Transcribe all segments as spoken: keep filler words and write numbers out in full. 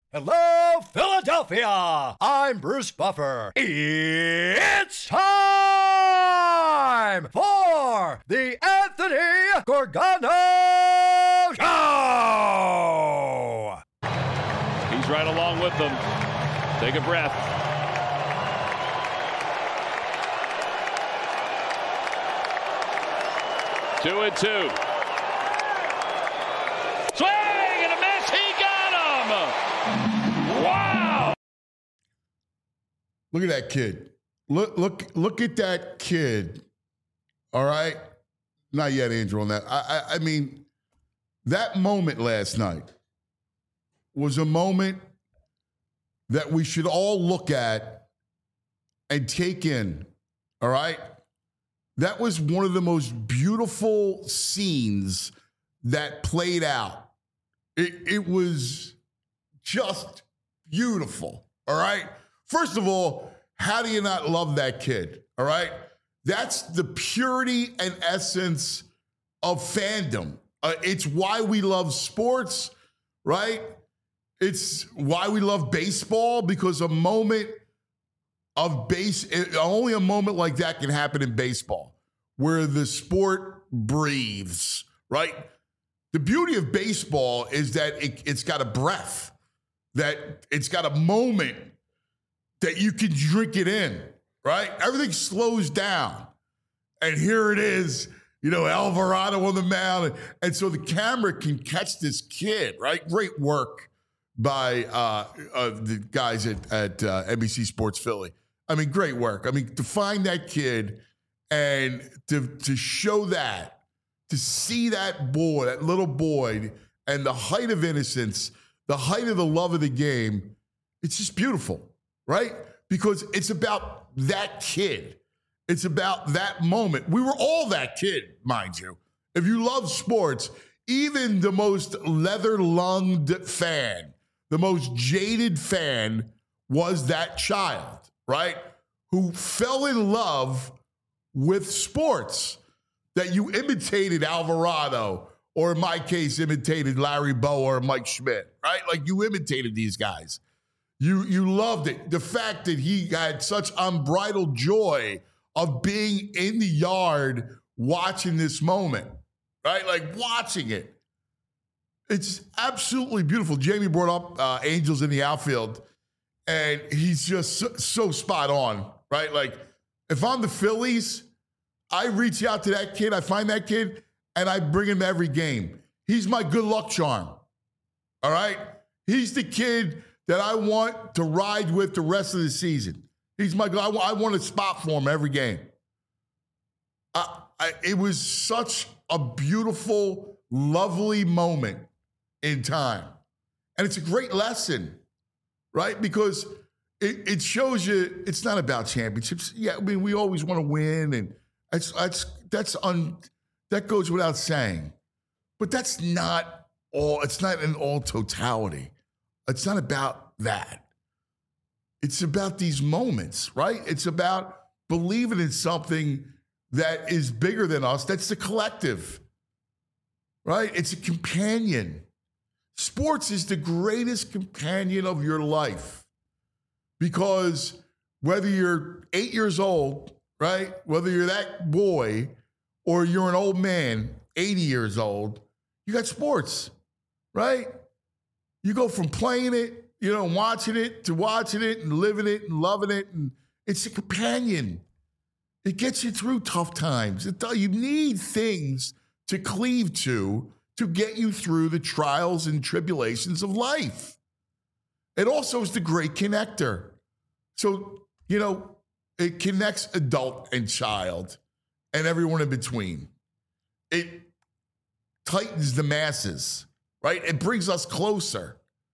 Hello, Philadelphia! I'm Bruce Buffer. It's time for the Anthony Gorgano Show! He's right along with them. Take a breath. Two and two. Swing and a miss. He got him. Wow. Look at that kid. Look, look, look at that kid. All right. Not yet, Andrew, on that. I, I, I mean, that moment last night was a moment that we should all look at and take in. All right. That was one of the most beautiful scenes that played out. It, it was just beautiful, all right? First of all, how do you not love that kid, all right? That's the purity and essence of fandom. Uh, it's why we love sports, right? It's why we love baseball, because a moment of base, only a moment like that can happen in baseball, where the sport breathes, right? The beauty of baseball is that it, it's got a breath, that it's got a moment that you can drink it in, right? Everything slows down. And here it is, you know, Alvarado on the mound. And, and so the camera can catch this kid, right? Great work by uh, uh, the guys at, at uh, N B C Sports Philly. I mean, great work. I mean, to find that kid and to, to show that, to see that boy, that little boy, and the height of innocence, the height of the love of the game, it's just beautiful, right? Because it's about that kid. It's about that moment. We were all that kid, mind you. If you love sports, even the most leather-lunged fan, the most jaded fan was that child, right? Who fell in love with sports. That you imitated Alvarado, or in my case, imitated Larry Bowa or Mike Schmidt, right? Like you imitated these guys. You, you loved it. The fact that he had such unbridled joy of being in the yard watching this moment, right? Like watching it. It's absolutely beautiful. Jamie brought up uh, Angels in the outfield, and he's just so, so spot on, right? Like if I'm the Phillies, I reach out to that kid, I find that kid, and I bring him every game. He's my good luck charm, all right? He's the kid that I want to ride with the rest of the season. He's my, I, I want a spot for him every game. I, I, it was such a beautiful, lovely moment in time. And it's a great lesson, right? Because it, it shows you it's not about championships. Yeah, I mean, we always want to win, and That's that's that's un, that goes without saying, but that's not all. It's not in all totality. It's not about that. It's about these moments, right? It's about believing in something that is bigger than us. That's the collective, right? It's a companion. Sports is the greatest companion of your life, because whether you're eight years old, right? Whether you're that boy or you're an old man, eighty years old, you got sports, right? You go from playing it, you know, watching it to watching it and living it and loving it. And it's a companion. It gets you through tough times. It, you need things to cleave to to get you through the trials and tribulations of life. It also is the great connector. So, you know, it connects adult and child and everyone in between. It tightens the masses, right? It brings us closer.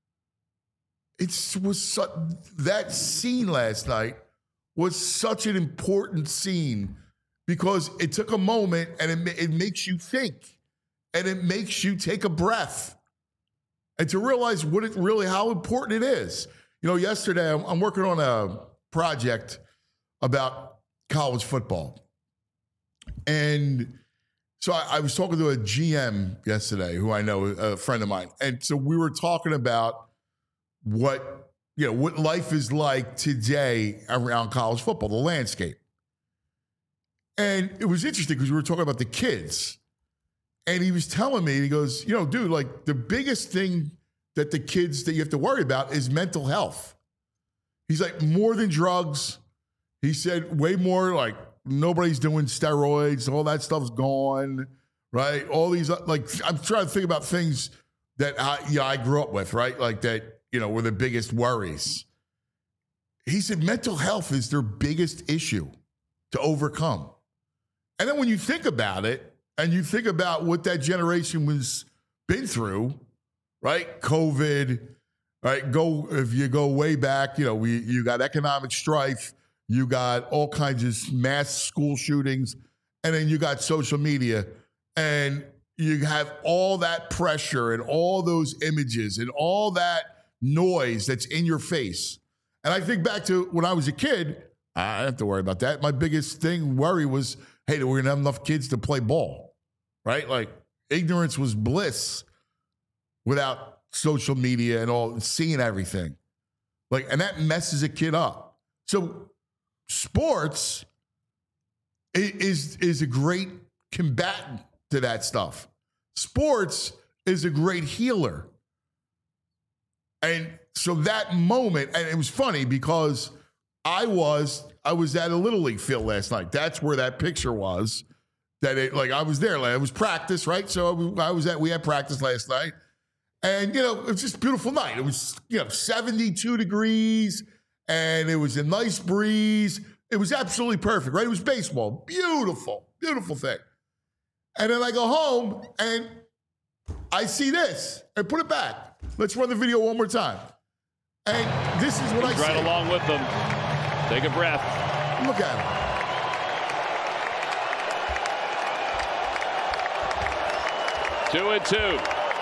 It was su- that scene last night was such an important scene because it took a moment and it, it makes you think and it makes you take a breath and to realize what it really, how important it is. You know, yesterday I'm, I'm working on a project about college football. And so I, I was talking to a G M yesterday who I know, a friend of mine. And so we were talking about what, you know, what life is like today around college football, the landscape. And it was interesting because we were talking about the kids. And he was telling me, he goes, you know, dude, like the biggest thing that the kids that you have to worry about is mental health. He's like, more than drugs. He said way more like nobody's doing steroids. All that stuff's gone, right? All these, like, I'm trying to think about things that I, you know, I grew up with, right? Like that, you know, were the biggest worries. He said mental health is their biggest issue to overcome. And then when you think about it, and you think about what that generation was been through, right? COVID, right? Go if you go way back, you know, we you got economic strife, you got all kinds of mass school shootings, and then you got social media, and you have all that pressure and all those images and all that noise that's in your face. And I think back to when I was a kid, I didn't have to worry about that. My biggest thing, worry was, hey, we're gonna have enough kids to play ball. Right? Like ignorance was bliss without social media and all seeing everything. Like, and that messes a kid up. So sports is, is a great combatant to that stuff. Sports is a great healer. And so that moment, and it was funny because I was, I was at a Little League field last night. That's where that picture was. That it, like I was there, like it was practice, right? So I was at, we had practice last night, and you know it was just a beautiful night. It was you know seventy-two degrees, and it was a nice breeze. It was absolutely perfect, right? It was baseball, beautiful, beautiful thing. And then I go home and I see this, and put it back. Let's run the video one more time. And this is what I see. Right along with them. Take a breath. Look at him. Two and two.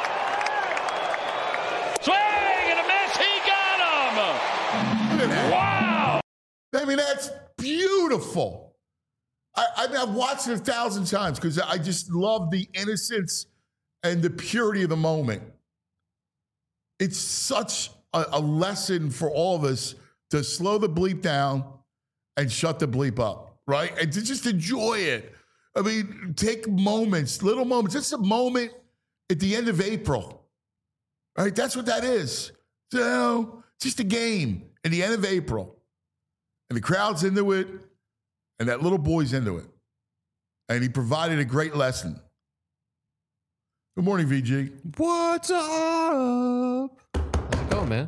Swing and a miss. He got him. Look at that. Wow. I mean, that's beautiful. I, I mean, I've watched it a thousand times because I just love the innocence and the purity of the moment. It's such a, a lesson for all of us to slow the bleep down and shut the bleep up, right? And to just enjoy it. I mean, take moments, little moments. It's a moment at the end of April, right? That's what that is. So, just a game at the end of April. And the crowd's into it, and that little boy's into it. And he provided a great lesson. Good morning, V G. What's up? How's it going, man?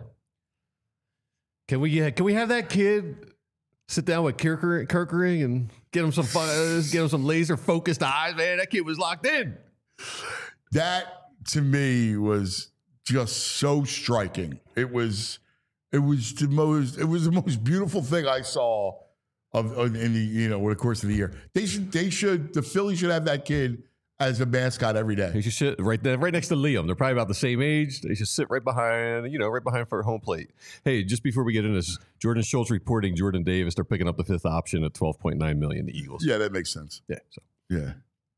Can we uh, can we have that kid sit down with Kirkering, Kirkering and get him some fun, uh, get him some laser focused eyes, man? That kid was locked in. That to me was just so striking. It was, it was the most, it was the most beautiful thing I saw of, of in the you know over the course of the year. They should, they should, the Phillies should have that kid as a mascot every day. He should sit right there, right next to Liam. They're probably about the same age. They should sit right behind, you know, right behind for home plate. Hey, just before we get into this, Jordan Schultz reporting Jordan Davis. They're picking up the fifth option at twelve point nine million dollars. The Eagles. Yeah, that makes sense. Yeah. So. Yeah.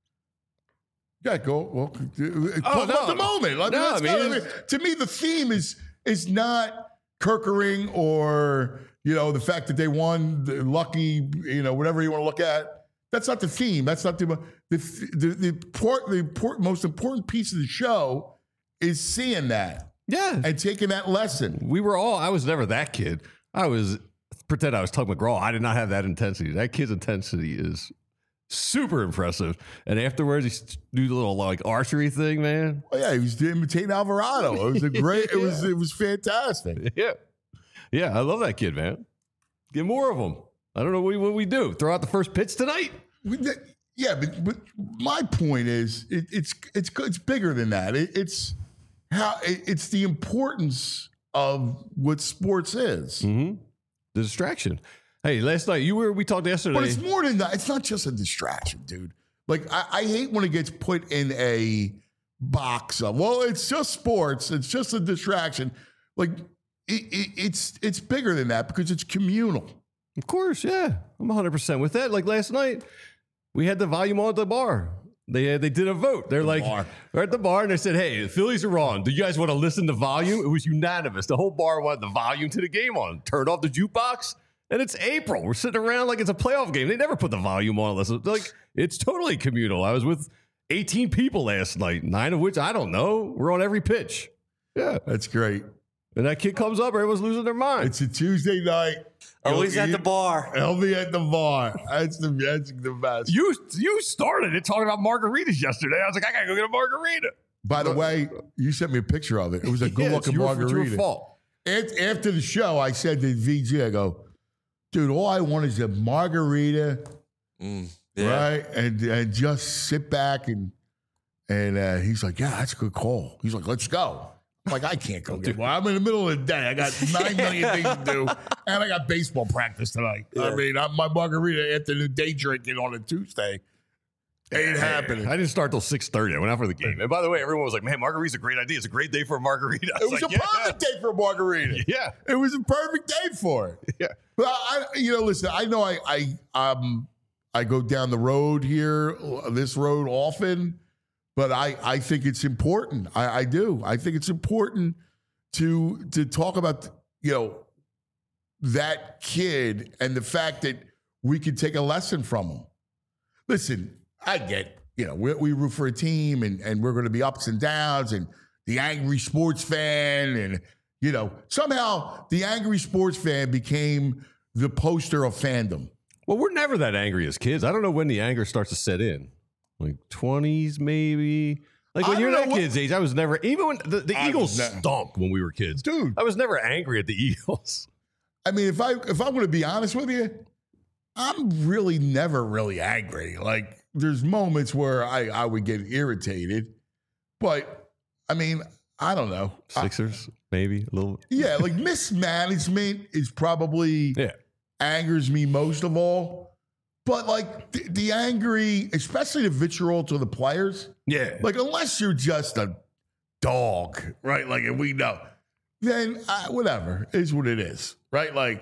Yeah, go. Well, talk oh, about no. the moment. I mean, No, I mean, I mean, to me, the theme is is not Kirkering or you know the fact that they won, the lucky, you know, whatever you want to look at. That's not the theme. That's not the the the, the, port, the port, most important piece of the show is seeing that. Yeah. And taking that lesson. We were all, I was never that kid. I was, pretend I was Tug McGraw. I did not have that intensity. That kid's intensity is super impressive. And afterwards, he do the little like archery thing, man. Oh yeah, he was imitating Alvarado. It was a great, it was, it was fantastic. Yeah. Yeah, I love that kid, man. Get more of them. I don't know what we, what we do. Throw out the first pitch tonight? Yeah, but, but my point is, it, it's it's it's bigger than that. It, it's how it, it's the importance of what sports is. Mm-hmm. The distraction. Hey, last night you were. We talked yesterday. But it's more than that. It's not just a distraction, dude. Like I, I hate when it gets put in a box of, well, it's just sports. It's just a distraction. Like it, it, it's it's bigger than that because it's communal. Of course, yeah. I'm one hundred percent with that. Like last night, we had the volume on at the bar. They uh, they did a vote. They're The like, bar. they're at the bar, and they said, hey, the Phillies are on. Do you guys want to listen to volume? It was unanimous. The whole bar wanted the volume to the game on. Turned off the jukebox, and it's April. We're sitting around like it's a playoff game. They never put the volume on. Listen, like, it's totally communal. I was with eighteen people last night, nine of which I don't know. We're on every pitch. Yeah. That's great. And that kid comes up, everyone's losing their mind. It's a Tuesday night. Always He'll at the eat- bar. He'll be at the bar. That's the that's the best. You you started it talking about margaritas yesterday. I was like, I gotta go get a margarita. By the way, you sent me a picture of it. It was a good Yeah, it's looking your- it's your margarita. fault. After, after the show, I said to V G, I go, dude, all I want is a margarita, Mm, yeah. right? And and just sit back and and uh, he's like, yeah, that's a good call. He's like, let's go. I'm like, I can't go get one. I'm in the middle of the day. I got nine million things to do, and I got baseball practice tonight. I Yeah. mean, I'm my margarita afternoon day drinking on a Tuesday ain't happening. I didn't start till six thirty. I went out for the game. And by the way, everyone was like, man, margarita's a great idea. It's a great day for a margarita. I It was like, a yeah. perfect day for a margarita. Yeah. It was a perfect day for it. Yeah. Well, I, you know, listen, I know I, I, um, I go down the road here, this road often, but I, I think it's important. I, I do. I think it's important to, to talk about, you know, that kid and the fact that we can take a lesson from him. Listen, I get, you know, we, we root for a team and, and we're going to be ups and downs and the angry sports fan. And, you know, somehow the angry sports fan became the poster of fandom. Well, we're never that angry as kids. I don't know when the anger starts to set in. Like twenties, maybe. Like when I you're don't that know what- kid's age, I was never, even when the, the I Eagles was ne- stunk when we were kids. Dude. I was never angry at the Eagles. I mean, if I if I'm going to be honest with you, I'm really never really angry. Like there's moments where I, I would get irritated, but I mean, I don't know. I- Sixers, maybe a little. yeah, like mismanagement is probably Yeah. angers me most of all. But like the, the angry, especially the vitriol to the players, Yeah. like unless you're just a dog, right? Like, and we know, then uh, whatever is what it is, right? Like,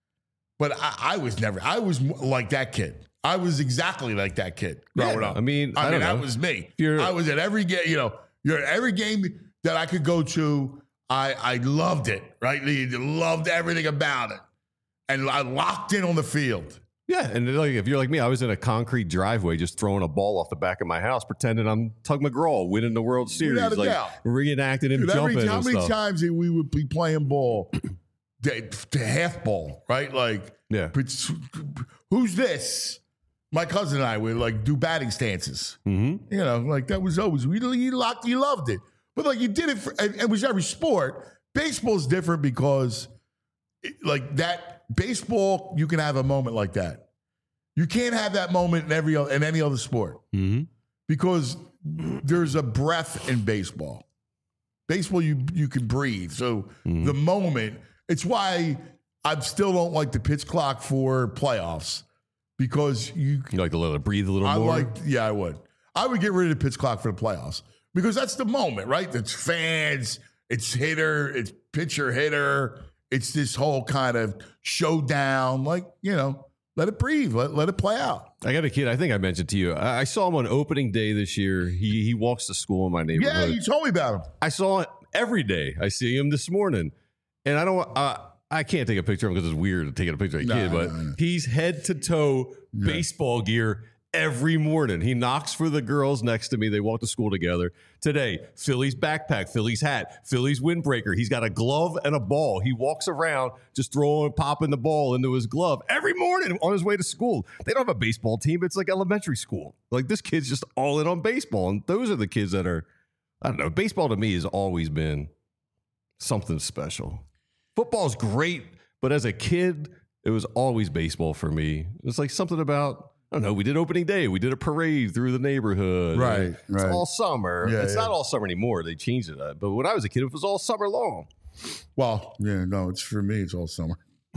but I, I was never, I was m- like that kid. I was exactly like that kid growing Yeah, up. I mean, I, I mean, don't that know. was me. You're- I was at every game, you know, you're at every game that I could go to. I, I loved it, right? I loved everything about it. And I locked in on the field. Yeah, and like if you're like me, I was in a concrete driveway just throwing a ball off the back of my house, pretending I'm Tug McGraw winning the World Series, Without a like doubt. reenacting him Dude, every, jumping how and many stuff. times did we would be playing ball to, to half ball, right? Like, Yeah. but s- who's this? My cousin and I would like do batting stances. Mm-hmm. You know, like that was always we you locked, you loved it, but like you did it for and it was every sport. Baseball's different because, it, like that baseball, you can have a moment like that. You can't have that moment in every o- in any other sport Mm-hmm. because there's a breath in baseball. Baseball, you you can breathe. So Mm-hmm. the moment, it's why I still don't like the pitch clock for playoffs because you. You like to let it breathe a little I more. like, yeah, I would. I would get rid of the pitch clock for the playoffs because that's the moment, right? It's fans, it's hitter, it's pitcher hitter, it's this whole kind of showdown. Like you know, let it breathe, let let it play out. I got a kid. I think I mentioned to you. I, I saw him on opening day this year. He he walks to school in my Yeah, neighborhood. you told me about him. I saw it every day. I see him this morning, and I don't. Uh, I can't take a picture of him because it's weird taking a picture of a No, kid. But no, no. he's head to toe baseball gear every morning. He knocks for the girls next to me. They walk to school together. Today, Philly's backpack, Philly's hat, Philly's windbreaker. He's got a glove and a ball. He walks around just throwing, popping the ball into his glove every morning on his way to school. They don't have a baseball team. It's like elementary school. Like this kid's just all in on baseball. And those are the kids that are, I don't know. Baseball to me has always been something special. Football's great, but as a kid, it was always baseball for me. It's like something about, I don't know, we did opening day. We did a parade through the neighborhood. Right, It's right. all summer. Yeah, it's yeah. not all summer anymore. They changed it up. But when I was a kid, it was all summer long. Well, yeah, no, it's for me. It's all summer.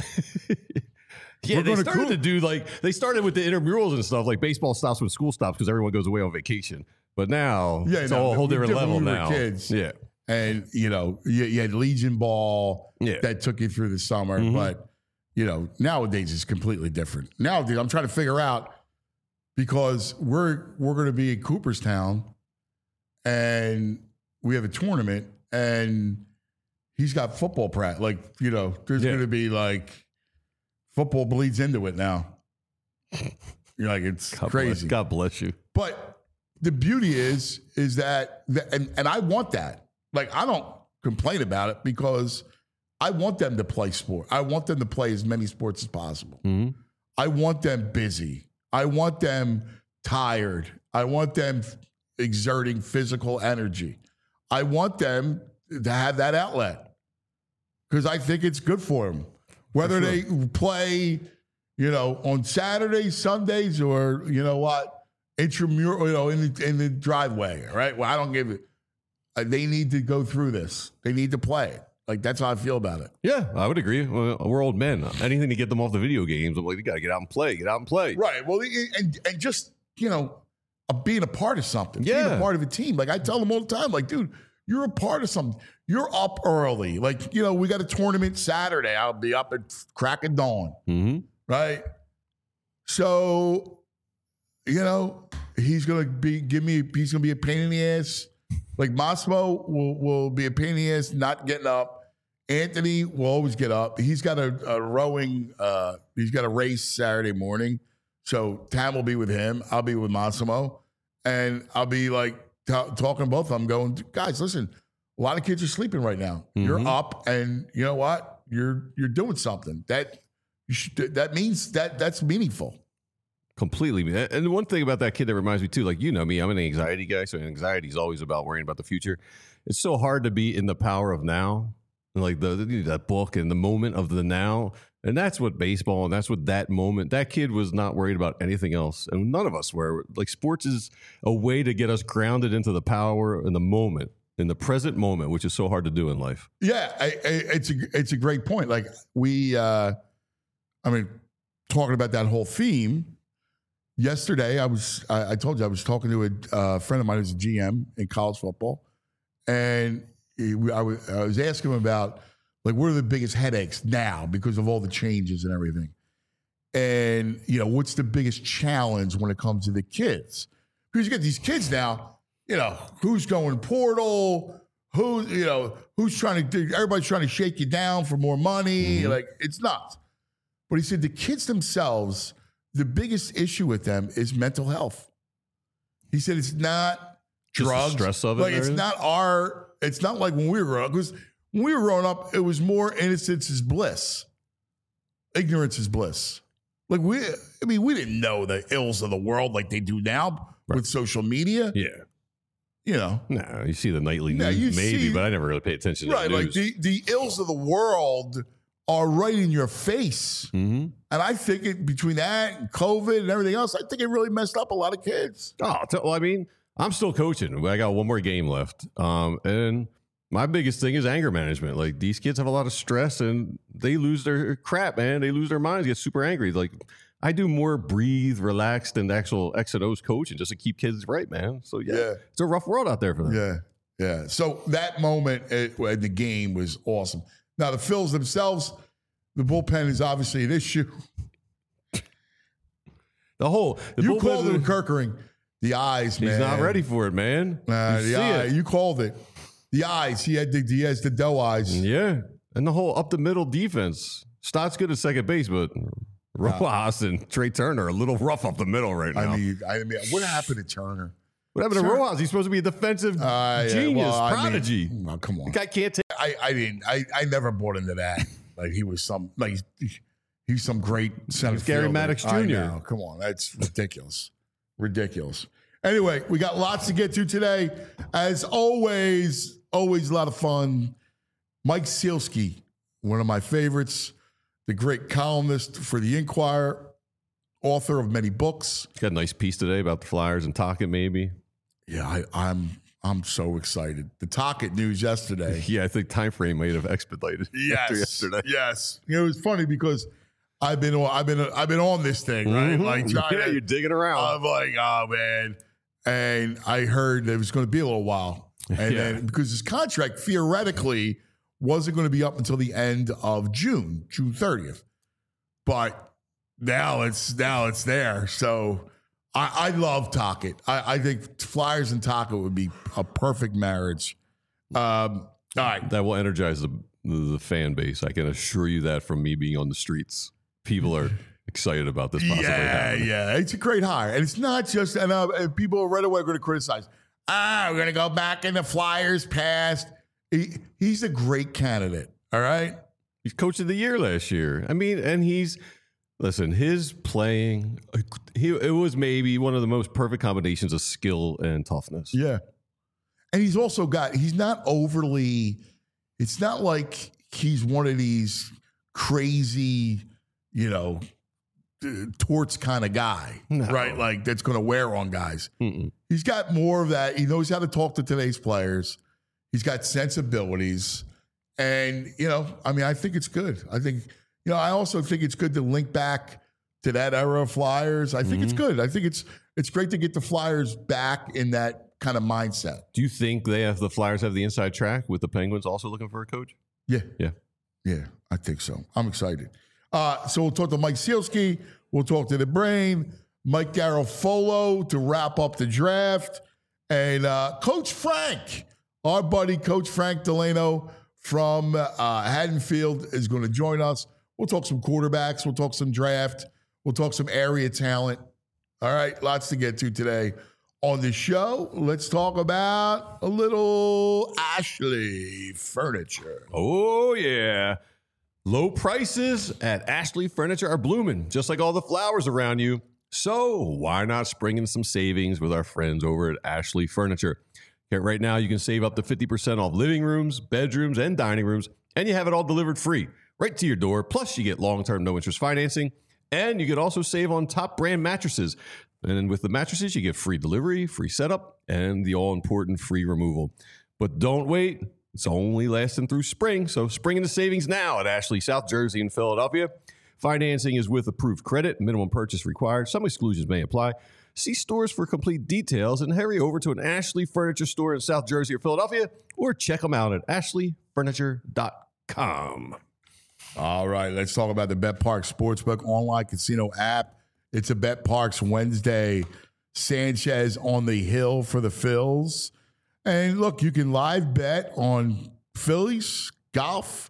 Yeah, We're they gonna started cool- to do like, they started with the intramurals and stuff. Like baseball stops when school stops because everyone goes away on vacation. But now Yeah, it's no, all a whole we- different different level when we were now. kids. Yeah. And you know, you, you had Legion Ball Yeah. that took you through the summer, Mhm. but you know, nowadays it's completely different. Nowadays, I'm trying to figure out because we're we're going to be in Cooperstown, and we have a tournament, and he's got football practice. Like, you know, there's Yeah. going to be like football bleeds into it now. You're like, it's God crazy. Bless, God bless you. But the beauty is, is that, that and, and I want that. Like, I don't complain about it because I want them to play sport. I want them to play as many sports as possible. Mm-hmm. I want them busy. I want them tired. I want them exerting physical energy. I want them to have that outlet because I think it's good for them. Whether For sure. they play, you know, on Saturdays, Sundays, or, you know what, intramural, you know, in the, in the driveway, right? Well, I don't give it. Uh, they need to go through this. They need to play it. Like, that's how I feel about it. Yeah, I would agree. Well, we're old men. Anything to get them off the video games, I'm like, you got to get out and play. Get out and play. Right. Well, and and just, you know, uh, being a part of something, being Yeah. a part of a team. Like, I tell them all the time, like, dude, you're a part of something. You're up early. Like, you know, we got a tournament Saturday. I'll be up at crack of dawn. Mm-hmm. Right. So, you know, he's going to be, give me, he's going to be a pain in the ass. Like, Massimo will, will be a pain in the ass not getting up. Anthony will always get up. He's got a, a rowing, uh, he's got a race Saturday morning. So Tam will be with him. I'll be with Massimo. And I'll be like t- talking to both of them, going, guys, listen, a lot of kids are sleeping right now. Mm-hmm. You're up, and you know what? You're you're doing something. That you should, that means that that's meaningful. Completely. And one thing about that kid that reminds me too, like, you know me, I'm an anxiety guy. So anxiety is always about worrying about the future. It's so hard to be in the power of now. Like the, the that book and the moment of the now. And that's what baseball and that's what that moment, that kid was not worried about anything else. And none of us were. Like, sports is a way to get us grounded into the power in the moment, in the present moment, which is so hard to do in life. Yeah, I, I, it's a it's a great point. Like, we, uh, I mean, talking about that whole theme. Yesterday, I was I, I told you I was talking to a uh, friend of mine who's a G M in college football, and he, I, was, I was asking him about, like, what are the biggest headaches now because of all the changes and everything, and you know, what's the biggest challenge when it comes to the kids? Because you get these kids now, you know, who's going portal, who you know, who's trying to do, everybody's trying to shake you down for more money, Mm-hmm. like, it's nuts. But he said the kids themselves, the biggest issue with them is mental health. He said it's not Just the drugs. stress of it Like, and it's everything? not our, it's not like when we were growing up. Because when we were growing up, it was more innocence is bliss. Ignorance is bliss. Like, we, I mean, we didn't know the ills of the world like they do now Right. with social media. Yeah. You know, No, you see the nightly Yeah, you news, maybe, see- but I never really pay attention to right? the Like news. the, the ills of the world are right in your face. mm-hmm. And I think it, between that and COVID and everything else, I think it really messed up a lot of kids. Oh, t- well, I mean, I'm still coaching. I got one more game left. Um, and my biggest thing is anger management. Like, these kids have a lot of stress and they lose their crap, man. They lose their minds, get super angry. Like, I do more breathe, relax than actual X and O's coaching just to keep kids right, man. So, yeah, Yeah. it's a rough world out there for them. Yeah. Yeah. So that moment at, at the game was awesome. Now, the Phils themselves, the bullpen is obviously an issue. The whole, the You bullpen's- called it Kirkering. The eyes, man. He's not ready for it, man. Nah, You the see eye. it. You called it. The eyes. He had the, he has the doe eyes. Yeah. And the whole up the middle defense. Stott's good at second base, but Rojas and Trey Turner are a little rough up the middle right now. I mean, I mean, what happened to Turner? what happened to Sure. Rojas? He's supposed to be a defensive Uh, yeah, genius, well, I mean, prodigy. oh, come on. the guy can't take. I, I didn't. I, I never bought into that. Like, he was some like he's some great center He's Gary fielder. Maddox I Junior know. Come on, that's ridiculous, ridiculous. Anyway, we got lots to get to today. As always, always a lot of fun. Mike Sealski, one of my favorites, the great columnist for the Inquirer, author of many books. Got a nice piece today about the Flyers and Tocchet, maybe. Yeah, I, I'm I'm so excited. The Tocchet news yesterday. Yeah, I think time frame might have expedited after Yes, yesterday. yes. You know, it was funny because I've been on, I've been I've been on this thing, right? Mhm. Like, trying yeah, to- you're digging around. I'm like, oh man. And I heard it was going to be a little while, and Yeah. then because his contract theoretically wasn't going to be up until the end of June, June thirtieth, but now it's now it's there. So I, I love Tocchet. I, I think Flyers and Tocchet would be a perfect marriage. Um, all right. That will energize the, the fan base. I can assure you that from me being on the streets. People are excited about this possibly Yeah, happening. yeah. It's a great hire. And it's not just, and uh, people right away are going to criticize, ah, we're going to go back in the Flyers past. He, he's a great candidate, all right? He's coach of the year last year. I mean, and he's, listen, his playing, he it was maybe one of the most perfect combinations of skill and toughness. Yeah. And he's also got, he's not overly, it's not like he's one of these crazy, you know, torts kind of guy, No. right? Like that's going to wear on guys. Mm-mm. He's got more of that. He knows how to talk to today's players. He's got sensibilities. And, you know, I mean, I think it's good. I think, you know, I also think it's good to link back to that era of Flyers. I think Mm-hmm. it's good. I think it's it's great to get the Flyers back in that kind of mindset. Do you think they have the Flyers have the inside track with the Penguins also looking for a coach? Yeah. Yeah. Yeah, I think so. I'm excited. Uh, so we'll talk to Mike Sealski. We'll talk to the Brain, Mike Garofolo to wrap up the draft. And uh, Coach Frank, our buddy Coach Frank Delano from uh, Haddonfield is going to join us. We'll talk some quarterbacks. We'll talk some draft. We'll talk some area talent. All right, lots to get to today on the show. Let's talk about a little Ashley Furniture. Oh, yeah. Low prices at Ashley Furniture are blooming, just like all the flowers around you. So why not spring in some savings with our friends over at Ashley Furniture? Okay, right now, you can save up to fifty percent off living rooms, bedrooms, and dining rooms, and you have it all delivered free right to your door. Plus, you get long-term no-interest financing, and you can also save on top brand mattresses. And with the mattresses, you get free delivery, free setup, and the all-important free removal. But don't wait. It's only lasting through spring, so spring into savings now at Ashley, South Jersey, and Philadelphia. Financing is with approved credit. Minimum purchase required. Some exclusions may apply. See stores for complete details and hurry over to an Ashley Furniture store in South Jersey or Philadelphia, or check them out at ashley furniture dot com. All right, let's talk about the BetParx Sportsbook online casino app. It's a BetParx Wednesday. Sanchez on the hill for the Phils. And look, you can live bet on Phillies, golf,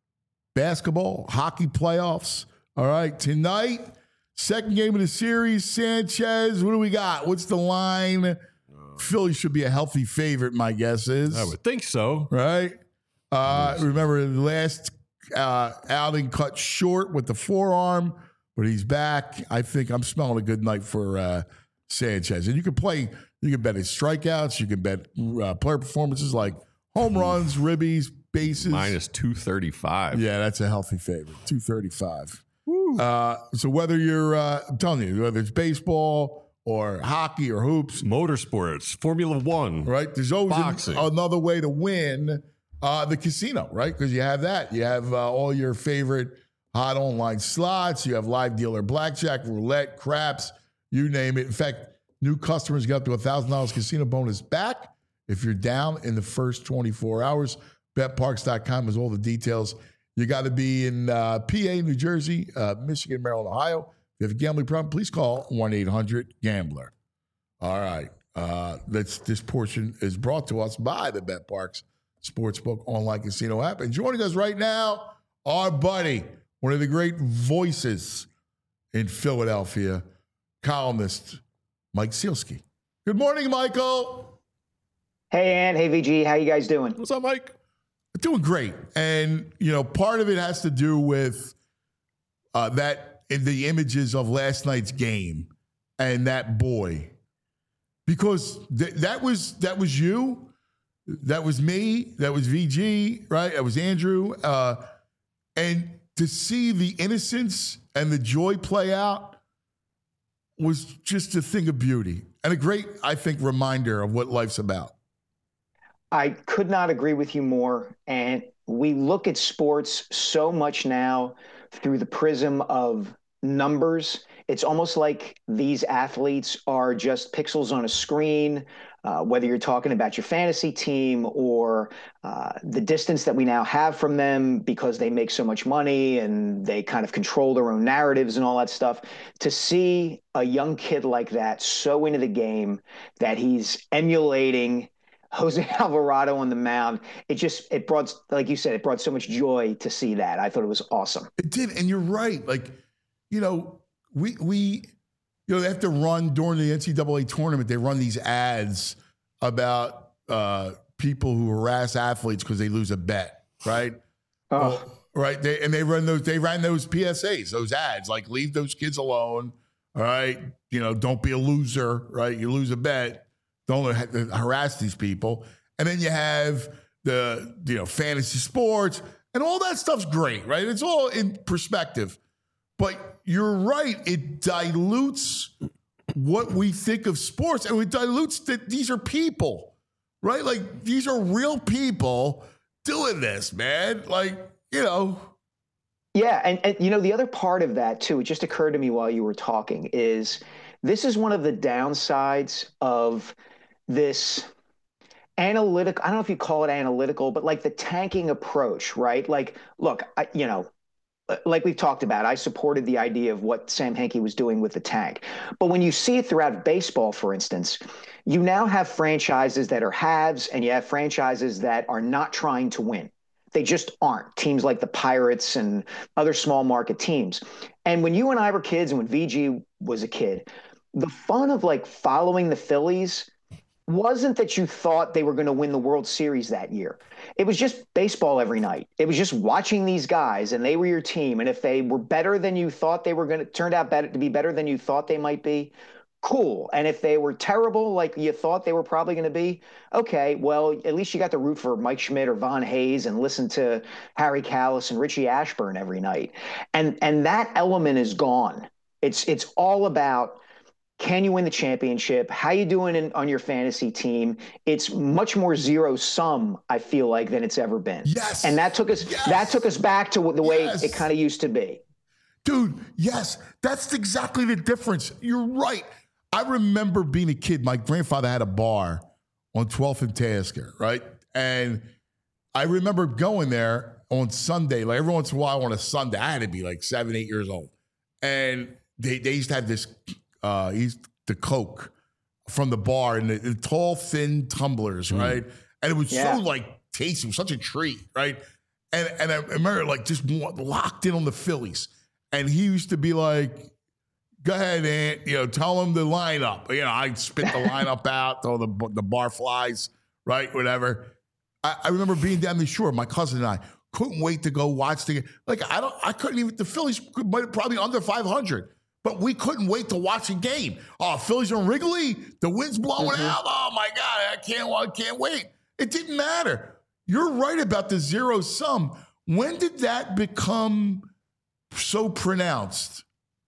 basketball, hockey playoffs. All right, tonight, second game of the series, Sanchez. What do we got? What's the line? Phillies should be a healthy favorite, my guess is. I would think so. Right? Uh, remember, the last uh, outing cut short with the forearm, but he's back. I think I'm smelling a good night for uh, Sanchez. And you can play, you can bet his strikeouts, you can bet uh, player performances like home runs, ribbies, bases. Minus two thirty-five. Yeah, that's a healthy favorite. two thirty-five. Uh, so whether you're, uh, I'm telling you, whether it's baseball or hockey or hoops, Motorsports, Formula One. right? There's always Boxing. an- another way to win uh, the casino, right? Because you have that. You have uh, all your favorite hot online slots. You have live dealer blackjack, roulette, craps, you name it. In fact, new customers get up to one thousand dollars casino bonus back if you're down in the first twenty-four hours. bet parx dot com has all the details. You got to be in uh, P A, New Jersey, uh, Michigan, Maryland, Ohio. If you have a gambling problem, please call one eight hundred gambler. All right. Uh, that's, this portion is brought to us by the BetParx Sportsbook online casino app. And joining us right now, our buddy, one of the great voices in Philadelphia, columnist Mike Sealski. Good morning, Michael. Hey, Ann. Hey, V G. How you guys doing? What's up, Mike? Doing great. And, you know, part of it has to do with uh, that in the images of last night's game and that boy. Because th- that was that was you. That was me. That was V G, right? That was Andrew. Uh, and to see the innocence and the joy play out was just a thing of beauty and a great, I think, reminder of what life's about. I could not agree with you more. And we look at sports so much now through the prism of numbers. It's almost like these athletes are just pixels on a screen, uh, whether you're talking about your fantasy team or uh, the distance that we now have from them because they make so much money and they kind of control their own narratives and all that stuff. To see a young kid like that so into the game that he's emulating Jose Alvarado on the mound, it just, it brought, like you said, it brought so much joy to see that. I thought it was awesome. It did. And you're right. Like, you know, we, we, you know, they have to run during the N C double A tournament. They run these ads about uh, people who harass athletes because they lose a bet, right? Oh. Well, right. They, and they run those, they ran those P S As, those ads, like leave those kids alone. All right. You know, don't be a loser, right? You lose a bet. Don't harass these people. And then you have the, you know, fantasy sports and all that stuff's great, right? It's all in perspective. But you're right. It dilutes what we think of sports, and it dilutes that these are people, right? Like, these are real people doing this, man. Like, you know. Yeah. And, and, you know, the other part of that, too, it just occurred to me while you were talking, is this is one of the downsides of this analytic, I don't know if you call it analytical, but like the tanking approach, right? Like, look, I, you know, like we've talked about, I supported the idea of what Sam Hinkie was doing with the tank. But when you see it throughout baseball, for instance, you now have franchises that are haves and you have franchises that are not trying to win. They just aren't. Teams like the Pirates and other small market teams. And when you and I were kids and when V G was a kid, the fun of like following the Phillies wasn't that you thought they were going to win the World Series that year. It was just baseball every night. It was just watching these guys, and they were your team. And if they were better than you thought they were going to, turned out better to be better than you thought they might be, cool. And if they were terrible, like you thought they were probably going to be, okay, well, at least you got to root for Mike Schmidt or Von Hayes and listen to Harry Kalas and Richie Ashburn every night. And and that element is gone. It's it's all about, can you win the championship? How you doing in, on your fantasy team? It's much more zero sum, I feel like, than it's ever been. Yes. And that took us yes. that took us back to the way yes. it kind of used to be. Dude, yes, that's exactly the difference. You're right. I remember being a kid. My grandfather had a bar on twelfth and Tasker, right? And I remember going there on Sunday, like every once in a while on a Sunday. I had to be like seven, eight years old. And they, they used to have this, uh, used the Coke from the bar in the, the tall, thin tumblers, mm. right? And it was yeah. so like tasty. It was such a treat, right? And and I remember like just locked in on the Phillies. And he used to be like, go ahead, Aunt, you know, tell him the lineup. You know, I'd spit the lineup out, throw the the bar flies, right, whatever. I, I remember being down the shore, my cousin and I couldn't wait to go watch the game. Like, I don't, I couldn't even, the Phillies could, probably under five hundred, but we couldn't wait to watch a game. Oh, Phillies on Wrigley, the wind's blowing mm-hmm. out. Oh, my God, I can't, I can't wait. It didn't matter. You're right about the zero sum. When did that become so pronounced?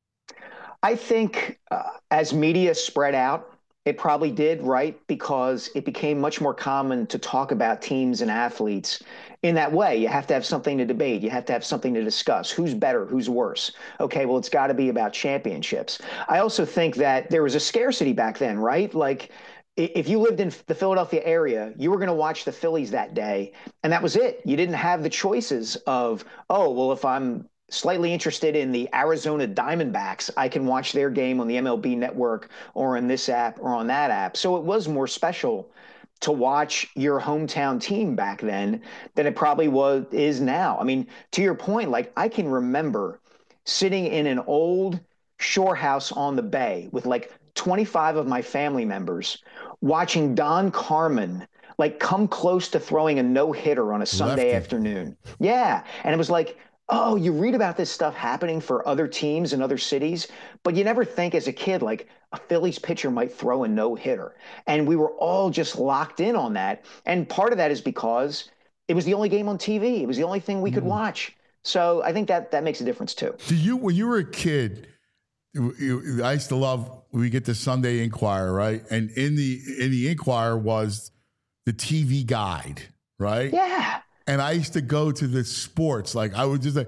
I think uh, as media spread out, it probably did, right? Because it became much more common to talk about teams and athletes in that way. You have to have something to debate. You have to have something to discuss. Who's better? Who's worse? Okay, well, it's got to be about championships. I also think that there was a scarcity back then, right? Like, if you lived in the Philadelphia area, you were going to watch the Phillies that day, and that was it. You didn't have the choices of, oh, well, if I'm slightly interested in the Arizona Diamondbacks, I can watch their game on the M L B Network or on this app or on that app. So it was more special to watch your hometown team back then than it probably was is now. I mean, to your point, like I can remember sitting in an old shore house on the bay with like twenty-five of my family members watching Don Carmen like come close to throwing a no-hitter on a Sunday Lefty. afternoon. Yeah. And it was like, oh, you read about this stuff happening for other teams in other cities, but you never think as a kid, like a Phillies pitcher might throw a no-hitter. And we were all just locked in on that. And part of that is because it was the only game on T V. It was the only thing we could mm. watch. So I think that that makes a difference too. Do you, when you were a kid, you, I used to love, we get the Sunday Inquirer, right? And in the, in the Inquirer was the T V guide, right? Yeah. And I used to go to the sports. Like I would just like,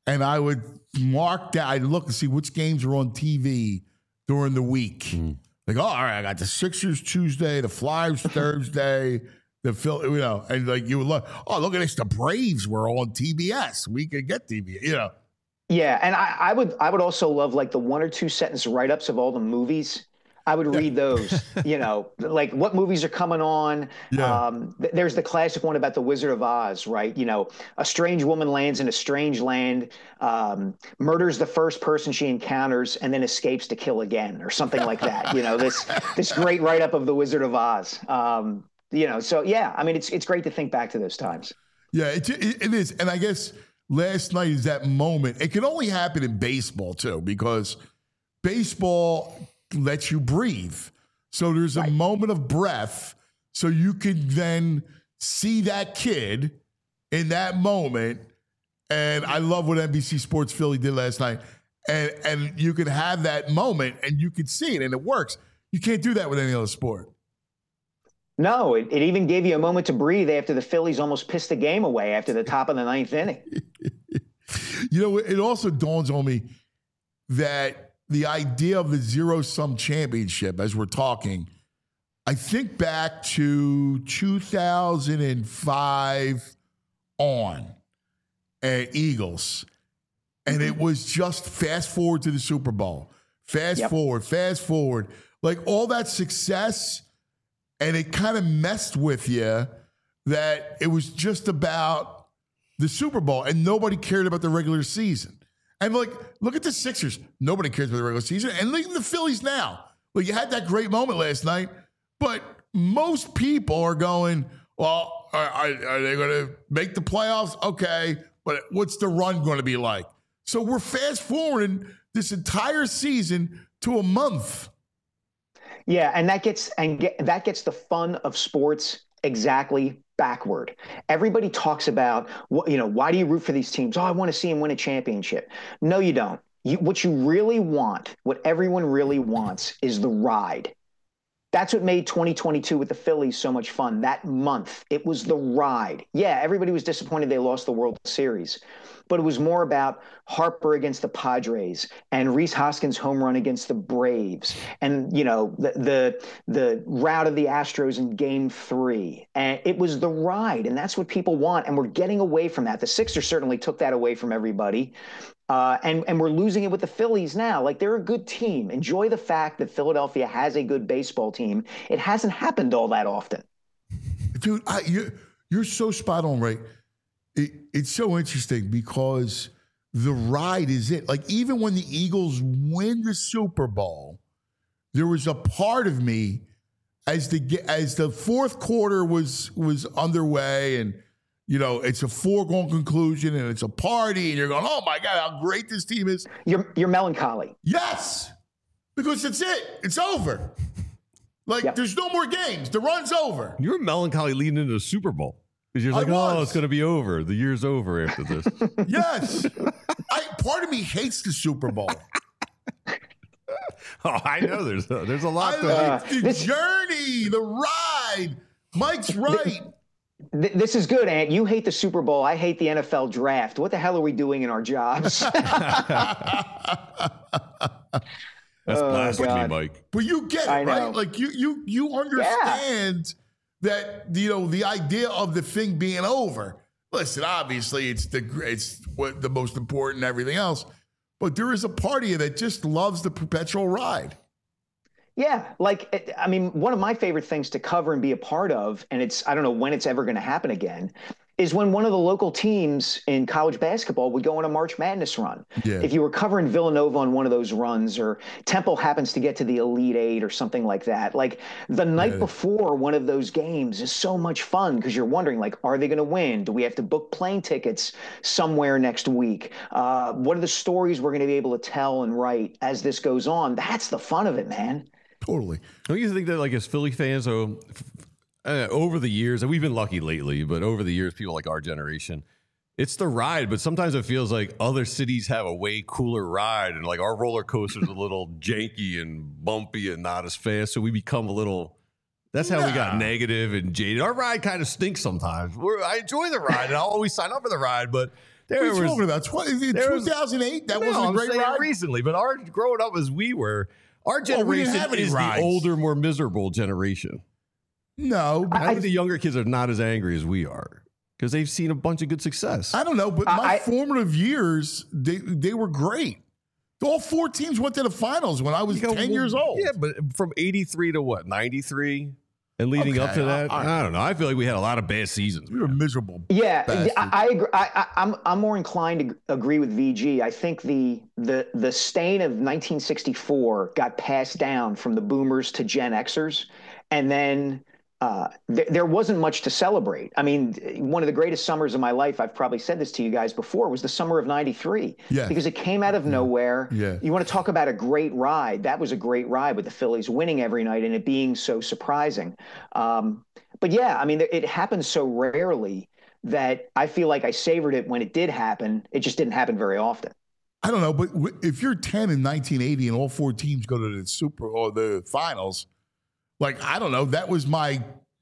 and I would mark that. I'd look and see which games were on T V during the week. Mm. Like, oh, all right, I got the Sixers Tuesday, the Flyers Thursday, the Phil, you know, and like you would look, oh, look at this, the Braves were on T B S. We could get T B S, you know. Yeah, and I, I would I would also love like the one or two sentence write-ups of all the movies. I would read those, you know, like what movies are coming on. Yeah. Um, th- there's the classic one about the Wizard of Oz, right? You know, a strange woman lands in a strange land, um, murders the first person she encounters, and then escapes to kill again, or something like that. You know, this this great write-up of the Wizard of Oz. Um, you know, so yeah, I mean, it's it's great to think back to those times. Yeah, it, it, it is, and I guess last night is that moment. It can only happen in baseball too, because baseball lets you breathe. So there's a right. moment of breath, so you can then see that kid in that moment. And I love what N B C Sports Philly did last night. And and you can have that moment and you can see it and it works. You can't do that with any other sport. No, it, it even gave you a moment to breathe after the Phillies almost pissed the game away after the top of the ninth inning. You know, it also dawns on me that the idea of the zero-sum championship, as we're talking, I think back to two thousand five on at Eagles, and it was just fast forward to the Super Bowl. Fast yep. forward, fast forward. Like all that success, and it kind of messed with you that it was just about the Super Bowl, and nobody cared about the regular season. And, like, look at the Sixers. Nobody cares about the regular season. And look at the Phillies now. Like, you had that great moment last night, but most people are going, well, are, are, are they going to make the playoffs? Okay, but what's the run going to be like? So we're fast-forwarding this entire season to a month. Yeah, and that gets and get, that gets the fun of sports exactly backward. Everybody talks about, you know, why do you root for these teams? Oh, I want to see them win a championship. No, you don't. You, what you really want, what everyone really wants, is the ride. That's what made twenty twenty-two with the Phillies so much fun. That month, it was the ride. Yeah, everybody was disappointed they lost the World Series, but it was more about Harper against the Padres and Rhys Hoskins' home run against the Braves, and you know the the the rout of the Astros in Game Three. And it was the ride, and that's what people want. And we're getting away from that. The Sixers certainly took that away from everybody. Uh, and, and we're losing it with the Phillies now. Like, they're a good team. Enjoy the fact that Philadelphia has a good baseball team. It hasn't happened all that often. Dude, I, you're, you're so spot on, right? It, it's so interesting because the ride is it. Like, even when the Eagles win the Super Bowl, there was a part of me as the as the fourth quarter was was underway and you know, it's a foregone conclusion and it's a party and you're going, oh my God, how great this team is. You're you're melancholy. Yes, because it's it. It's over. Like, yep. There's no more games. The run's over. You're melancholy leading into the Super Bowl. Because you're like, oh, it's going to be over. The year's over after this. Yes. I, part of me hates the Super Bowl. Oh, I know. There's a, there's a lot. I to like the this, journey, the ride. Mike's right. This is good, Ant. You hate the Super Bowl. I hate the N F L draft. What the hell are we doing in our jobs? That's oh, blasphemy, God. Mike. But you get it, I right? know. Like you, you, you understand yeah. that you know the idea of the thing being over. Listen, obviously, it's the it's what the most important and everything else. But there is a part of you that just loves the perpetual ride. Yeah, like, I mean, one of my favorite things to cover and be a part of, and it's, I don't know when it's ever going to happen again, is when one of the local teams in college basketball would go on a March Madness run. Yeah. If you were covering Villanova on one of those runs, or Temple happens to get to the Elite Eight or something like that, like the night yeah. before one of those games is so much fun because you're wondering, like, are they going to win? Do we have to book plane tickets somewhere next week? Uh, what are the stories we're going to be able to tell and write as this goes on? That's the fun of it, man. Totally. Don't you think that, like, as Philly fans, so uh, over the years, and we've been lucky lately, but over the years, people like our generation, it's the ride. But sometimes it feels like other cities have a way cooler ride, and like our roller coaster's a little janky and bumpy and not as fast. So we become a little. That's how nah. we got negative and jaded. Our ride kind of stinks sometimes. We're, I enjoy the ride, and I'll always sign up for the ride, but There What are you was, talking about? Tw- there was- two thousand eight? That no, wasn't a I'm great saying ride? recently, but our growing up as we were, our Well, we didn't generation have any is rides. the older, more miserable generation. No. I think the younger kids are not as angry as we are because they've seen a bunch of good success. I don't know, but I- my I- formative years, they they were great. All four teams went to the finals when I was You go, ten well, years old. Yeah, but from eighty-three to what, ninety-three? And leading up Okay, to that, I- I- I don't know. I feel like we had a lot of bad seasons. We were miserable. Yeah, bastards. I, I agree. I, I, I'm I'm more inclined to agree with V G. I think the the the stain of nineteen sixty-four got passed down from the Boomers to Gen Xers, and then uh, th- there wasn't much to celebrate. I mean, one of the greatest summers of my life, I've probably said this to you guys before, was the summer of ninety-three. Yeah. Because it came out of nowhere. Yeah. You want to talk about a great ride? That was a great ride with the Phillies winning every night and it being so surprising. Um, but yeah, I mean, it happens so rarely that I feel like I savored it when it did happen. It just didn't happen very often. I don't know, but w- if you're ten in nineteen eighty and all four teams go to the Super or the finals, like, I don't know, that was my,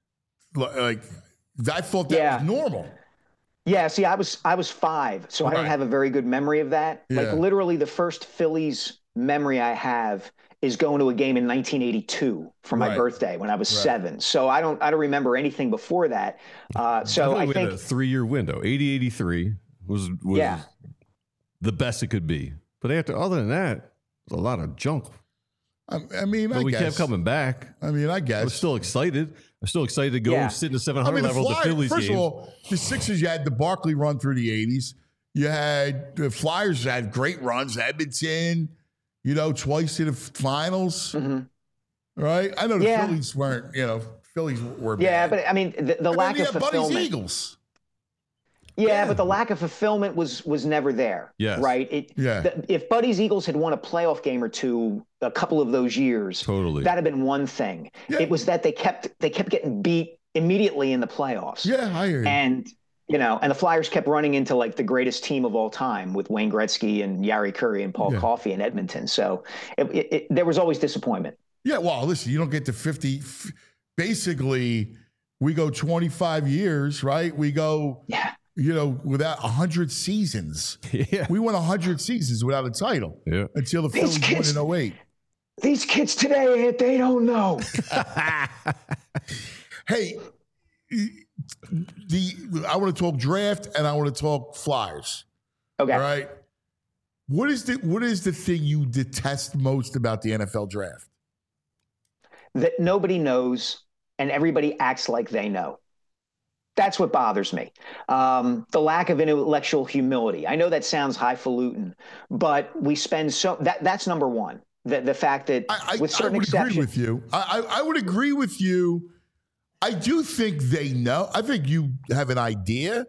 like, I thought that Yeah. was normal. Yeah, see, I was I was five, so I don't Right. have a very good memory of that. Yeah. Like literally, the first Phillies memory I have is going to a game in nineteen eighty-two for my Right. birthday when I was Right. seven. So I don't I don't remember anything before that. Uh, so feel I like we think had a three-year window. eighty eighty-three was was Yeah. the best it could be. But after, other than that, there's a lot of junk. I, I mean, But I we guess. kept coming back. I mean, I I guess. was still excited. I'm still excited to go Yeah. and sit in the seven I hundred mean, the level of the Flyers, Phillies first games. of all, the Sixers, you had the Barkley run through the eighties. You had the Flyers had great runs. Edmonton, you know, twice to the finals. Mhm. Right? I know the Yeah. Phillies weren't, you know, Phillies were yeah, bad. but I mean the, the And then lack you of had Buddy's fulfillment. Eagles. Yeah, Yeah. but the lack of fulfillment was was never there. Yes. Right. It, Yeah. the, if Buddy's Eagles had won a playoff game or two a couple of those years, Totally. that'd have been one thing. Yeah. It was that they kept they kept getting beat immediately in the playoffs. Yeah, I hear you. And you know, and the Flyers kept running into like the greatest team of all time with Wayne Gretzky and Yari Curry and Paul Yeah. Coffey in Edmonton. So it, it, it, there was always disappointment. Yeah, well, listen, you don't get to fifty. f- Basically, we go twenty-five years, right? We go, Yeah. you know, without one hundred seasons. yeah. We won one hundred seasons without a title Yeah. until the These Phillies kids- won in oh eight. These kids today, they don't know. Hey, the I want to talk draft and I want to talk Flyers. Okay. All right. What is the what is the thing you detest most about the N F L draft? That nobody knows and everybody acts like they know. That's what bothers me. Um, the lack of intellectual humility. I know that sounds highfalutin, but we spend so that that's number one. The the fact that I, I, with I certain would exceptions, agree with you. I, I I would agree with you. I do think they know. I think you have an idea.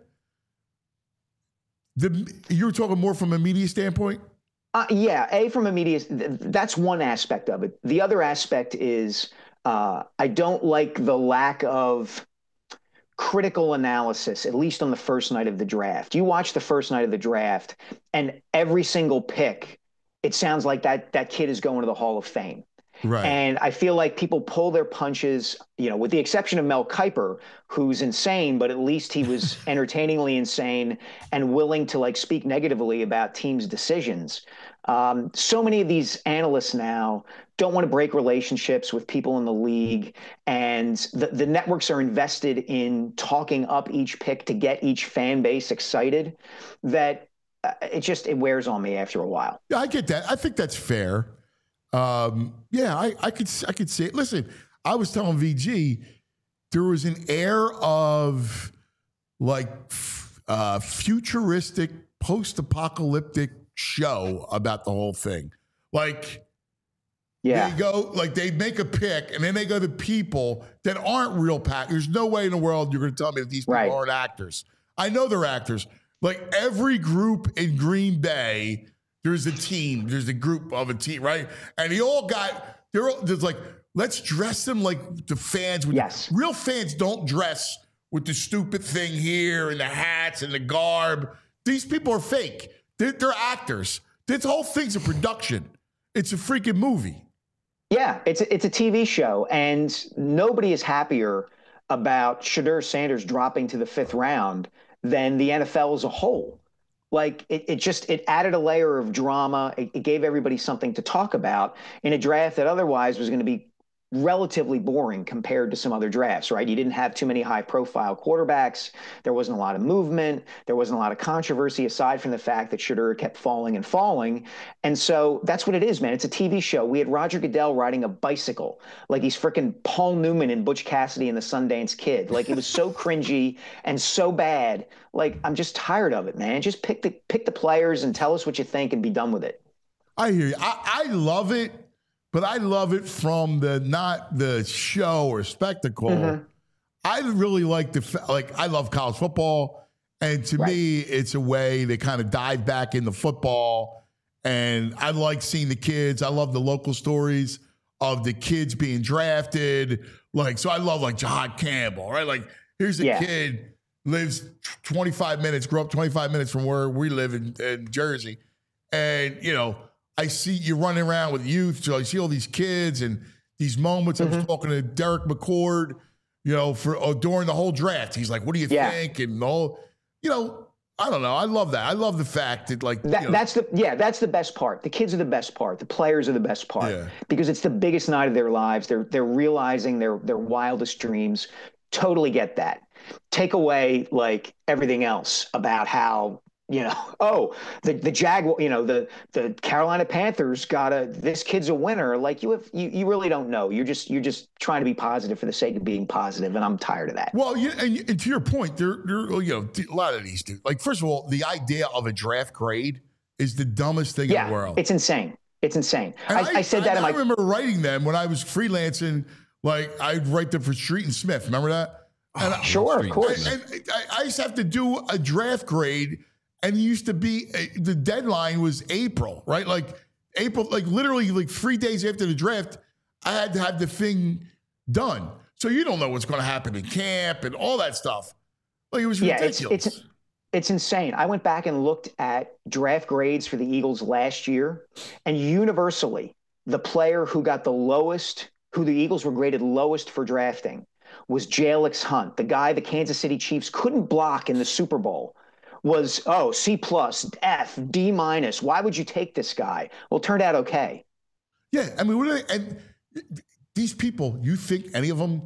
The you were talking more from a media standpoint. Uh, yeah, a from a media. th- That's one aspect of it. The other aspect is uh, I don't like the lack of critical analysis, at least on the first night of the draft. You watch the first night of the draft, and every single pick, it sounds like that that kid is going to the Hall of Fame. Right. And I feel like people pull their punches, you know, with the exception of Mel Kiper, who's insane, but at least he was entertainingly insane and willing to like speak negatively about teams' decisions. Um, so many of these analysts now don't want to break relationships with people in the league, and the, the networks are invested in talking up each pick to get each fan base excited. That uh, it just it wears on me after a while. Yeah, I get that. I think that's fair. Um, yeah, I, I could I could see it. Listen, I was telling V G there was an air of like f- uh, futuristic, post-apocalyptic show about the whole thing. Like Yeah. they go, like they make a pick, and then they go to people that aren't real pack. There's no way in the world you're going to tell me that these people Right. aren't actors. I know they're actors. Like every group in Green Bay, there's a team. There's a group of a team, right? And they all got. They're all, there's like, let's dress them like the fans would. Yes. Real fans don't dress with the stupid thing here and the hats and the garb. These people are fake. They're, they're actors. This whole thing's a production. It's a freaking movie. Yeah, it's a, it's a T V show, and nobody is happier about Shadur Sanders dropping to the fifth round than the N F L as a whole. Like it, it just it added a layer of drama. It, it gave everybody something to talk about in a draft that otherwise was going to be relatively boring compared to some other drafts, right? You didn't have too many high-profile quarterbacks. There wasn't a lot of movement. There wasn't a lot of controversy aside from the fact that Shedeur kept falling and falling. And so that's what it is, man. It's a T V show. We had Roger Goodell riding a bicycle like he's freaking Paul Newman in Butch Cassidy and the Sundance Kid. Like it was so cringy and so bad. Like I'm just tired of it, man. Just pick the pick the players and tell us what you think and be done with it. I hear you. I, I love it. But I love it from the not the show or spectacle. Mm-hmm. I really like the like. I love college football, and to right. me, it's a way to kind of dive back into football. And I like seeing the kids. I love the local stories of the kids being drafted. Like so, I love like Jahad Campbell, right? Like here's a yeah. kid lives twenty-five minutes, grew up twenty-five minutes from where we live in, in Jersey, and you know. I see you running around with youth, so I see all these kids and these moments. Mm-hmm. I was talking to Derek McCord, you know, for oh, during the whole draft. He's like, "What do you yeah. think?" And all, you know, I don't know. I love that. I love the fact that, like, that, you know, that's the yeah, that's the best part. The kids are the best part. The players are the best part yeah. because it's the biggest night of their lives. They're they're realizing their their wildest dreams. Totally get that. Take away like everything else about how. You know, oh, the the Jaguar, you know, the the Carolina Panthers got a this kid's a winner. Like you have, you, you really don't know. You're just you're just trying to be positive for the sake of being positive, and I'm tired of that. Well, you, and, and to your point, there, there, you know, a lot of these do. Like, first of all, the idea of a draft grade is the dumbest thing yeah, in the world. It's insane. It's insane. I, I, I said that. I, in my... I remember writing them when I was freelancing. Like I'd write them for Street and Smith. Remember that? And oh, I, sure, of course. And, and I, I used to have to do a draft grade. And it used to be, the deadline was April, right? Like April, like literally like three days after the draft, I had to have the thing done. So you don't know what's going to happen in camp and all that stuff. Like it was ridiculous. Yeah, it's, it's, it's insane. I went back and looked at draft grades for the Eagles last year, and universally, the player who got the lowest, who the Eagles were graded lowest for drafting was Jalix Hunt, the guy the Kansas City Chiefs couldn't block in the Super Bowl. Was, oh, C plus, F, D minus. Why would you take this guy? Well, it turned out okay. Yeah, I mean, what are they, and these people, you think any of them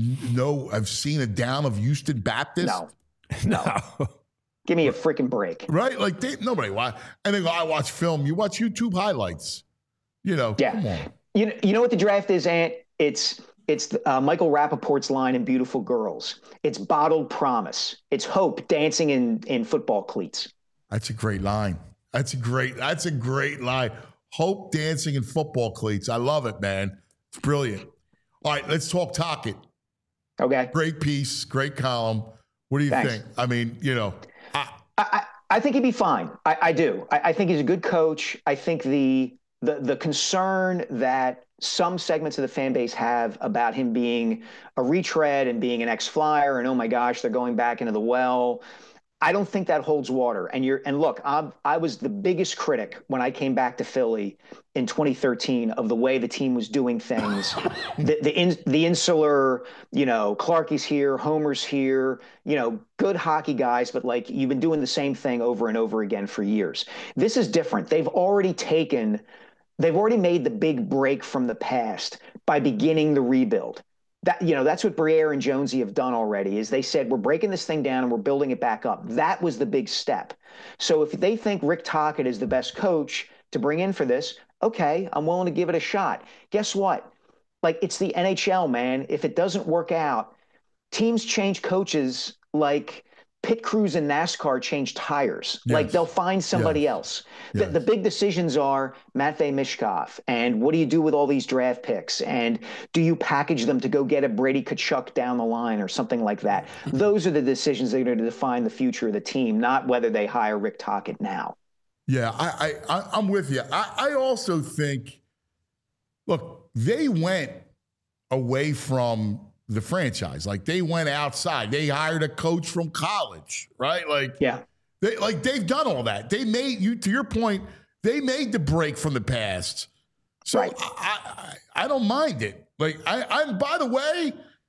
know, have seen a down of Houston Baptist? No, no. Give me a freaking break. Right? Like, they, nobody watch. And they go, I watch film. You watch YouTube highlights. You know, yeah. Come on. You know, you know what the draft is, Ant? It's It's uh, Michael Rappaport's line in Beautiful Girls. It's bottled promise. It's hope dancing in, in football cleats. That's a great line. That's a great, that's a great line. Hope dancing in football cleats. I love it, man. It's brilliant. All right, let's talk Tocchet. Okay. Great piece, great column. What do you Thanks. think? I mean, you know. I, I, I think he'd be fine. I, I do. I, I think he's a good coach. I think the the the concern that some segments of the fan base have about him being a retread and being an ex-Flyer and, oh, my gosh, they're going back into the well. I don't think that holds water. And you're and look, I'm, I was the biggest critic when I came back to Philly in twenty thirteen of the way the team was doing things. the the, in, the insular, you know, Clarkie's here, Homer's here, you know, good hockey guys, but like you've been doing the same thing over and over again for years. This is different. They've already taken – They've already made the big break from the past by beginning the rebuild. That, you know, that's what Briere and Jonesy have done already, is they said, we're breaking this thing down and we're building it back up. That was the big step. So if they think Rick Tocchet is the best coach to bring in for this, okay, I'm willing to give it a shot. Guess what? Like, it's the N H L, man. If it doesn't work out, teams change coaches like pit crews in NASCAR change tires. Yes. Like, they'll find somebody yes. else. The, yes. the big decisions are Matvei Mishkov, and what do you do with all these draft picks? And do you package them to go get a Brady Tkachuk down the line or something like that? Those are the decisions that are going to define the future of the team, not whether they hire Rick Tocchet now. Yeah, I, I, I'm with you. I, I also think, look, they went away from the franchise. Like, they went outside. They hired a coach from college, right? Like, yeah, they like they've done all that. They made you, to your point, they made the break from the past. So right. I, I I don't mind it. Like, I, I'm by the way,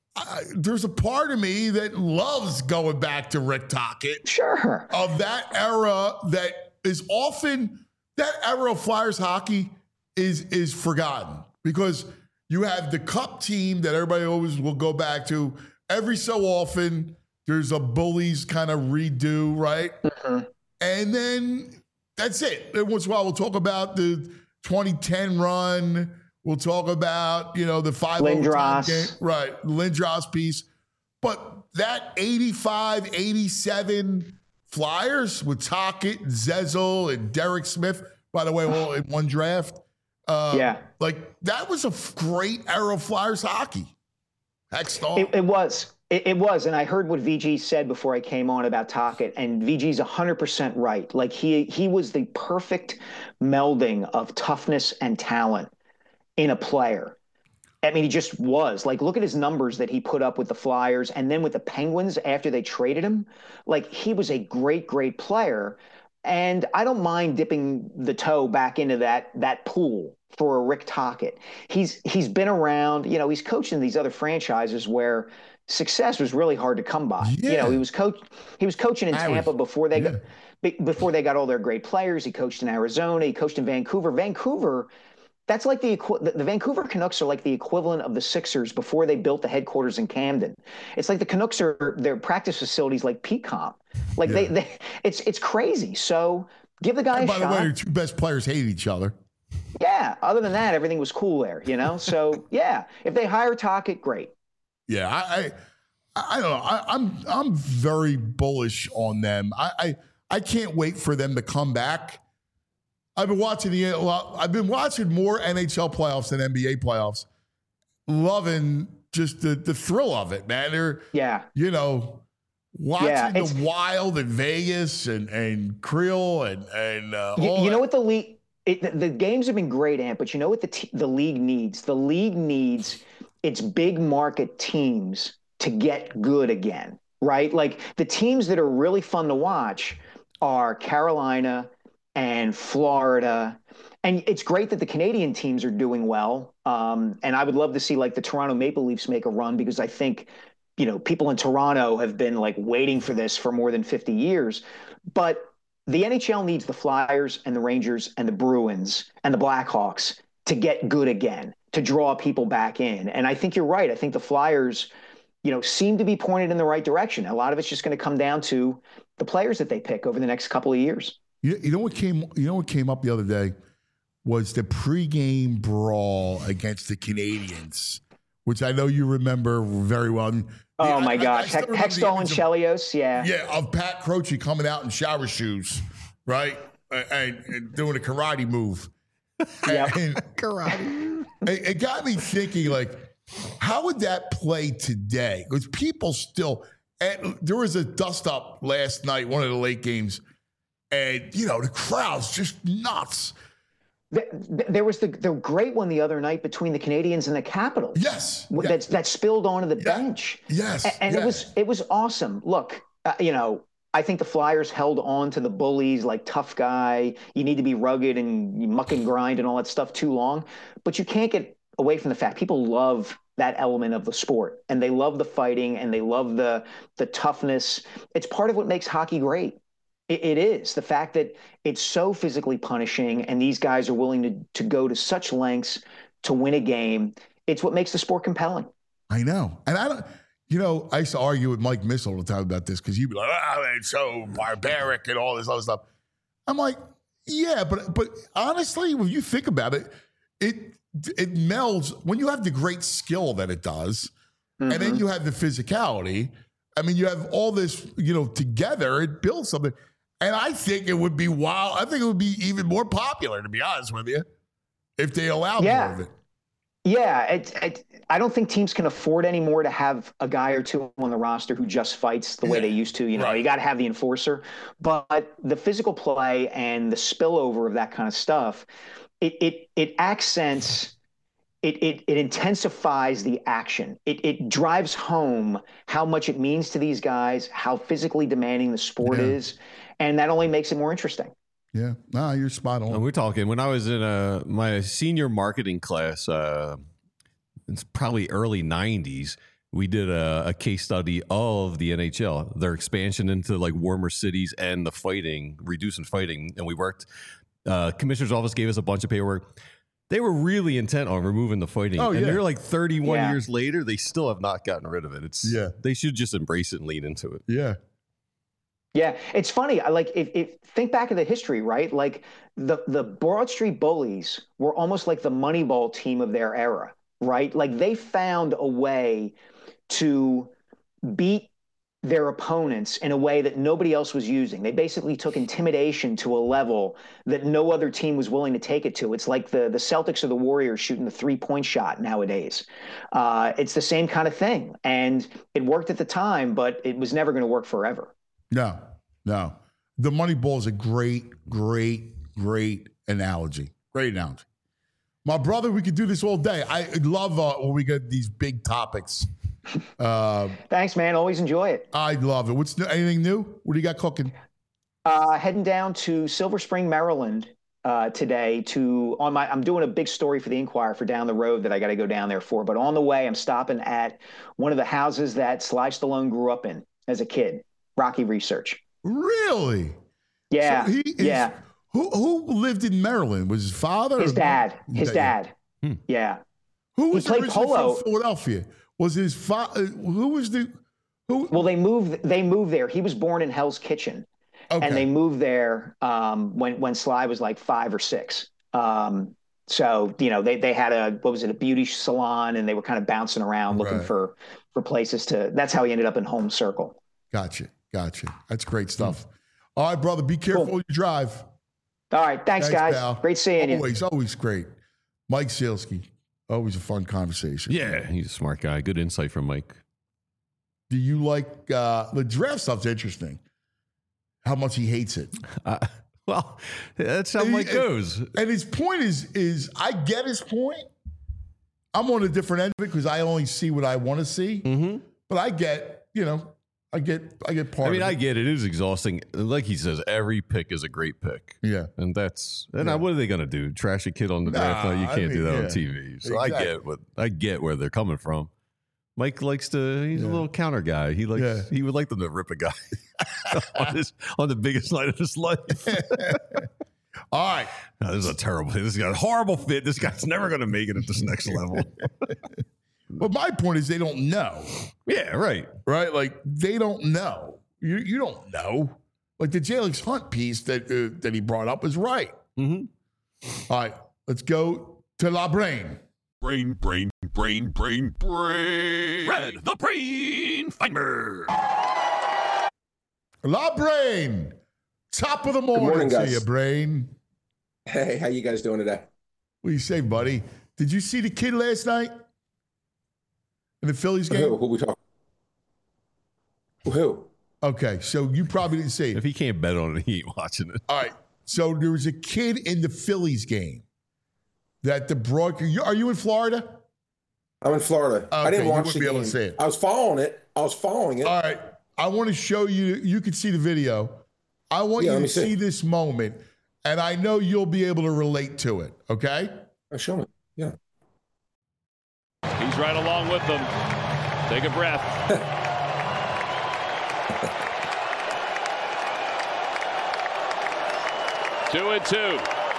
I, there's a part of me that loves going back to Rick Tocchet. Sure. Of that era that is often, that era of Flyers hockey is is forgotten because you have the Cup team that everybody always will go back to. Every so often, there's a Bullies kind of redo, right? Mm-hmm. And then that's it. Every once in a while, we'll talk about the twenty ten run. We'll talk about, you know, the five Lindros. Game, right, Lindros piece. But that eighty-five, eighty-seven Flyers with Tocchet, Zezel, and Derek Smith, by the way, all in one draft. Uh, yeah. Like, that was a great era of Flyers hockey. Heck, it, it was. It, it was. And I heard what V G said before I came on about Tocchet, and V G's one hundred percent right. Like, he he was the perfect melding of toughness and talent in a player. I mean, he just was. Like, look at his numbers that he put up with the Flyers and then with the Penguins after they traded him. Like, he was a great, great player. And I don't mind dipping the toe back into that that pool for a Rick Tocchet. He's he's been around, you know, he's coached in these other franchises where success was really hard to come by. Yeah. You know, he was coach he was coaching in I Tampa was, before they yeah. got before they got all their great players. He coached in Arizona, he coached in Vancouver. Vancouver, that's like the the Vancouver Canucks are like the equivalent of the Sixers before they built the headquarters in Camden. It's like the Canucks are their practice facilities like P COM. Like yeah. they, they, it's it's crazy. So give the guy and a by shot. By the way, your two best players hate each other. Yeah. Other than that, everything was cool there. You know. So yeah, if they hire Tocchet, great. Yeah, I, I, I don't know. I, I'm I'm very bullish on them. I, I I can't wait for them to come back. I've been watching the I've been watching more N H L playoffs than N B A playoffs. Loving just the the thrill of it, man. They're yeah, you know, watching yeah, the Wild in Vegas and and Creel and and uh, you, all you know that. what the league it, the, the games have been great, Ant, but you know what the t- the league needs? The league needs its big market teams to get good again, right? Like the teams that are really fun to watch are Carolina and Florida. And it's great that the Canadian teams are doing well. Um, and I would love to see like the Toronto Maple Leafs make a run because I think, you know, people in Toronto have been like waiting for this for more than fifty years. But the N H L needs the Flyers and the Rangers and the Bruins and the Blackhawks to get good again, to draw people back in. And I think you're right. I think the Flyers, you know, seem to be pointed in the right direction. A lot of it's just going to come down to the players that they pick over the next couple of years. You, you know what came? You know what came up the other day was the pregame brawl against the Canadians, which I know you remember very well. I mean, oh I, my gosh, I, I Hextall and Chelios, yeah, yeah, of Pat Croce coming out in shower shoes, right, and, and doing a karate move. Yeah, karate. It, it got me thinking, like, how would that play today? Because people still, and there was a dust up last night, one of the late games. And, you know, the crowd's just nuts. There was the, the great one the other night between the Canadians and the Capitals. Yes. That, yes. that spilled onto the yeah. bench. Yes. And, and yes. it was it was awesome. Look, uh, you know, I think the Flyers held on to the bullies like tough guy. You need to be rugged and you muck and grind and all that stuff too long. But you can't get away from the fact people love that element of the sport. And they love the fighting and they love the the toughness. It's part of what makes hockey great. It is the fact that it's so physically punishing and these guys are willing to, to go to such lengths to win a game. It's what makes the sport compelling. I know. And I don't, you know, I used to argue with Mike Miss all the time about this because he'd be like, oh, it's so barbaric and all this other stuff. I'm like, yeah, but but honestly, when you think about it, it it melds when you have the great skill that it does, mm-hmm. and then you have the physicality. I mean, you have all this, you know, together, it builds something. And I think it would be wild. I think it would be even more popular, to be honest with you, if they allowed yeah. more of it. Yeah, it, it, I don't think teams can afford anymore to have a guy or two on the roster who just fights the way yeah. they used to. You know, right. you got to have the enforcer. But the physical play and the spillover of that kind of stuff, it it it accents, it it it intensifies the action. It it drives home how much it means to these guys, how physically demanding the sport yeah. is. And that only makes it more interesting. Yeah, nah, you're spot on. And we're talking when I was in a, my senior marketing class, uh, it's probably early nineties. we did a, a case study of the N H L, their expansion into like warmer cities and the fighting, reducing fighting. And we worked, uh, commissioner's office gave us a bunch of paperwork. They were really intent on removing the fighting. Oh, and yeah. they're like thirty-one Yeah. years later, they still have not gotten rid of it. It's Yeah. They should just embrace it and lean into it. Yeah. Yeah, it's funny. I like if, if think back of the history, right? Like the the Broad Street Bullies were almost like the Moneyball team of their era, right? Like they found a way to beat their opponents in a way that nobody else was using. They basically took intimidation to a level that no other team was willing to take it to. It's like the the Celtics or the Warriors shooting the three-point shot nowadays. Uh, it's the same kind of thing, and it worked at the time, but it was never going to work forever. No, no. The Moneyball is a great, great, great analogy. Great analogy. My brother, we could do this all day. I love uh, when we get these big topics. Uh, Thanks, man. Always enjoy it. I love it. What's new, anything new? What do you got cooking? Uh, heading down to Silver Spring, Maryland uh, today to on my. I'm doing a big story for the Inquirer for down the road that I got to go down there for. But on the way, I'm stopping at one of the houses that Sly Stallone grew up in as a kid. Rocky Research. Really? Yeah, So he is- yeah. Who who lived in Maryland? Was his father? His or- dad. His dad. Hmm. Yeah. Who was He played originally polo. from Philadelphia? Was his father? Who was the? Who? Well, they moved. They moved there. He was born in Hell's Kitchen, Okay. and they moved there um, when when Sly was like five or six. Um, so you know, they they had a what was it, a beauty salon, and they were kind of bouncing around looking Right. for for places to. That's how he ended up in Home Circle. Gotcha. Gotcha. That's great stuff. All right, brother. Be careful Cool. when you drive. All right, thanks, guys. pal. Great seeing you. Always, always great. Mike Sealski. Always a fun conversation. Yeah, he's a smart guy. Good insight from Mike. Do you like uh, the draft stuff's interesting? How much he hates it. Uh, well, that's how And he- Mike goes. And his point is, is I get his point. I'm on a different end of it because I only see what I want to see. Mm-hmm. But I get, you know, I get, I get part I mean, of I it. get it. It is exhausting. Like he says, every pick is a great pick. Yeah. And that's and Yeah. what are they going to do? Trash a kid on the draft Nah, night? You I can't do mean, that yeah. on T V. So I Exactly. get what I get where they're coming from. Mike likes to. He's Yeah. a little counter guy. He likes. Yeah. He would like them to rip a guy on, his, on the biggest night of his life. All right. No, this is a terrible. This got a horrible fit. This guy's never going to make it at this next level. But my point is they don't know, Yeah, right. right? Like they don't know. You you don't know. Like the Jalix Hunt piece that uh, that he brought up was right. Mm-hmm. All right, let's go to La Brain. Brain, brain, brain, brain, brain. Red, the brain finder. La Brain. Top of the morning, morning, to guys. you, Brain. Hey, how you guys doing today? What do you say, buddy? Did you see the kid last night in the Phillies Who? game? Who we talking? Who? Okay, so you probably didn't see it. If he can't bet on it, he ain't watching it. All right. So there was a kid in the Phillies game that the broadcast. Are you in Florida? I'm in Florida. I Okay, didn't you watch wouldn't the be able game. to see it. I was following it. I was following it. All right. I want to show you. You can see the video. I want Yeah, you let to me see. see. this moment, and I know you'll be able to relate to it. Okay. Oh, show me. Yeah. He's right along with them. Take a breath. Two and two.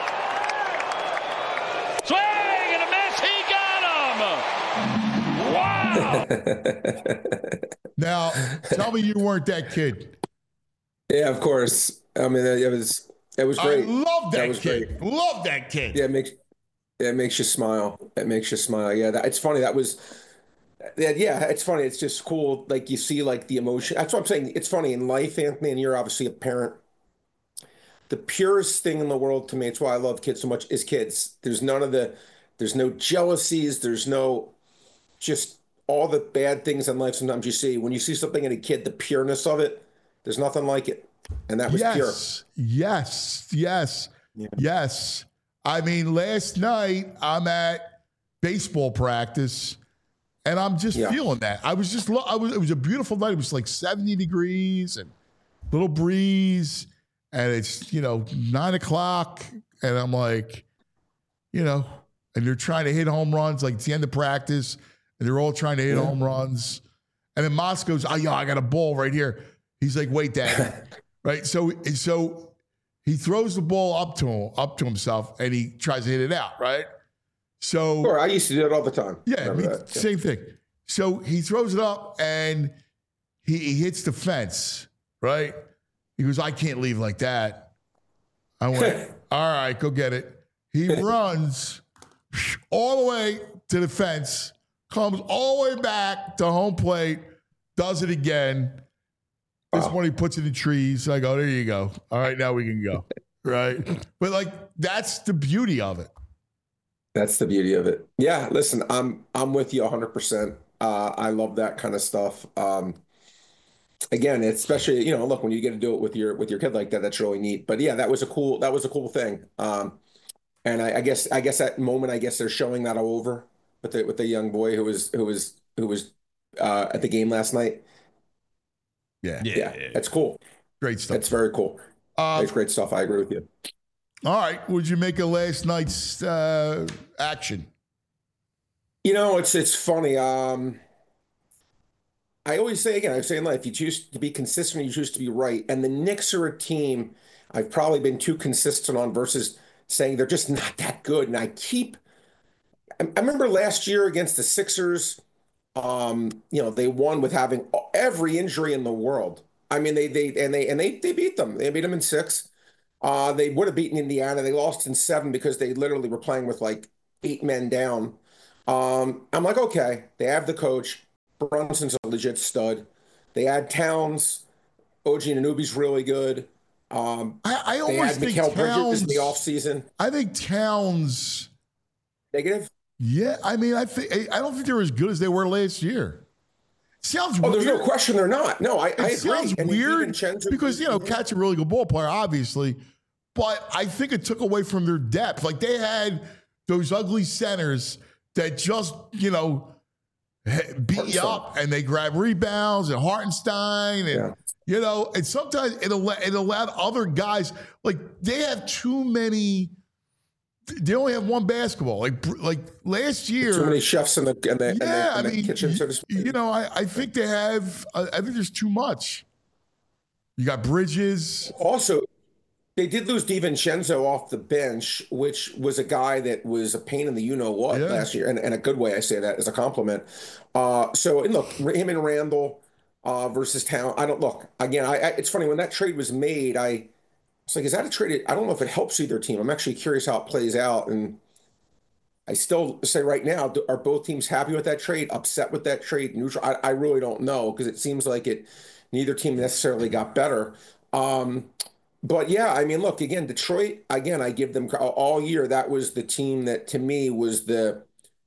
Swing and a miss. He got him. Wow. Now, tell me you weren't that kid. Yeah, of course. I mean, it was it was great. I love that, That was kid. great. Love that kid. Yeah, it makes it makes you smile. It makes you smile. Yeah, that, it's funny. That was. Yeah, yeah, it's funny. It's just cool. Like you see, like the emotion. That's what I'm saying. It's funny in life, Anthony, and you're obviously a parent. The purest thing in the world to me, it's why I love kids so much, is kids. There's none of the, there's no jealousies. There's no, just all the bad things in life sometimes you see. When you see something in a kid, the pureness of it, there's nothing like it. And that was pure. Yes. Yes. Yes. Yeah. Yes. I mean, last night I'm at baseball practice. And I'm just Yeah. feeling that. I was just, lo- I was. It was a beautiful night. It was like seventy degrees and little breeze, and it's you know nine o'clock, and I'm like, you know, and they're trying to hit home runs. Like it's the end of practice, and they're all trying to hit Yeah. home runs. And then Moss goes, oh, yeah, I got a ball right here. He's like, wait, Dad. Right? So, so he throws the ball up to him, up to himself, and he tries to hit it out, right? So, Sure, I used to do it all the time. yeah, I Remember mean, that? Yeah. same thing. So he throws it up, and he, he hits the fence, right? He goes, I can't leave like that. I went, all right, go get it. He runs all the way to the fence, comes all the way back to home plate, does it again. This Wow. one he puts in the trees. I go, there you go. All right, now we can go. Right? But like, that's the beauty of it. That's the beauty of it. Yeah, listen, I'm I'm with you one hundred percent. Uh, I love that kind of stuff. Um, again, especially, you know, look, when you get to do it with your with your kid like that, that's really neat. But yeah, that was a cool that was a cool thing. Um, and I, I guess I guess that moment, I guess they're showing that all over with the with the young boy who was who was who was uh, at the game last night. Yeah. Yeah, that's cool. Great stuff. That's very cool. Uh, That's great stuff. I agree with you. all right. Would you make a last night's uh, action? You know, it's it's funny. Um, I always say again, I say in life, you choose to be consistent, you choose to be right. And the Knicks are a team I've probably been too consistent on versus saying they're just not that good. And I keep, I, I remember last year against the Sixers, um, you know, they won with having every injury in the world. I mean, they they and they and they they beat them. They beat them in six. Uh, they would have beaten Indiana. They lost in seven because they literally were playing with like eight men down. Um, I'm like, okay, they have the coach. Brunson's a legit stud. They add Towns. O G Anunoby's really good. Um, I, I they always add think Mikal Bridges Towns. in the offseason. I think Towns. Negative? Yeah, I mean, I think I don't think they're as good as they were last year. Sounds Oh, weird. there's no question they're not. No, I, I It agree. sounds And weird DiVincenzo- because you know Cat's a really good ball player, obviously, but I think it took away from their depth. Like they had those ugly centers that just you know beat you up and they grab rebounds and Hartenstein and Yeah. you know and sometimes it allowed, it allowed other guys like they have too many. They only have one basketball. Like like last year, Too many chefs in the, in the, in the, yeah, in I the mean, kitchen, so to you, speak. you know, I, I think they have. I I think there's too much. You got Bridges. Also, they did lose DiVincenzo off the bench, which was a guy that was a pain in the you-know-what Yeah. last year, and in a good way, I say that as a compliment. Uh, so, and look, him and Randall uh, versus Town. I don't look again. I, I it's funny when that trade was made. I it's like, is that a trade? I don't know if it helps either team. I'm actually curious how it plays out, and I still say right now, do- are both teams happy with that trade? Upset with that trade? Neutral? I, I really don't know because it seems like it. Neither team necessarily got better. Um, But yeah, I mean, look, again, Detroit, again, I give them all year. That was the team that to me was the,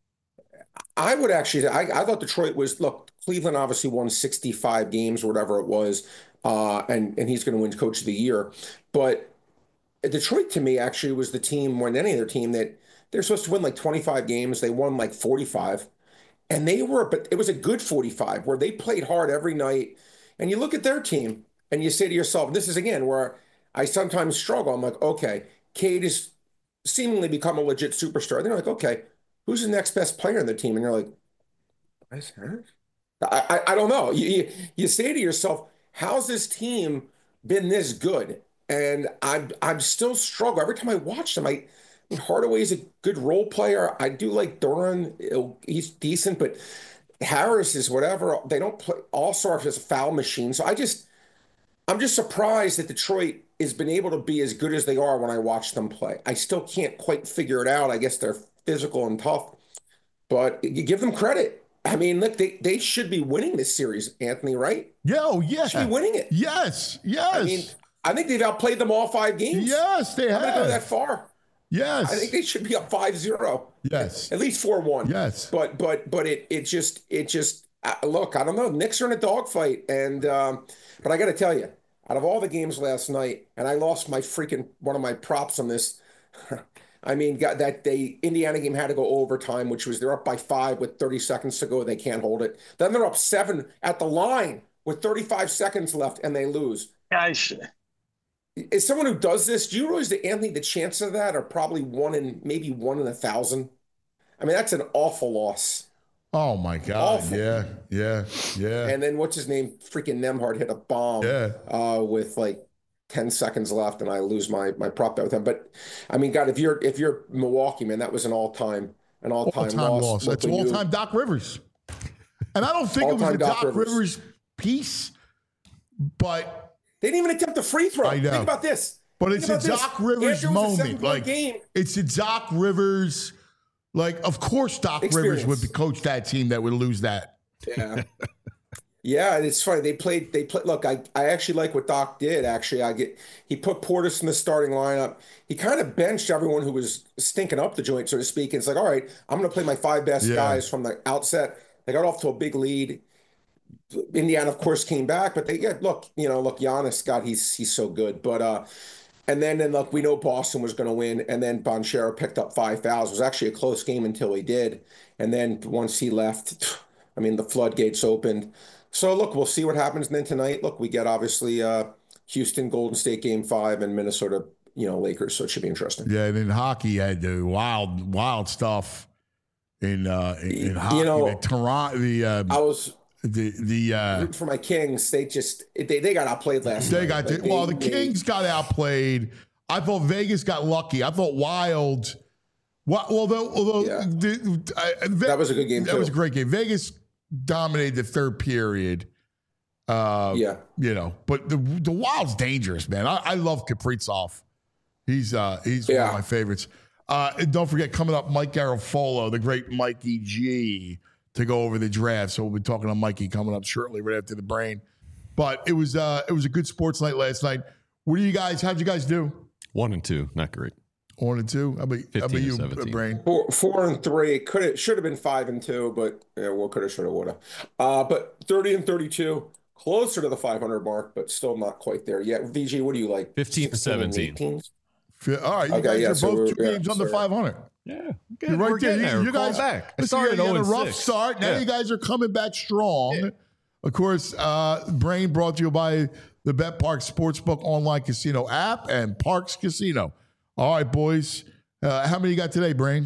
I would actually, I, I thought Detroit was, look, Cleveland obviously won sixty-five games or whatever it was. Uh, and, and he's going to win coach of the year. But Detroit to me actually was the team more than any other team that they're supposed to win like twenty-five games. They won like forty-five and they were, but it was a good forty-five where they played hard every night. And you look at their team and you say to yourself, this is again where I sometimes struggle. I'm like, okay, Cade has seemingly become a legit superstar. And they're like, okay, who's the next best player in the team? And you're like, I, I, I don't know. You, you, you say to yourself, how's this team been this good? And I'm I'm still struggle. Every time I watch them, I Hardaway's a good role player. I do like Duran. He's decent, but Harris is whatever. They don't play. All-Star is a foul machine. So I just, I'm just surprised that Detroit has been able to be as good as they are when I watch them play. I still can't quite figure it out. I guess they're physical and tough, but you give them credit. I mean, look, they, they should be winning this series, Anthony, right? Yeah, oh, yeah. Should be winning it. Yes, yes. I mean, I think they've outplayed them all five games. Yes, they I'm going to go have. that far. Yes. I think they should be up five zero. Yes. At least four one. Yes. But but but it it just it just uh, look, I don't know. Knicks are in a dogfight, and um, but I got to tell you, out of all the games last night, and I lost my freaking one of my props on this. I mean, got that they Indiana game had to go overtime, which was they're up by five with thirty seconds to go. They can't hold it. Then they're up seven at the line with thirty-five seconds left, and they lose. Guys, As someone who does this, do you realize that, Anthony, the chances of that are probably one in maybe one in a thousand? I mean, that's an awful loss. Oh my God! Awful. Yeah, yeah, yeah. And then what's his name? Freaking Nemhard hit a bomb Yeah. uh, with like ten seconds left, and I lose my my prop bet with him. But I mean, God, if you're if you're Milwaukee, man, that was an all time an all time All-time loss. loss. Look, That's when you- all-time Doc Rivers. And I don't think it was All-time a Doc Doc Rivers. Rivers piece, but They didn't even attempt a free throw. I know. Think about this. but Think it's a about this. Doc Rivers After it was a moment. seven-point Like game. it's a Doc Rivers. Like, of course, Doc Experience. Rivers would coach that team that would lose that. Yeah. Yeah, and it's funny. They played. They played. Look, I, I actually like what Doc did. Actually, I get. He put Portis in the starting lineup. He kind of benched everyone who was stinking up the joint, so to speak. And it's like, all right, I'm going to play my five best Yeah. guys from the outset. They got off to a big lead. Indiana, of course, came back, but they yeah, look, you know, look, Giannis, God, he's he's so good. But uh, and then and look, we know Boston was going to win, and then Bonchero picked up five fouls. It was actually a close game until he did, and then once he left, I mean, the floodgates opened. So look, we'll see what happens. And then tonight, look, we get obviously uh, Houston, Golden State game five, and Minnesota, you know, Lakers. So it should be interesting. Yeah, and in hockey, had the wild, wild stuff in uh, in, in hockey. You know, the Toronto, the uh, I was the the uh, rooting for my Kings. They just they they got outplayed last they night. got Like, the, well, the they- Kings got outplayed. I thought Vegas got lucky. I thought Wild. Well, although although Yeah. the, I, Ve- That was a good game, That too. was a great game. Vegas dominated the third period. Uh, Yeah. you know, but the the Wild's dangerous, man. I, I love Kaprizov. He's uh he's one Yeah. of my favorites. Uh, and don't forget, coming up, Mike Garafolo, the great Mikey G, to go over the draft. So we'll be talking to Mikey coming up shortly, right after the brain. But it was uh it was a good sports night last night. What do you guys? How'd you guys do? One and two, not great. One and two. How about, how about fifteen you, and seventeen. Brain? Four, four and three. Could have should have been five and two, but yeah, well, could have, should have, would have. Uh, but thirty and thirty-two, closer to the five hundred mark, but still not quite there yet. V G, what do you like? fifteen to sixteen and seventeen. eighteen? All right, you Okay, guys yeah, are so both we're- two yeah, games under so- five hundred. Yeah, You're right we're there. getting You, there. you Call guys back. I listen, started you had a oh and rough six. start. Now Yeah. you guys are coming back strong. Of course, uh, Brain brought to you by the Bet Park Sportsbook online casino app and Parks Casino. All right, boys. Uh, how many you got today, Brain?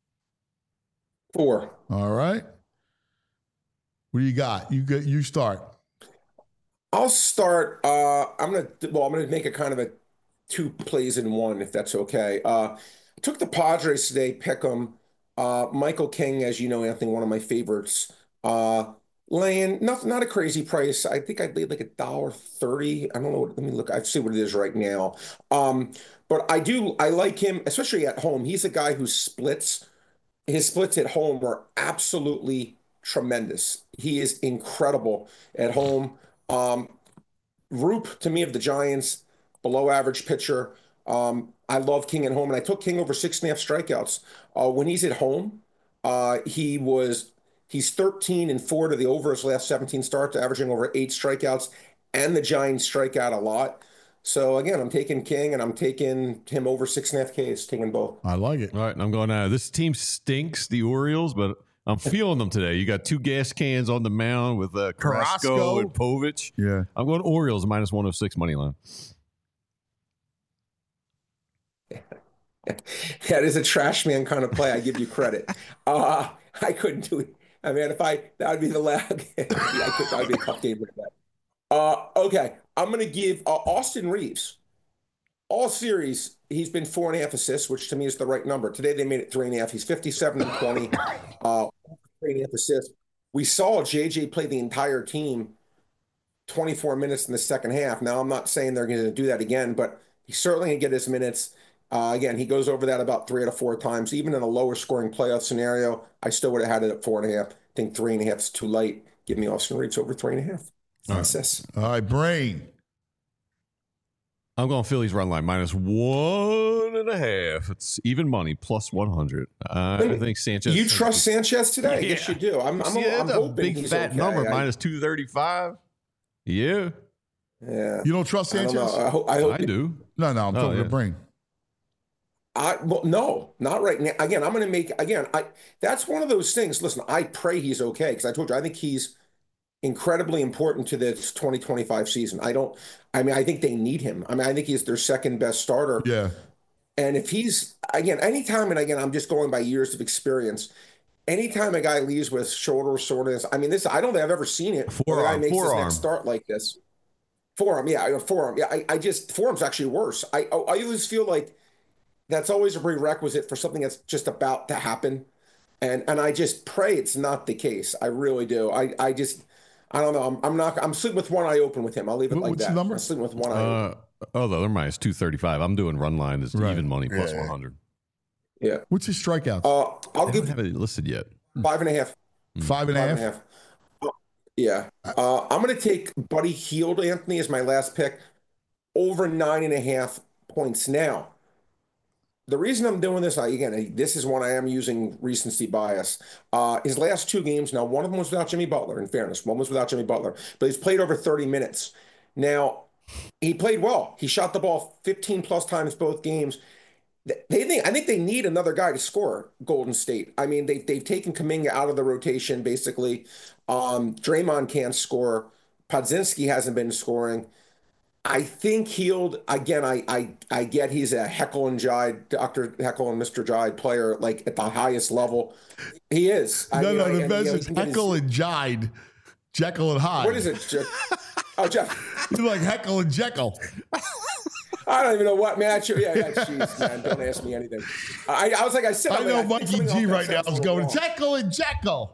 Four. All right. What do you got? You get. You start. I'll start. Uh, I'm gonna well, I'm gonna make a kind of a two plays in one, if that's okay. Uh, I took the Padres today. Pick 'em. Uh, Michael King, as you know, Anthony, one of my favorites. Uh, laying not not a crazy price. I think I laid like a dollar thirty. I don't know. What, let me look. I see what it is right now. Um, but I do. I like him, especially at home. He's a guy who splits. His splits at home were absolutely tremendous. He is incredible at home. Um, Roop, to me, of the Giants, below average pitcher. Um, I love King at home, and I took King over six and a half strikeouts. Uh, when he's at home, uh, he was he's thirteen and four to the over his last seventeen starts, averaging over eight strikeouts, and the Giants strike out a lot. So again, I'm taking King, and I'm taking him over six and a half Ks, taking both. I like it. All right, and I'm going, uh, this team stinks, the Orioles, but I'm feeling them today. You got two gas cans on the mound with uh, Carrasco, Carrasco. and Povich. Yeah. I'm going Orioles minus one oh six money line. That is a trash man kind of play. I give you credit. Uh, I couldn't do it. I mean, if I, that would be the last, yeah, I could, that would be a tough game with that. Uh, okay. I'm going to give uh, Austin Reeves. All series, he's been four and a half assists, which to me is the right number. Today they made it three and a half. He's fifty-seven and twenty, uh, three and a half assists. We saw J J play the entire team twenty-four minutes in the second half. Now, I'm not saying they're going to do that again, but he's certainly going to get his minutes. Uh, again, he goes over that about three out of four times. Even in a lower scoring playoff scenario, I still would have had it at four and a half. I think three and a half is too light. Give me Austin Reeves over three and a half. Assists. All right, Brain. I'm going Phillies run line minus one and a half. It's even money plus one hundred. Uh, I think Sanchez. You trust Sanchez today? I guess Yeah. you do. I'm, I'm, yeah, I'm that's a hoping big he's fat okay. number I, minus two thirty-five. Yeah, Yeah. You don't trust I don't Sanchez? know. I hope. I, hope I do. No, no. I'm Oh, talking yeah. to Brain. I well, no, not right now. Again, I'm going to make again. I that's one of those things. Listen, I pray he's okay because I told you I think he's incredibly important to this twenty twenty-five season. I don't. I mean, I think they need him. I mean, I think he's their second best starter. Yeah. And if he's again, anytime, and again, I'm just going by years of experience. anytime a guy leaves with shoulder soreness, I mean, this I don't think I've ever seen it. Where a guy Forearm, makes his forearm. next start like this. Forearm, yeah, forearm. Yeah, I, I just forearm's actually worse. I I always feel like that's always a prerequisite for something that's just about to happen. And and I just pray it's not the case. I really do. I, I just I don't know. I'm, I'm not I'm sleeping with one eye open with him. I'll leave it What- like what's that. the number? I'm sleeping with one eye open. Uh, oh, the other mine is two thirty-five. I'm doing run line is Right. even money plus Yeah. one hundred. Yeah. What's his strikeouts? Uh, I'll I don't give have it listed yet. five and a half. Five and a Five half. and a half. Uh, Yeah. Uh, I'm going to take Buddy Hield, Anthony, as my last pick, over nine and a half points. Now, the reason I'm doing this, I, again, this is one I am using recency bias. Uh, his last two games, now one of them was without Jimmy Butler, in fairness. One was without Jimmy Butler, but he's played over thirty minutes. Now, he played well. He shot the ball fifteen plus times both games. They think I think they need another guy to score. Golden State. I mean, they they've taken Kuminga out of the rotation basically. Um, Draymond can't score. Podzinski hasn't been scoring. I think Hield again. I I I get he's a Heckle and Jide, Doctor Heckle and Mister Jide player, like at the highest level. He is. I No, mean, no, I- the and, best you know, is he can get his- Heckle and Jide. Jekyll and Hyde. What is it? Jeff? Oh, Jeff. It's like Heckle and Jekyll. I don't even know what match. Yeah, yeah, jeez, man. Don't ask me anything. I, I was like, I said, I I'm know like, Mikey think something G off right that now sounds is a little going, wrong. Jekyll and Jekyll.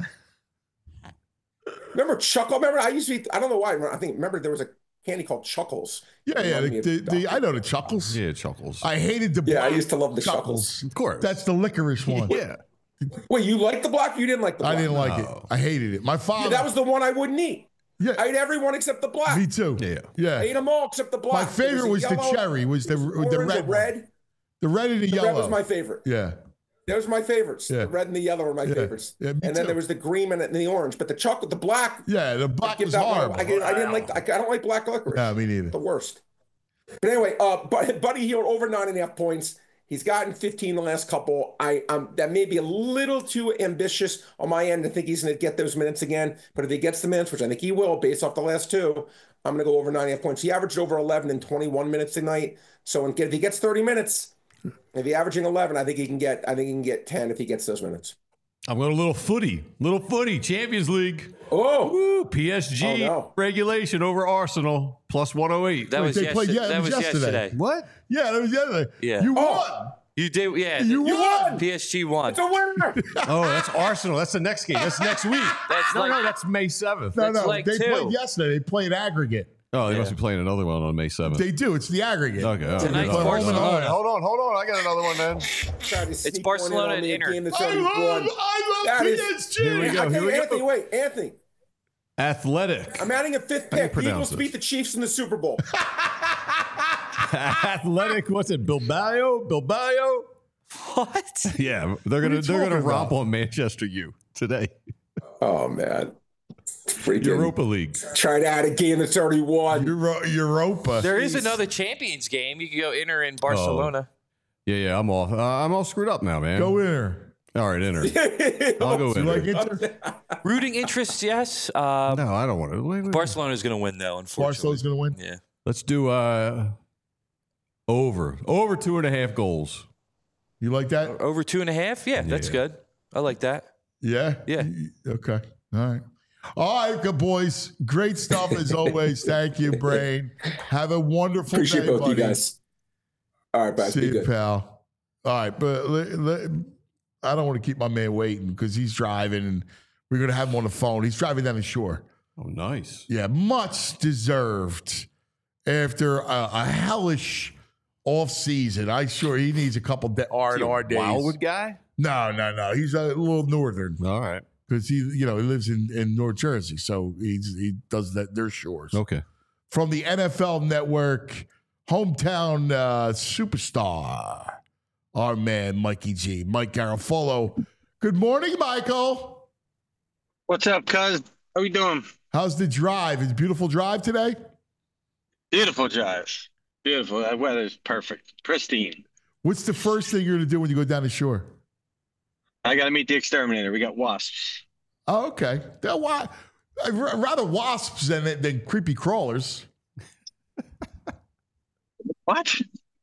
Remember Chuckle? Remember, I used to be, I don't know why. I think, remember there was a candy called Chuckles. Yeah, It yeah. reminded The, me the, of the, Doctor I know the Chuckles. Yeah, Chuckles. I hated the Yeah, I black used to love the Chuckles. Of course. That's the licorice one. yeah. Wait, you liked the black? You didn't like the black? I didn't like it. No. I hated it. My Yeah, father. that was the one I wouldn't eat. yeah, I ate every one except the black. me too. Yeah. Yeah. I ate them all except the black. My There favorite a was the yellow, cherry, was the- there with the orange, red a one. red. The red and the, The yellow. red was my favorite. yeah. Those were my favorites. Yeah. The red and the yellow were my Yeah. favorites. Yeah, me and then too. there was the green and the orange. But the chocolate, the black, Yeah, the I black give was that one- horrible. I, didn't, I didn't like. I, I don't like black licorice. No, me neither. The worst. But anyway, uh, but Buddy Hield over nine and a half points. He's gotten fifteen the last couple. I um that may be a little too ambitious on my end to think he's going to get those minutes again. But if he gets the minutes, which I think he will, based off the last two, I'm going to go over nine and a half points. He averaged over eleven in twenty-one minutes tonight. So if he gets thirty minutes, if he's averaging eleven, I think he can get. I think he can get ten if he gets those minutes. I'm going a little footy. Little footy. Champions League. Oh, Woo. P S G Oh, no. regulation over Arsenal plus one oh eight. That Wait, was, they yes- played- yeah, it that was was yesterday. yesterday. What? Yeah, that was the other. Yeah. You Oh. won. You did, yeah. You you won. won! P S G won. It's a winner. Oh, that's Arsenal. That's the next game. That's next week. That's no, like- no, that's May seventh. No, That's no. like they two. played yesterday. They played aggregate. Oh, they Yeah. must be playing another one on May seventh. They do. It's the aggregate. Okay. all Tonight's right. Barcelona. All right, Hold on, hold on. I got another one, man. Tried to sneak Barcelona one in on and me, a Inter. game that's I already love, won. I love That P is- S G. Here we go. Okay, Here we Anthony, go. wait, Anthony. Athletic. I'm adding a fifth How do you pick. pronounce Eagles this? beat the Chiefs in the Super Bowl. Athletic. What's it? Bilbao. Bilbao. What? Yeah, they're gonna you they're gonna talking romp about? on Manchester U today. Oh man, freaking Europa League. try to add a game that's already won. Euro, Europa. There is Jeez. another Champions game. You can go Inter in Barcelona. Yeah, yeah. I'm off. Uh, I'm all screwed up now, man. Go in there. All right, enter. I'll go You in. like Inter? Rooting interest, yes. Um, No, I don't want to. Wait, wait, Barcelona's going to win, though, unfortunately. Barcelona's going to win? Yeah. Let's do uh over over two and a half goals. You like that? Over two and a half? Yeah, that's Yeah. good. I like that. Yeah? Yeah. Okay. All right. All right, good boys. Great stuff as always. Thank you, Brain. Have a wonderful Appreciate day, both buddy. you guys. All right, guys. See Be you, good. pal. All right, but let- let- I don't want to keep my man waiting because he's driving and we're going to have him on the phone. He's driving down the shore. Oh, nice. Yeah, much deserved after a, a hellish off season. I'm sure he needs a couple de- R and R days. Wildwood guy. No, no, no. He's a little northern All right. because he, you know, he lives in, in North Jersey, so he's he does that their shores. Okay. From the N F L Network, hometown uh, superstar, our man Mikey G, Mike Garofalo. Good morning, Michael. What's up, cuz? How we doing? How's the drive? Is it a beautiful drive today? Beautiful drive. Beautiful. That weather's perfect. Pristine. What's the first thing you're going to do when you go down the shore? I got to meet the exterminator. We got wasps. Oh, okay. They're wa- I'd ra- rather wasps than than creepy crawlers. What?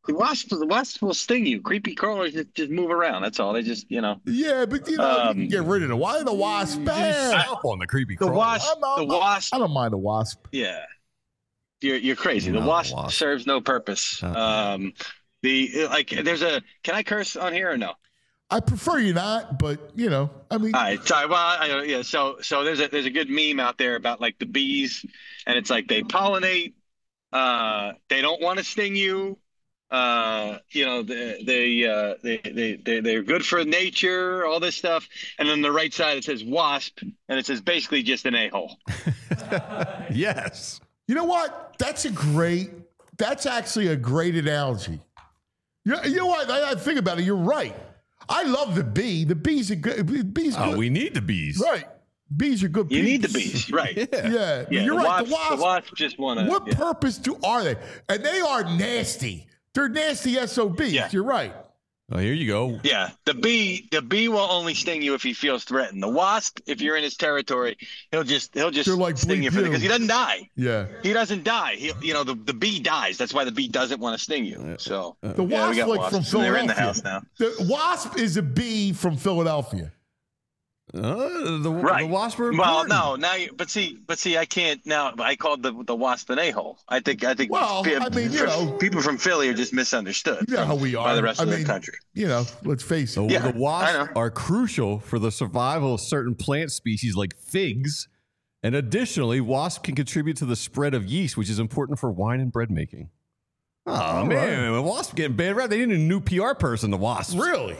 The wasp, the wasp will sting you. Creepy crawlers just, just move around. That's all. They just, you know. Yeah, but you know, Um, you can get rid of the why the wasp bad. Stop on the creepy The crawler. wasp, I'm not- the wasp. I don't mind the wasp. Yeah, you're you're crazy. No, the wasp, wasp. serves no purpose. Uh-uh. Um, the like, there's a. Can I curse on here or no? I prefer you not, but you know, I mean, All right, sorry. Well, I, yeah. So, so there's a there's a good meme out there about like the bees, and it's like they pollinate. Uh, they don't want to sting you. Uh, you know, they they, uh, they they they they're good for nature. All this stuff, and then the right side it says wasp, and it says basically just an a-hole. Yes. you know what? That's a great. That's actually a great analogy. You, you know what? I, I think about it. You're right. I love the bee. The bees are good. Bees Oh, good. we need the bees. right. Bees are good. You need the peeps. bees, right? Yeah. Yeah, Yeah, you're the right. wasp, the wasp. the wasp just want to. What Yeah. purpose do are they? And they are nasty. They're nasty S O Bs. Yeah. You're right. Oh, here you go. Yeah, the bee, the bee will only sting you if he feels threatened. The wasp, if you're in his territory, he'll just he'll just They're like sting bleep you for you. because he doesn't die. Yeah. He doesn't die. He, you know, the, the bee dies. That's why the bee doesn't want to sting you. So The yeah, we wasp, got like from wasps, and they're in the Philadelphia. house now. The wasp is a bee from Philadelphia. Uh, the, Right. the wasp are Well, important. no, now you, but see, but see, I can't now. I called the the wasp an a-hole. I think I think Well, pe- I mean, you for- know. people from Philly are just misunderstood. You know how from- we are. by the rest I of mean, the country. You know, let's face it. The, Yeah, the I wasps know. are crucial for the survival of certain plant species like figs. And additionally, wasps can contribute to the spread of yeast, which is important for wine and bread making. Oh, All man. The wasps getting bad rap. They need a new P R person, the wasps. Really?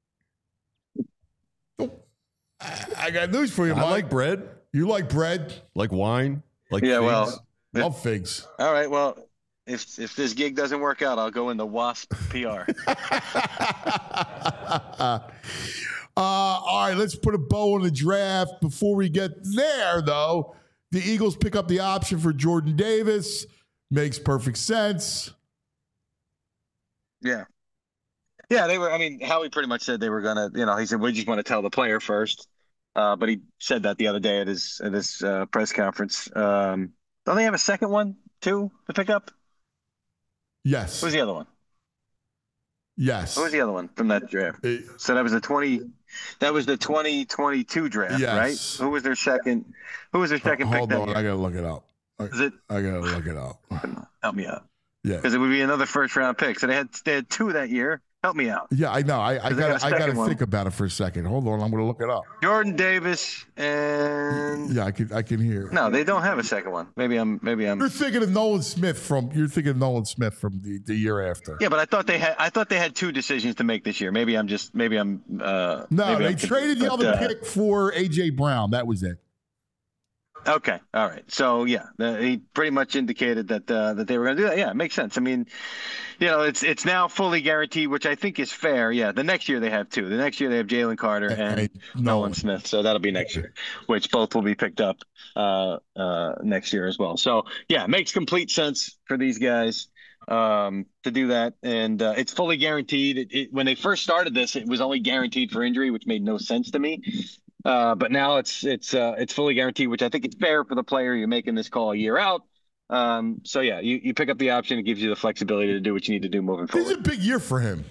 Oh, I I got news for you, I Mike. like bread, You like bread? like wine, like Yeah, figs. well, Love figs. all right. Well, if if this gig doesn't work out, I'll go into wasp P R. Uh, all right, let's put a bow on the draft. Before we get there, though, the Eagles pick up the option for Jordan Davis. Makes perfect sense. Yeah. Yeah, they were. I mean, Howie pretty much said they were gonna. You know, he said we just want to tell the player first. Uh, but he said that the other day at his at his uh, press conference. Um, don't they have a second one too to pick up? Yes. What was the other one? Yes. What was the other one from that draft? Uh, So that was the twenty. That was the twenty twenty-two draft, Yes. right? Who was their second? Who was their second pick Hold that on, year? I gotta look it up. I, Is it? I gotta look it up. Help me out, Yeah. because it would be another first round pick. So they had they had two that year. Help me out. Yeah, I know. I, I They got gotta a I second gotta one. think about it for a second. Hold on, I'm gonna look it up. Jordan Davis and Yeah, I can I can hear. no, they don't have a second one. Maybe I'm maybe I'm You're thinking of Nolan Smith from you're thinking of Nolan Smith from the, the year after. yeah, but I thought they had I thought they had two decisions to make this year. Maybe I'm just maybe I'm uh No, maybe they I'm confused, traded the but, other uh, pick for A J Brown. That was it. Okay, all right. So yeah, the, he pretty much indicated that uh, that they were going to do that. Yeah, it makes sense. I mean, you know, it's it's now fully guaranteed, which I think is fair. Yeah, the next year they have two. The next year they have Jalen Carter And- and, and Nolan Nolan. Smith. So that'll be next year, which both will be picked up uh, uh, next year as well. So yeah, it makes complete sense for these guys um, to do that, and uh, it's fully guaranteed. It, it, when they first started this, it was only guaranteed for injury, which made no sense to me. Uh, but now it's it's uh, it's fully guaranteed, which I think is fair for the player. You're making this call a year out. Um, so yeah, you, you pick up the option. It gives you the flexibility to do what you need to do moving This is a forward. big year for him.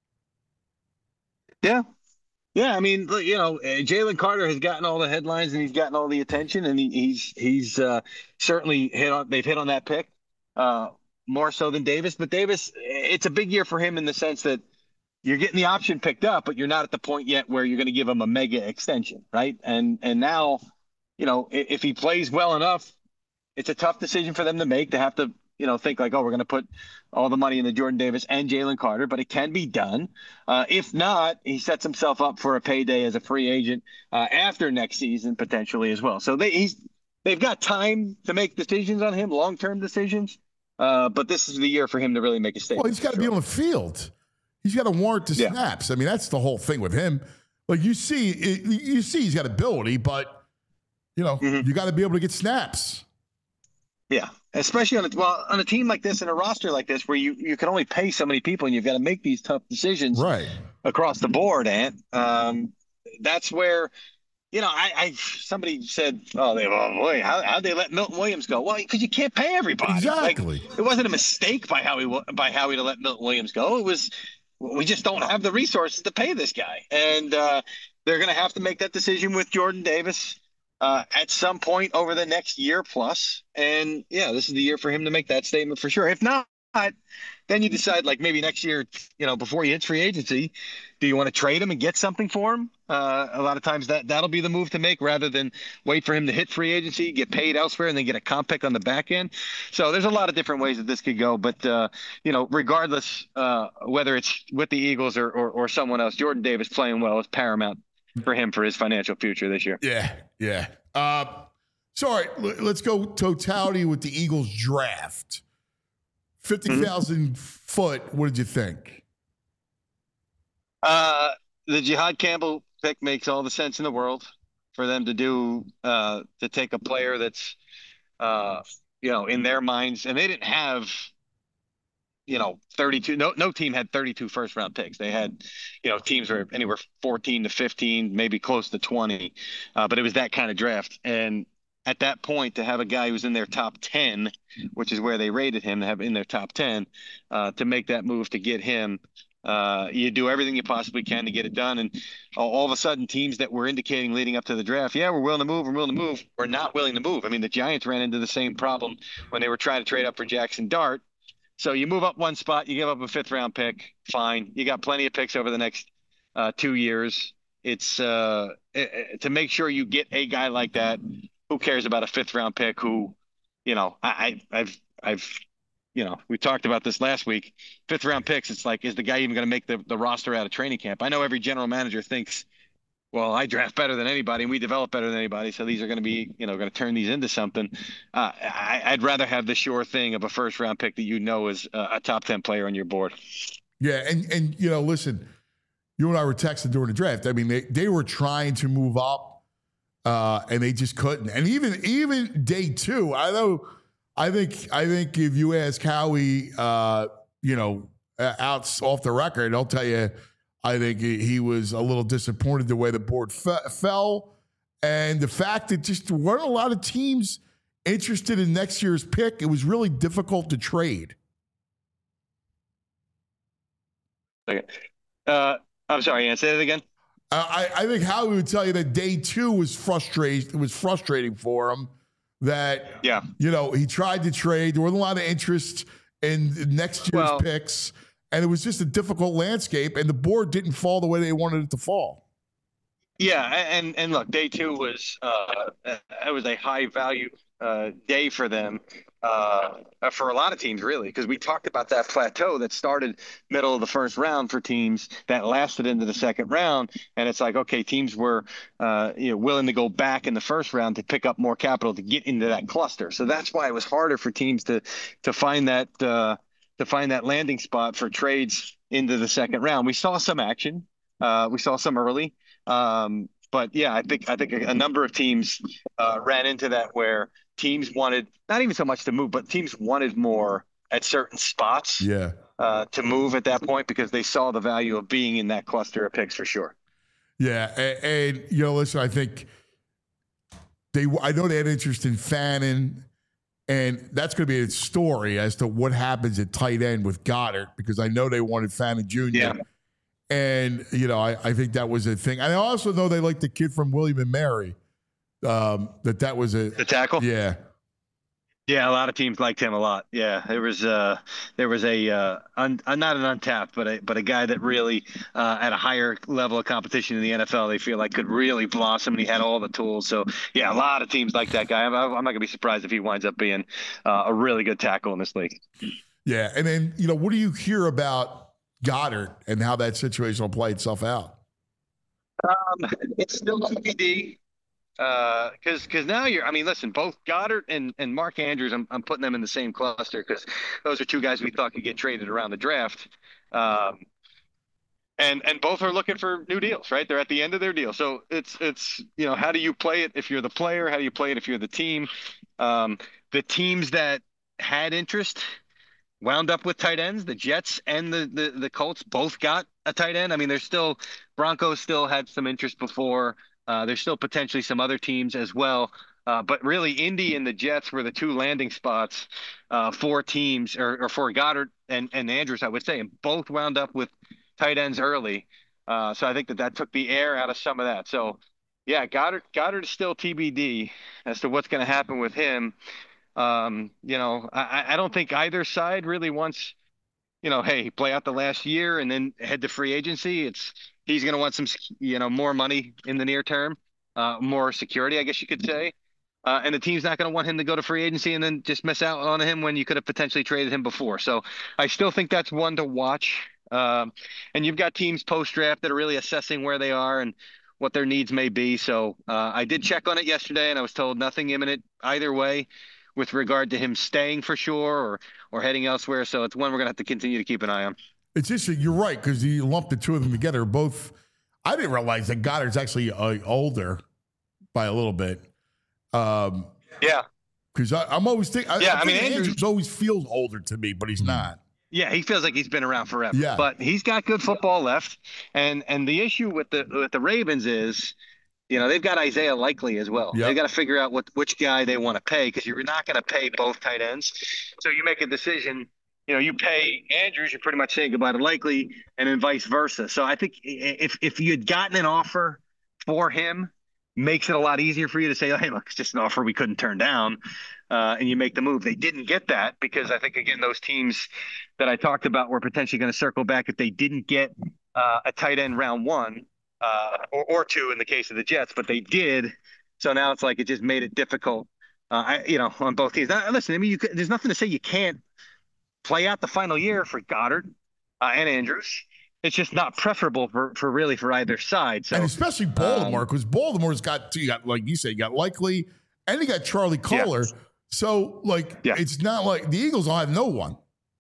Yeah. Yeah, I mean, look, you know, uh, Jalen Carter has gotten all the headlines and he's gotten all the attention, and he, he's he's uh, certainly hit on. They've hit on that pick uh, more so than Davis. But Davis, it's a big year for him in the sense that you're getting the option picked up, but you're not at the point yet where you're going to give him a mega extension, right? And and now, you know, if, if he plays well enough, it's a tough decision for them to make to have to, you know, think like, oh, we're going to put all the money in the Jordan Davis and Jalen Carter, but it can be done. Uh, if not, he sets himself up for a payday as a free agent uh, after next season potentially as well. So they he's they've got time to make decisions on him, long term decisions. Uh, but this is the year for him to really make a statement. Well, he's got to for be sure. on the field. He's got to warrant the Yeah. snaps. I mean, that's the whole thing with him. Like you see, it, you see, he's got ability, but you know, Mhm. you got to be able to get snaps. Yeah, especially on a well on a team like this and a roster like this where you, you can only pay so many people and you've got to make these tough decisions Right. across the board. Ant, um, that's where you know, I, I somebody said, oh, they, oh boy, how how'd they let Milton Williams go? Well, because you can't pay everybody. Exactly. Like, it wasn't a mistake by how he by how he let Milton Williams go. It was we just don't have the resources to pay this guy, and uh, they're going to have to make that decision with Jordan Davis uh, at some point over the next year plus. And yeah, this is the year for him to make that statement for sure. If not, then you decide, like, maybe next year, you know, before he hits free agency, do you want to trade him and get something for him? Uh, a lot of times that that'll be the move to make, rather than wait for him to hit free agency, get paid elsewhere, and then get a comp pick on the back end. So there's a lot of different ways that this could go. But, uh, you know, regardless, uh, whether it's with the Eagles or, or, or someone else, Jordan Davis playing well is paramount for him for his financial future this year. Yeah, yeah. Uh, so, all right, let's go totality with the Eagles draft. fifty thousand mm-hmm. foot, what did you think? Uh, the Jihad Campbell pick makes all the sense in the world for them to do, uh, to take a player that's, uh, you know, in their minds. And they didn't have, you know, thirty-two. No, no team had thirty-two first round picks. They had, you know, teams were anywhere fourteen to fifteen, maybe close to twenty. Uh, but it was that kind of draft. And at that point, to have a guy who's in their top ten, which is where they rated him, to have in their top ten, uh, to make that move to get him, uh, you do everything you possibly can to get it done. And all, all of a sudden, teams that were indicating leading up to the draft, yeah, we're willing to move, we're willing to move, we're not willing to move. I mean, the Giants ran into the same problem when they were trying to trade up for Jackson Dart. So you move up one spot, you give up a fifth round pick, fine. You got plenty of picks over the next uh, two years. It's uh, it, to make sure you get a guy like that. Who cares about a fifth round pick who, you know, I, I've, I've, you know, we talked about this last week. Fifth round picks, it's like, is the guy even going to make the, the roster out of training camp? I know every general manager thinks, well, I draft better than anybody and we develop better than anybody, so these are going to be, you know, going to turn these into something. Uh, I, I'd rather have the sure thing of a first round pick that you know is a, a top ten player on your board. Yeah, and and you know, listen, you and I were texting during the draft. I mean, they, they were trying to move up. Uh, and they just couldn't. And even even day two, I know, I think I think if you ask Howie, uh, you know, out off the record, I'll tell you, I think he was a little disappointed the way the board fe- fell, and the fact that just weren't a lot of teams interested in next year's pick. It was really difficult to trade. Okay. Uh, I'm sorry, Ian, say that again. I, I think Howie would tell you that day two was frustrating. Was frustrating for him. That yeah, you know, he tried to trade. There wasn't a lot of interest in next year's well, picks, and it was just a difficult landscape. And the board didn't fall the way they wanted it to fall. Yeah, and and look, day two was uh, it was a high value uh, day for them. Uh, for a lot of teams, really, because we talked about that plateau that started middle of the first round for teams that lasted into the second round. And it's like, okay, teams were uh, you know, willing to go back in the first round to pick up more capital to get into that cluster. So that's why it was harder for teams to to find that uh, to find that landing spot for trades into the second round. We saw some action. Uh, we saw some early. Um, but yeah, I think I think a, a number of teams uh, ran into that where teams wanted not even so much to move, but teams wanted more at certain spots. Yeah. Uh, to move at that point because they saw the value of being in that cluster of picks for sure. Yeah, and, and you know, listen, I think they. I know they had interest in Fannin, and that's going to be a story as to what happens at tight end with Goddard because I know they wanted Fannin Junior Yeah. And you know, I, I think that was a thing. And I also know they liked the kid from William and Mary. Um, that that was a the tackle. Yeah, yeah. A lot of teams liked him a lot. Yeah, there was uh, there was a uh, un, uh, not an untapped, but a but a guy that really uh, at a higher level of competition in the N F L, they feel like could really blossom, and he had all the tools. So yeah, a lot of teams like that guy. I'm, I'm not gonna be surprised if he winds up being uh, a really good tackle in this league. Yeah, and then you know, what do you hear about Goddard and how that situation will play itself out? Um, it's still T B D. Uh, because because now you're, I mean, listen, both Goddard and, and Mark Andrews, I'm I'm putting them in the same cluster because those are two guys we thought could get traded around the draft. Um, and and both are looking for new deals, right? They're at the end of their deal, so it's it's you know, how do you play it if you're the player? How do you play it if you're the team? Um, the teams that had interest wound up with tight ends. The Jets and the the the Colts both got a tight end. I mean, there's still Broncos still had some interest before. Uh, there's still potentially some other teams as well. Uh, but really, Indy and the Jets were the two landing spots uh, for teams, or, or for Goddard and, and Andrews, I would say, and both wound up with tight ends early. Uh, so I think that that took the air out of some of that. So, yeah, Goddard Goddard is still T B D as to what's going to happen with him. Um, you know, I, I don't think either side really wants, you know, hey, play out the last year and then head to free agency. It's he's going to want some, you know, more money in the near term, uh, more security, I guess you could say. Uh, and the team's not going to want him to go to free agency and then just miss out on him when you could have potentially traded him before. So I still think that's one to watch. Um, and you've got teams post-draft that are really assessing where they are and what their needs may be. So uh, I did check on it yesterday, and I was told nothing imminent either way with regard to him staying for sure or or heading elsewhere. So it's one we're going to have to continue to keep an eye on. It's interesting. You're right, because you lumped the two of them together. Both, I didn't realize that Goddard's actually uh, older by a little bit. Um, yeah, because I'm always thinking. Yeah, I, I, I mean, think Andrews, Andrews always feels older to me, but he's not. Yeah, he feels like he's been around forever. Yeah, but he's got good football left, and and the issue with the with the Ravens is, you know, they've got Isaiah Likely as well. Yep. They got to figure out what which guy they want to pay, because you're not going to pay both tight ends. So you make a decision. You know, you pay Andrews, you're pretty much saying goodbye to Likely, and then vice versa. So I think if if you had gotten an offer for him, makes it a lot easier for you to say, hey, look, it's just an offer we couldn't turn down, uh, and you make the move. They didn't get that because I think, again, those teams that I talked about were potentially going to circle back if they didn't get uh, a tight end round one uh, or, or two in the case of the Jets, but they did. So now it's like it just made it difficult, uh, I, you know, on both teams. Now, listen, I mean, you could, there's nothing to say you can't play out the final year for Goddard uh, and Andrews. It's just not preferable for, for really for either side. So, and especially Baltimore, because um, Baltimore's got, you got, like you said, you got Likely and you got Charlie Kolar. Yeah. So, like, yeah. it's not like the Eagles will have no one.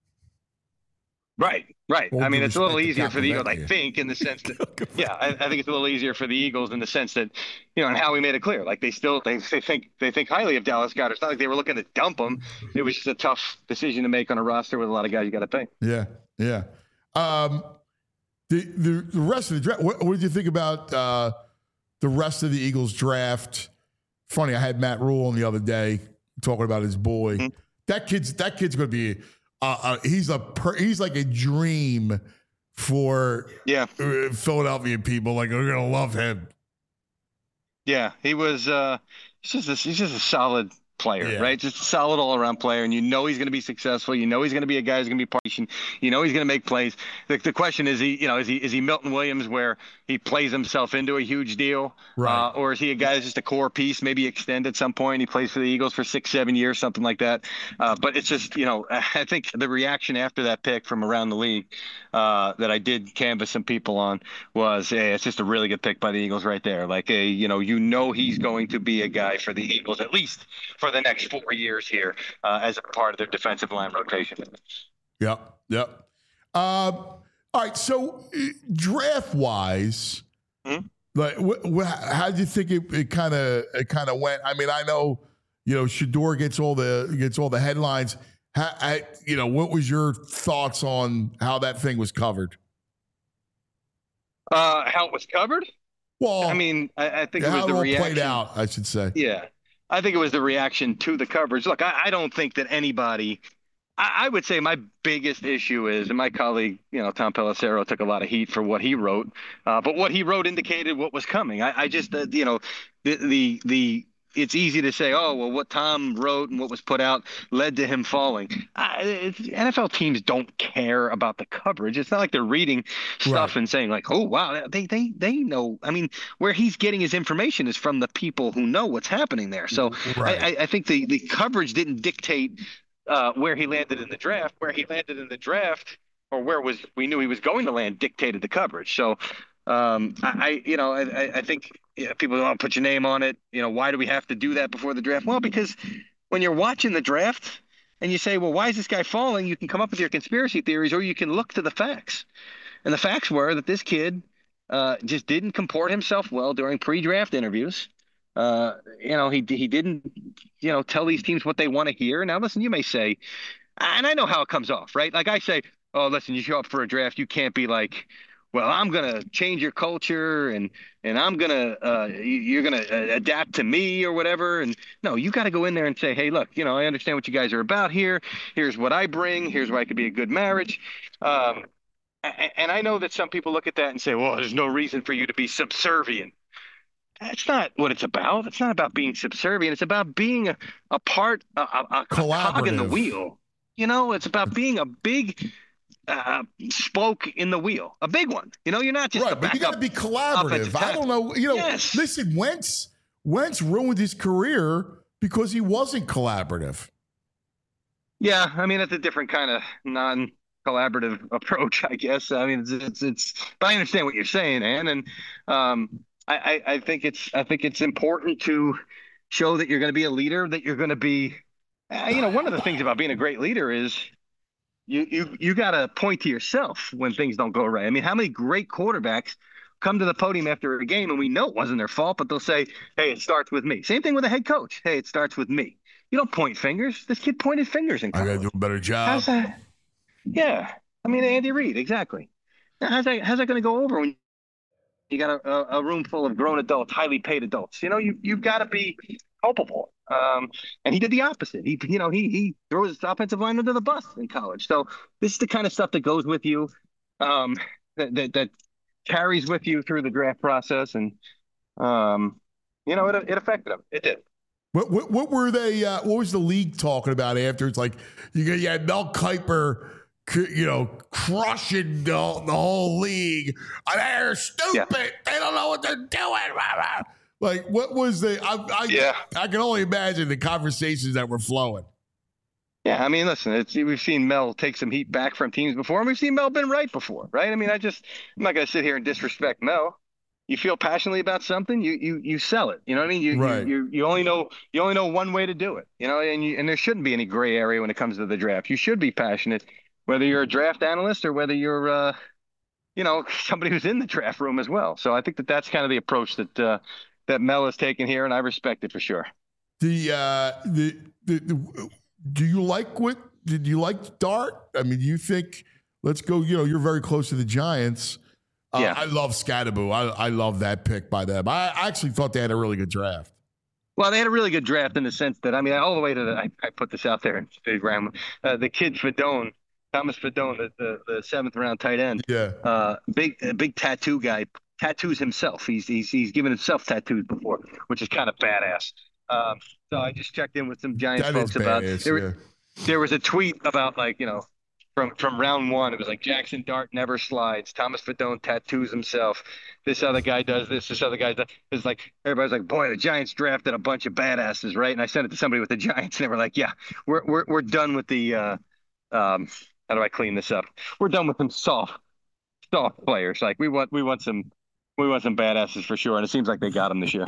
Right, right. Well, I mean, it's a little easier for the Eagles, I think, in the sense that, yeah, I, I think it's a little easier for the Eagles in the sense that, you know, and Howie made it clear, like they still, they, they think, they think highly of Dallas Goedert. It's not like they were looking to dump him. It was just a tough decision to make on a roster with a lot of guys you got to pay. Yeah, yeah. Um, The, the the rest of the draft, what, what did you think about uh, the rest of the Eagles draft? Funny, I had Matt Rule on the other day talking about his boy. Mm-hmm. That kid's that kid's going to be uh, uh, he's a per, he's like a dream for yeah Philadelphia people. Like, they're going to love him. Yeah, he was. Uh, he's just a, he's just a solid player, yeah. right? Just a solid all-around player, and you know he's going to be successful. You know he's going to be a guy who's going to be patient. You know he's going to make plays. The, the question is, he, you know, is he is he Milton Williams, where he plays himself into a huge deal, right? Uh, or is he a guy that's just a core piece, maybe extend at some point? He plays for the Eagles for six, seven years, something like that. Uh, but it's just, you know, I think the reaction after that pick from around the league uh, that I did canvass some people on was, hey, it's just a really good pick by the Eagles right there. Like, a, you know, you know he's going to be a guy for the Eagles at least for the next four years here uh, as a part of their defensive line rotation. Yep, yep. Uh, all right, so uh, draft-wise, mm-hmm. like, wh- wh- how do you think it kind of it kind of went? I mean, I know, you know, Shedeur gets all the gets all the headlines. How, I, you know, what was your thoughts on how that thing was covered? Uh, how it was covered? Well, I mean, I, I think yeah, it was how the it all reaction. played out, I should say. Yeah. I think it was the reaction to the coverage. Look, I, I don't think that anybody I, – I would say my biggest issue is, and my colleague, you know, Tom Pelissero took a lot of heat for what he wrote, uh, but what he wrote indicated what was coming. I, I just, uh, you know, the, the the it's easy to say, oh, well, what Tom wrote and what was put out led to him falling. I, N F L teams don't care about the coverage. It's not like they're reading stuff right. and saying like, oh, wow, they they they know. I mean, where he's getting his information is from the people who know what's happening there. So right. I, I think the, the coverage didn't dictate uh, where he landed in the draft. Where he landed in the draft, or where was we knew he was going to land, dictated the coverage. So um, I, I, you know, I, I think yeah, people don't put your name on it. You know, why do we have to do that before the draft? Well, because when you're watching the draft and you say, well, why is this guy falling? You can come up with your conspiracy theories, or you can look to the facts. And the facts were that this kid uh, just didn't comport himself well during pre-draft interviews. Uh, you know, he he didn't, you know, tell these teams what they want to hear. Now, listen, you may say, and I know how it comes off, right? Like I say, oh, listen, you show up for a draft, you can't be like, well, I'm gonna change your culture, and and I'm gonna uh, you're gonna adapt to me or whatever. And no, you got to go in there and say, hey, look, you know, I understand what you guys are about here. Here's what I bring. Here's why it could be a good marriage. Um, and I know that some people look at that and say, well, there's no reason for you to be subservient. That's not what it's about. It's not about being subservient. It's about being a, a part, a, a, a cog in the wheel. You know, it's about being a big uh, spoke in the wheel, a big one. You know, you're not just right, a but you got to be collaborative. I don't know. You know, yes. listen, Wentz, Wentz ruined his career because he wasn't collaborative. Yeah, I mean, it's a different kind of non-collaborative approach, I guess. I mean, it's, it's, it's but I understand what you're saying, Ann, and um, I, I, I think it's, I think it's important to show that you're going to be a leader, that you're going to be, uh, you know, one of the things about being a great leader is you, you, you got to point to yourself when things don't go right. I mean, how many great quarterbacks come to the podium after a game and we know it wasn't their fault, but they'll say, hey, it starts with me. Same thing with a head coach. Hey, it starts with me. You don't point fingers. This kid pointed fingers in college. I got to do a better job. How's that? Yeah. I mean, Andy Reid, exactly. Now, how's that, how's that going to go over when you got a, a room full of grown adults, highly paid adults? You know, you, you've got to be culpable. Um, and he did the opposite. He, you know, he he threw his offensive line under the bus in college. So this is the kind of stuff that goes with you, um, that, that, that carries with you through the draft process. And, um, you know, it, it affected him. It did. What, what, what were they, uh, what was the league talking about after? It's like, you, got, you had Mel Kiper, you know, crushing the, the whole league. They're stupid. Yeah. They don't know what they're doing. Like, what was the, I, I, yeah. I can only imagine the conversations that were flowing. Yeah, I mean, listen, it's, we've seen Mel take some heat back from teams before, and we've seen Mel been right before, right? I mean, I just, I'm not going to sit here and disrespect Mel. You feel passionately about something, you you you sell it. You know what I mean? You right. you, you you only know you only know one way to do it. You know, and you, and there shouldn't be any gray area when it comes to the draft. You should be passionate, whether you're a draft analyst or whether you're, uh, you know, somebody who's in the draft room as well. So I think that that's kind of the approach that uh, that Mel has taken here, and I respect it for sure. The uh, the, the the do you like what did you like Dart? I mean, do you think let's go? You know, you're very close to the Giants. Uh, yeah. I love Scatterboo. I, I love that pick by them. I, I actually thought they had a really good draft. Well, they had a really good draft in the sense that, I mean, all the way to the, I, I put this out there in Instagram, uh, the kid Fedone, Thomas Fedone, the, the, the seventh round tight end. Yeah. Uh, big, big tattoo guy, tattoos himself. He's, he's, he's given himself tattoos before, which is kind of badass. Um, so I just checked in with some Giants that folks about, badass, there, yeah. there was a tweet about like, you know, From from round one, it was like Jackson Dart never slides. Thomas Fedone tattoos himself. This other guy does this. This other guy does. It's like everybody's like, boy, the Giants drafted a bunch of badasses, right? And I sent it to somebody with the Giants, and they were like, yeah, we're we're we're done with the. Uh, um, how do I clean this up? We're done with some soft soft players. Like we want we want some we want some badasses for sure, and it seems like they got them this year.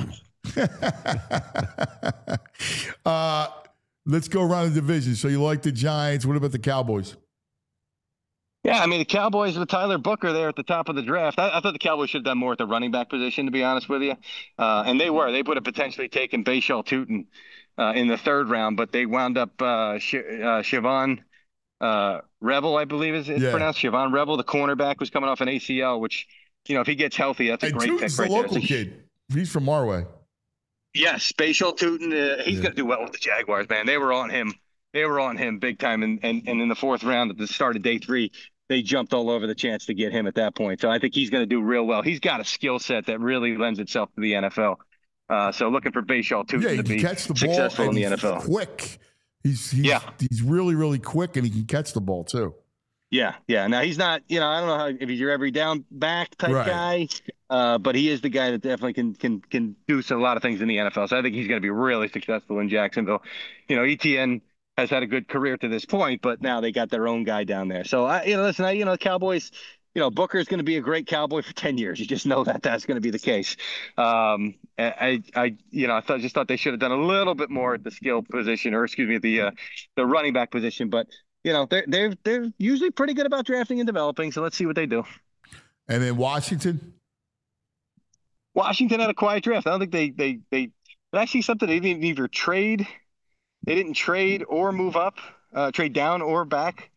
uh, let's go around the division. So you like the Giants? What about the Cowboys? Yeah, I mean, the Cowboys with Tyler Booker there at the top of the draft. I, I thought the Cowboys should have done more at the running back position, to be honest with you. Uh, and they were. They would have potentially taken Bashal Tutin uh, in the third round, but they wound up uh, Sh- uh, Siobhan uh, Rebel, I believe is it's yeah. pronounced. Siobhan Rebel, the cornerback, was coming off an A C L, which, you know, if he gets healthy, that's a and great Tutin's pick the right local there. kid. He's from our way. Yes, Bashal Tutin. Uh, he's yeah. going to do well with the Jaguars, man. They were on him. They were on him big time. And, and, and in the fourth round at the start of day three, they jumped all over the chance to get him at that point. So I think he's going to do real well. He's got a skill set that really lends itself to the N F L. Uh, so looking for Bashal Tutin yeah, to be catch the successful ball in the N F L. Quick. He's, he's, yeah. he's really, really quick, and he can catch the ball, too. Yeah, yeah. Now, he's not, you know, I don't know how, if he's your every down back type right. guy, uh, but he is the guy that definitely can can can do a lot of things in the N F L. So I think he's going to be really successful in Jacksonville. You know, E T N has had a good career to this point, but now they got their own guy down there. So, I, you know, listen, I, you know, the Cowboys, you know, Booker is going to be a great Cowboy for ten years. You just know that that's going to be the case. Um, I, I, you know, I thought, just thought they should have done a little bit more at the skill position, or excuse me, the, uh, the running back position. But, you know, they're, they're, they're usually pretty good about drafting and developing. So let's see what they do. And then Washington? Washington had a quiet draft. I don't think they, they, they, actually something they didn't either trade. They didn't trade or move up, uh, trade down or back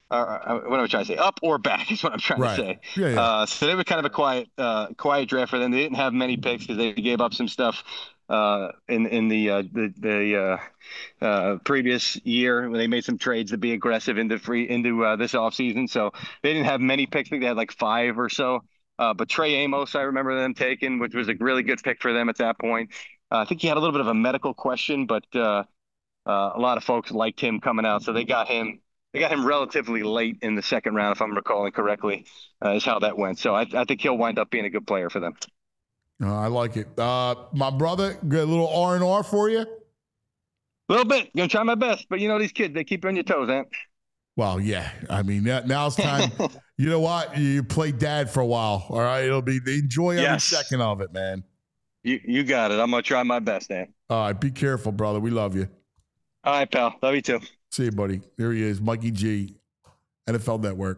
Or, uh, what am I trying to say? Up or back is what I'm trying Right. to say. Yeah, yeah. Uh, so they were kind of a quiet, uh, quiet draft for them. They didn't have many picks because they gave up some stuff uh, in in the uh, the, the uh, uh, previous year when they made some trades to be aggressive into free into uh, this offseason. So they didn't have many picks. I think they had like five or so. Uh, but Trey Amos, I remember them taking, which was a really good pick for them at that point. Uh, I think he had a little bit of a medical question, but uh, uh, a lot of folks liked him coming out, so they got him. They got him relatively late in the second round, if I'm recalling correctly, uh, is how that went. So I, I think he'll wind up being a good player for them. Uh, I like it. Uh, my brother, got a little R and R for you? A little bit. Gonna try my best, but you know these kids, they keep you on your toes, Ant. Well, yeah. I mean, now, now it's time. You know what? You play dad for a while, all right? It'll be, they enjoy every Yes. second of it, man. You you got it. I'm gonna try my best, Ant. All right, be careful, brother. We love you. All right, pal. Love you too. See you, buddy. There he is, Mikey G, N F L Network.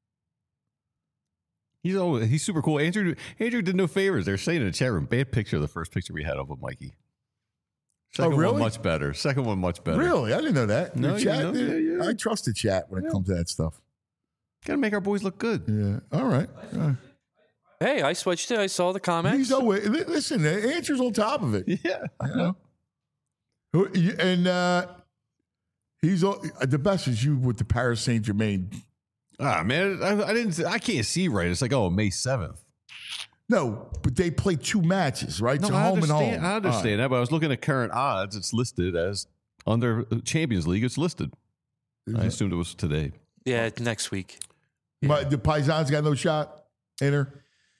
He's always, he's super cool. Andrew Andrew did no favors. They're saying in the chat room, bad picture of the first picture we had of him, Mikey. Second Oh, really? one much better. Second one much better. Really? I didn't know that. No, The you chat, know, yeah, yeah. I trust the chat when it Yeah. comes to that stuff. Gotta make our boys look good. Yeah. All right. Uh, Hey, I switched it. I saw the comments. he's always, li- listen, the answer's on top of it. Yeah. You know? Who- you- And uh, he's all, the best is you with the Paris Saint Germain. Ah, man, I, I didn't. I can't see right. It's like, oh, May seventh. No, but they play two matches, right? No, so I home and understand. home. I understand that, but I was looking at current odds. It's listed as under Champions League. It's listed. All I right. assumed it was today. Yeah, next week. But the Paisans got no shot in her.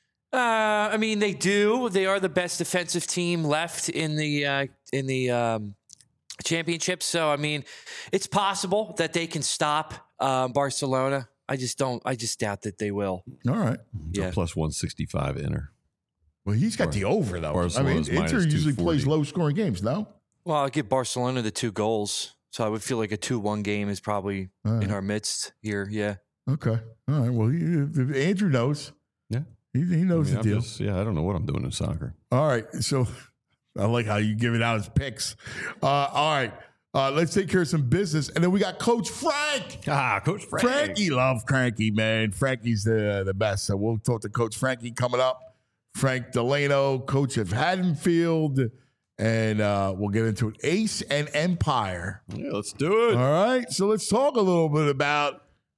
Uh, I mean, they do. They are the best defensive team left in the uh, in the um, championship. So, I mean, it's possible that they can stop uh, Barcelona. I just don't. I just doubt that they will. All right. Yeah. Plus one sixty-five Inter. Well, he's got the over, though. I mean, Barcelona's Inter minus usually two plays forty. low-scoring games, no? Well, I'll give Barcelona the two goals. So I would feel like a two one game is probably All right. in our midst here. Yeah. Okay. All right. Well, he, if Andrew knows. Yeah. He, he knows I mean, the I'm deal. just- yeah, I don't know what I'm doing in soccer. All right. So I like how you give it out as picks. Uh, all right. Uh, let's take care of some business. And then we got Coach Frank. Ah, Coach Frank. Frankie, love Frankie, man. Frankie's the, the best. So we'll talk to Coach Frankie coming up. Frank Delano, coach of Haddonfield. And uh, we'll get into it. Ace and Empire. Yeah, let's do it. All right. So let's talk a little bit about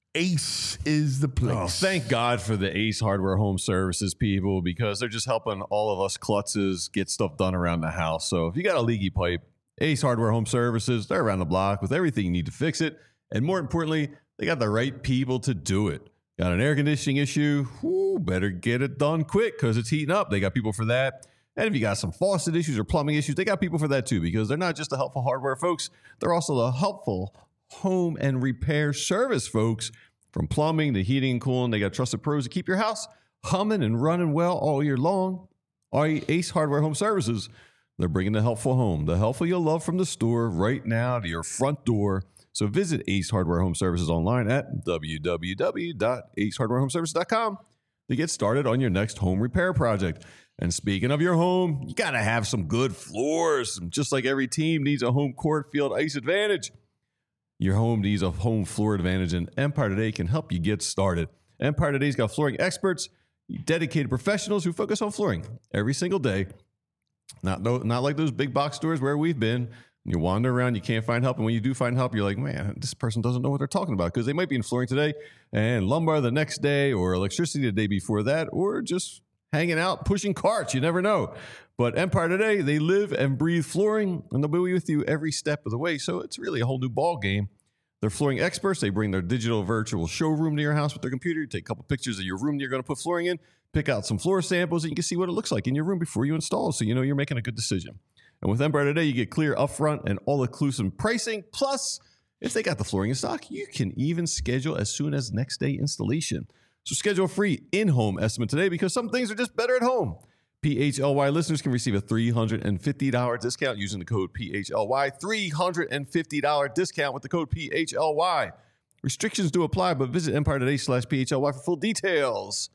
Ace is the place. Oh, thank God for the Ace Hardware Home Services people, because they're just helping all of us klutzes get stuff done around the house. So if you got a leaky pipe, Ace Hardware Home Services, they're around the block with everything you need to fix it. And more importantly, they got the right people to do it. Got an air conditioning issue? Whoo, better get it done quick because it's heating up. They got people for that. And if you got some faucet issues or plumbing issues, they got people for that too, because they're not just the helpful hardware folks. They're also the helpful home and repair service folks. From plumbing to heating and cooling, they got trusted pros to keep your house humming and running well all year long. Ace Hardware Home Services, they're bringing the helpful home, the helpful you'll love from the store right now to your front door. So visit Ace Hardware Home Services online at w w w dot ace hardware home services dot com to get started on your next home repair project. And speaking of your home, you got to have some good floors. Just like every team needs a home court field ice advantage, your home needs a home floor advantage, and Empire Today can help you get started. Empire Today's got flooring experts, dedicated professionals who focus on flooring every single day. Not, not like those big box stores where we've been. You wander around, you can't find help. And when you do find help, you're like, man, this person doesn't know what they're talking about, because they might be in flooring today and lumbar the next day, or electricity the day before that, or just hanging out, pushing carts. You never know. But Empire Today, they live and breathe flooring, and they'll be with you every step of the way. So it's really a whole new ball game. They're flooring experts. They bring their digital virtual showroom to your house with their computer. You take a couple pictures of your room you're going to put flooring in, pick out some floor samples, and you can see what it looks like in your room before you install, so you know you're making a good decision. And with Empire Today, you get clear upfront and all-inclusive pricing. Plus, if they got the flooring in stock, you can even schedule as soon as next day installation. So schedule a free in-home estimate today, because some things are just better at home. P H L Y listeners can receive a three hundred fifty dollars discount using the code P H L Y. three hundred fifty dollars discount with the code P H L Y. Restrictions do apply, but visit Empire Today slash P H L Y for full details.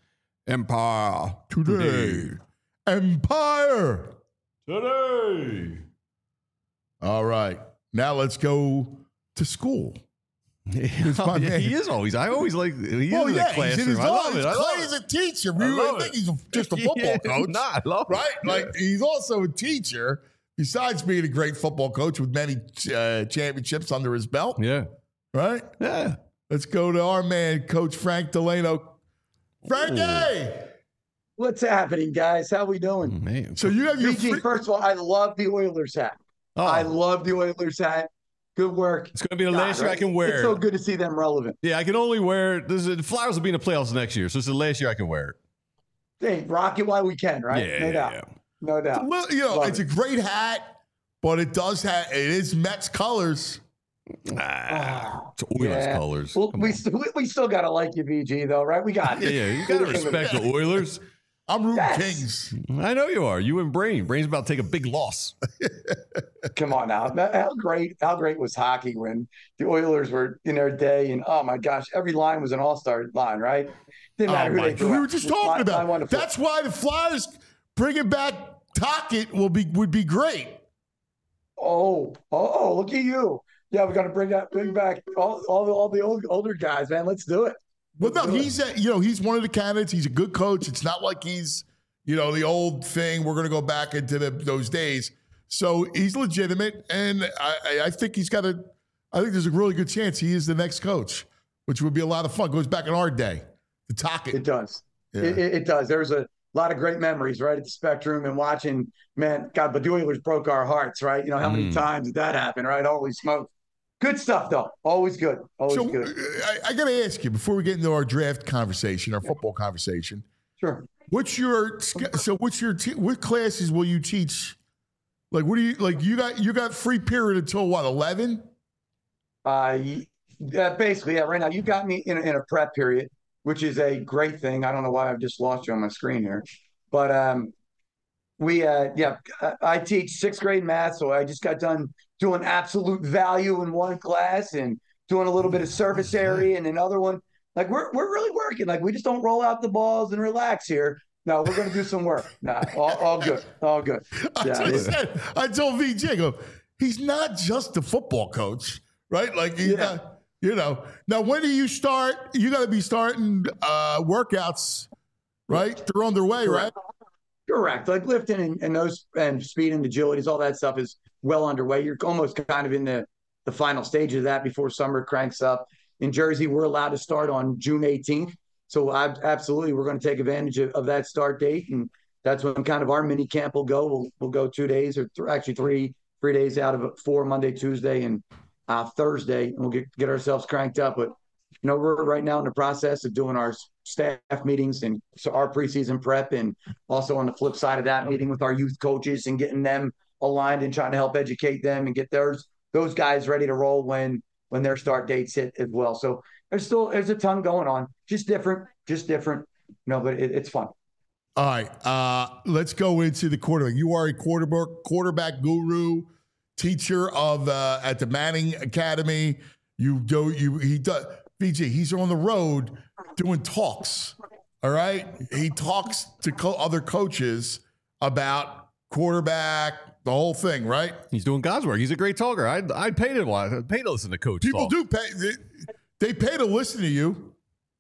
Empire Today. Empire Today. All right. Now let's go to school. Oh, yeah, he is always. I always like. He Well, is yeah, in the he's in classroom. his I love own. it. I love Clay is it. a teacher. I We love really think it. he's just a football Yeah, coach. nah, I love it. right? Like he's also a teacher. Besides being a great football coach with many uh, championships under his belt, Yeah. right? Yeah. Let's go to our man, Coach Frank Delano. Frankie! What's happening, guys? How we doing? Man. So you have your B G, free- first of all, I love the Oilers hat. Oh, I love the Oilers hat. Good work. it's going to be the God, last year I right? can wear It's so it. good to see them relevant. Yeah, I can only wear it. This is, the Flyers will be in the playoffs next year, so it's the last year I can wear it. Hey, rock it while we can, right? Yeah, no yeah, doubt. yeah. No doubt. Well, you know, Love it's it. a great hat, but it does have it is Mets colors. Ah, it's Oilers Yeah. colors. Well, Come we, on. st- we we still gotta like you, B G, though, right? We got yeah, it. yeah, you got to respect the Oilers. I'm rooting Yes. Kings. I know you are. You and Brain. Brain's about to take a big loss. Come on now. How great? How great was hockey when the Oilers were in their day? And oh my gosh, every line was an all-star line, right? Didn't matter Oh who my they God. threw We out. were just Line- talking line about one it. to four. That's why the Flyers bringing back Tocchet will be would be great. Oh, oh, oh, look at you. Yeah, we're gonna bring that bring back all all the all the old, older guys, man. Let's do it. Well, no, do it. he's a, you know he's one of the candidates. He's a good coach. It's not like he's you know the old thing. We're going to go back into the, those days. So he's legitimate, and I, I- I think he's got a. I think there's a really good chance he is the next coach, which would be a lot of fun. Goes back in our day, the It Tocchet. does. Yeah. It, it, it does. There's a lot of great memories, right, at the Spectrum and watching. Man, God, but the Oilers broke our hearts, right? You know how many Mm. times did that happen, right? Holy smoke! Good stuff, though. Always good. Always So good. uh, I, I got to ask you before we get into our draft conversation, our football conversation. Sure. What's your so? What's your te- what classes will you teach? Like, what do you like? You got you got free period until what? Eleven? Uh, y- yeah, basically, yeah. Right now, you got me in a, in a prep period, which is a great thing. I don't know why I've just lost you on my screen here, but um, we uh, yeah, I, I teach sixth grade math, so I just got done doing absolute value in one class and doing a little bit of surface area in another one. Like we're we're really working. Like we just don't roll out the balls and relax here. No, we're going to do some work. No, all, all good, all good. I, Yeah, told, yeah. I told V J, I go, he's not just a football coach, right? Like, he's Yeah. not, you know. Now, when do you start? You got to be starting uh, workouts, right? They're underway, right? Correct. Like lifting and, and those and speed and agilities, all that stuff is well underway. You're almost kind of in the, the final stage of that before summer cranks up. In Jersey, we're allowed to start on June eighteenth. So I, absolutely, we're going to take advantage of, of that start date. And that's when kind of our mini camp will go. We'll, we'll go two days or th- actually three, three days out of it, four, Monday, Tuesday, and uh, Thursday. And we'll get, get ourselves cranked up. But, you know, we're right now in the process of doing our staff meetings and so our preseason prep, and also on the flip side of that, meeting with our youth coaches and getting them aligned and trying to help educate them and get theirs those guys ready to roll when when their start dates hit as well. So there's still there's a ton going on, just different, just different. No, but it, it's fun. All right, uh, let's go into the quarterback. You are a quarterback quarterback guru, teacher of uh, at the Manning Academy. You do you he does V J. He's on the road doing talks. All right, he talks to co- other coaches about quarterback, the whole thing. Right? He's doing God's work. He's a great talker. I'd, I'd pay to watch, I'd pay to listen to Coach People talk. do pay. They, they pay to listen to you.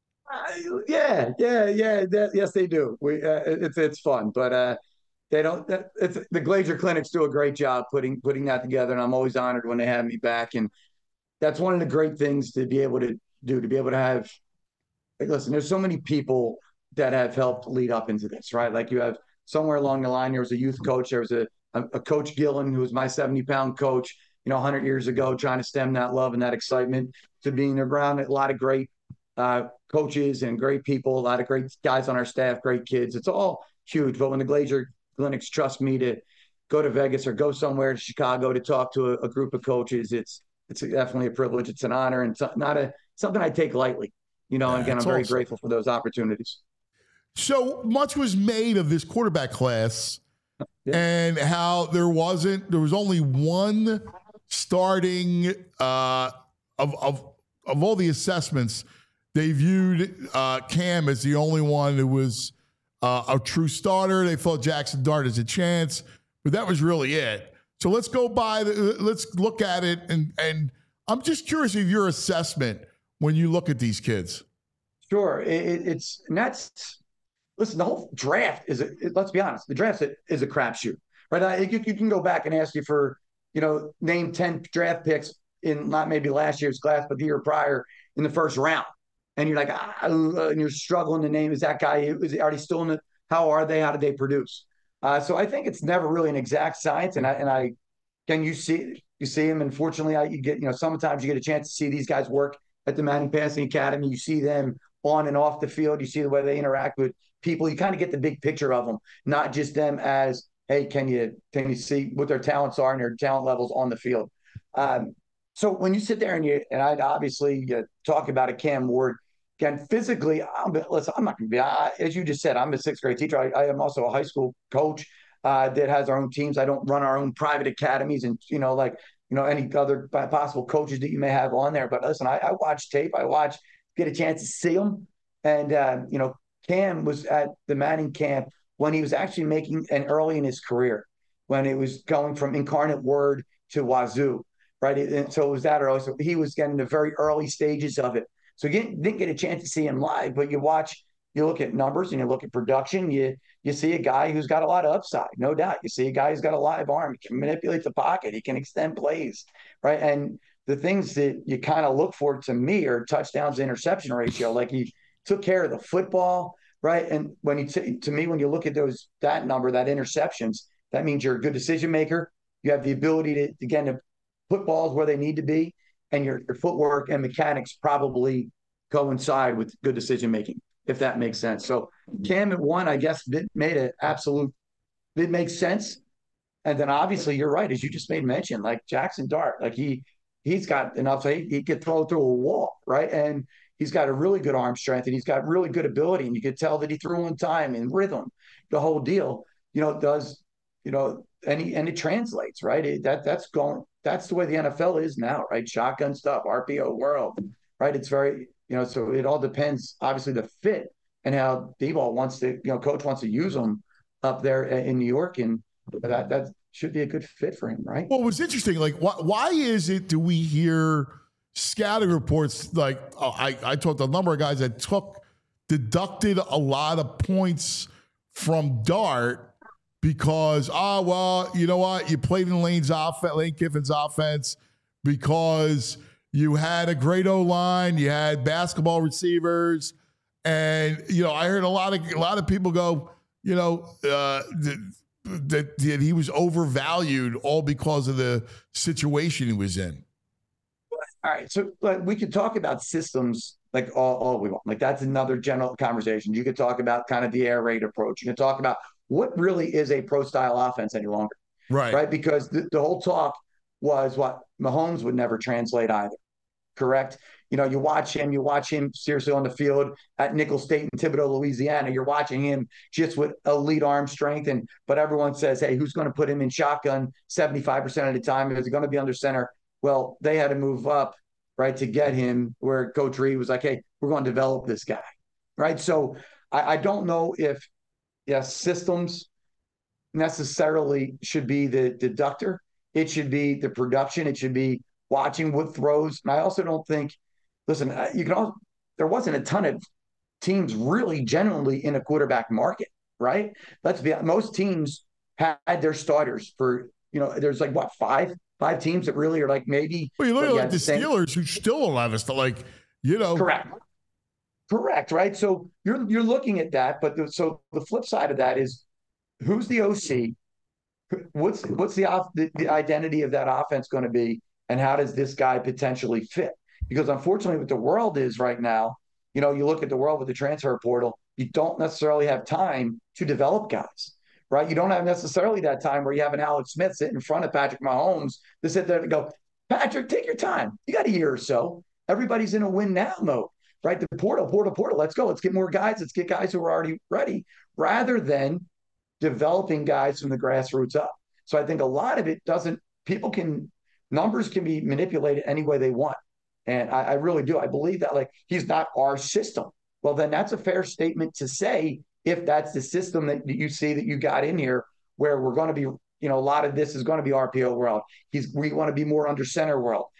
Uh, yeah, yeah, yeah. That, yes, they do. We uh, it's it's fun, but uh, they don't. That, it's, the Glazier clinics do a great job putting putting that together, and I'm always honored when they have me back. And that's one of the great things to be able to do. To be able to have, like, listen, there's so many people that have helped lead up into this, right? Like you have somewhere along the line, there was a youth coach, there was a a, a coach Gillen who was my seventy pound coach, you know, one hundred years ago, trying to stem that love and that excitement to being around a lot of great uh, coaches and great people, a lot of great guys on our staff, great kids. It's all huge. But when the Glazier clinics trust me to go to Vegas or go somewhere to Chicago to talk to a, a group of coaches, it's it's definitely a privilege. It's an honor and so, not a something I take lightly. You know, and again, I'm That's very awesome. grateful for those opportunities. So much was made of this quarterback class, Yeah. and how there wasn't there was only one starting uh, of of of all the assessments. They viewed uh, Cam as the only one who was uh, a true starter. They felt Jackson Dart has a chance, but that was really it. So let's go by the let's look at it and and I'm just curious of your assessment when you look at these kids. Sure. It, it, it's, and that's, listen, the whole draft is, a, it, let's be honest, the draft is a crapshoot, right? I, you, you can go back and ask you for, you know, name ten draft picks in not maybe last year's class, but the year prior in the first round. And you're like, ah, and you're struggling to name, is that guy, is he already still in the, how are they, how did they produce? Uh, so I think it's never really an exact science. And I, and I, can you see, you see him, and fortunately I, you get, you know, sometimes you get a chance to see these guys work at the Manning Passing Academy. You see them on and off the field. You see the way they interact with people. You kind of get the big picture of them, not just them as, hey, can you can you see what their talents are and their talent levels on the field? Um, so when you sit there and you and I'd obviously uh, talk about a Cam Ward again physically. I'm, listen, I'm not going to be I, as you just said. I'm a sixth grade teacher. I, I am also a high school coach uh, that has our own teams. I don't run our own private academies and you know like you know any other possible coaches that you may have on there. But listen, I, I watch tape. I watch get a chance to see them, and uh, you know Cam was at the Manning camp when he was actually making an early in his career, when it was going from Incarnate Word to Wazoo, right? And so it was that early. So he was getting the very early stages of it. So you didn't, didn't get a chance to see him live, but you watch, you look at numbers and you look at production, you you see a guy who's got a lot of upside, no doubt. You see a guy who's got a live arm, he can manipulate the pocket, he can extend plays, right? And the things that you kind of look for to me are touchdowns to interception ratio. Like he took care of the football, right? And when you t- to me, when you look at those that number, that interceptions, that means you're a good decision maker. You have the ability to again to put balls where they need to be, and your, your footwork and mechanics probably coincide with good decision making, if that makes sense. So Cam at one, I guess, it made an absolute. It makes sense. And then obviously you're right, as you just made mention, like Jackson Dart, like he he's got enough. He, he could throw through a wall, right? And he's got a really good arm strength, and he's got really good ability, and you could tell that he threw in time and rhythm, the whole deal. You know, does you know, and he, and it translates, right? It, that that's going. That's the way the N F L is now, right? Shotgun stuff, R P O world, right? It's very, you know, so it all depends, obviously, the fit and how D-ball wants to, you know, coach wants to use them up there in New York, and that that should be a good fit for him, right? Well, it was interesting. Like, why, why is it do we hear scouting reports like oh, I, I talked to a number of guys that took deducted a lot of points from Dart because oh well you know what you played in Lane's offense, Lane Kiffin's offense because you had a great O-line, you had basketball receivers, and you know I heard a lot of a lot of people go you know uh, that, that he was overvalued all because of the situation he was in. All right, so like, we could talk about systems like all, all we want. Like that's another general conversation. You could talk about kind of the air raid approach. You can talk about what really is a pro style offense any longer, right? Right, because the, the whole talk was what Mahomes would never translate either. Correct. You know, you watch him, you watch him seriously on the field at Nicholls State in Thibodaux, Louisiana. You're watching him just with elite arm strength, and but everyone says, hey, who's going to put him in shotgun seventy-five percent of the time? Is he going to be under center? Well, they had to move up, right, to get him where Coach Reed was like, hey, we're going to develop this guy, right? So I, I don't know if, yes, systems necessarily should be the deductor. It should be the production. It should be watching what throws. And I also don't think, listen, you can also, there wasn't a ton of teams really genuinely in a quarterback market, right? Let's be honest, most teams had their starters for, you know, there's like what, five? Five teams that really are like maybe. Well, you look at like the same. Steelers, who still allow us to like, you know. Correct. Correct. Right. So you're you're looking at that, but the, so the flip side of that is, who's the O C? What's what's the off the, the identity of that offense going to be, and how does this guy potentially fit? Because unfortunately, what the world is right now, you know, you look at the world with the transfer portal, you don't necessarily have time to develop guys. Right, you don't have necessarily that time where you have an Alex Smith sit in front of Patrick Mahomes to sit there and go, Patrick, take your time. You got a year or so. Everybody's in a win now mode, right? The portal, portal, portal. Let's go. Let's get more guys. Let's get guys who are already ready, rather than developing guys from the grassroots up. So I think a lot of it doesn't. People can numbers can be manipulated any way they want, and I, I really do. I believe that like he's not our system. Well, then that's a fair statement to say. If that's the system that you see that you got in here, where we're going to be, you know, a lot of this is going to be R P O world. He's, we want to be more under center world.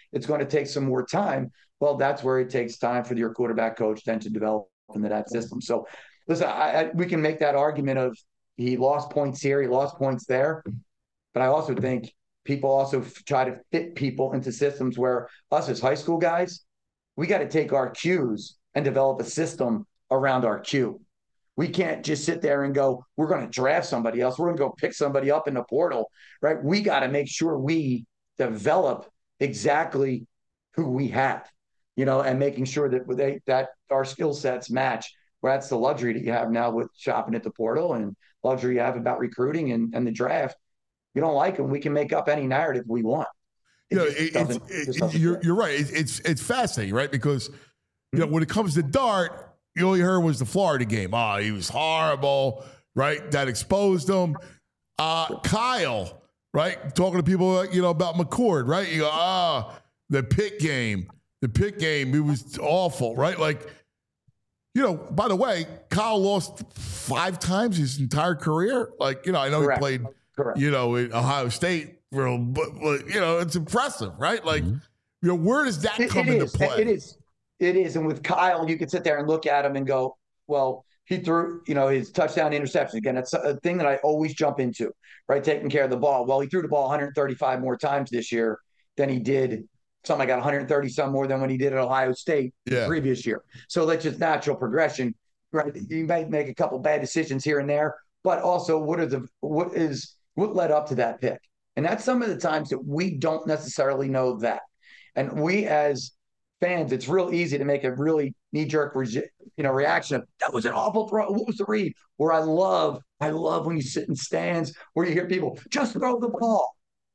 it's going to take some more time. Well, that's where it takes time for your quarterback coach then to develop into that system. So listen, I, I, we can make that argument of he lost points here, he lost points there. But I also think people also f- try to fit people into systems where us as high school guys, we got to take our cues and develop a system around our cue. We can't just sit there and go, we're going to draft somebody else. We're going to go pick somebody up in the portal, right? We got to make sure we develop exactly who we have, you know, and making sure that they, that our skill sets match. Well, that's the luxury that you have now with shopping at the portal and luxury you have about recruiting and, and the draft. You don't like them, we can make up any narrative we want. It you know, just it, doesn't- it's, just it, doesn't you're, fit. you're right. It, it's it's fascinating, right? Because you know when it comes to Dart, you all you heard was the Florida game. Oh, he was horrible, right? That exposed him. Uh, Kyle, right? Talking to people, you know, about McCord, right? You go, ah, the Pitt game, the Pitt game, it was awful, right? Like, you know, by the way, Kyle lost five times his entire career. Like, you know, I know Correct. he played, Correct. you know, in Ohio State, for, but, but you know, it's impressive, right? Like, you know, where does that It- come it into is. play? It is. It is. And with Kyle, you could sit there and look at him and go, well, he threw, you know, his touchdown interception. Again, that's a thing that I always jump into, right? Taking care of the ball. Well, he threw the ball one hundred thirty-five more times this year than he did. Something like got one hundred thirty some more than when he did at Ohio State Yeah. the previous year. So that's just natural progression, right? You might make a couple bad decisions here and there, but also what are the what is what led up to that pick? And that's some of the times that we don't necessarily know that. And we as fans, it's real easy to make a really knee-jerk re- you know, reaction of that was an awful throw. What was the read? Where I love, I love when you sit in stands where you hear people just throw the ball.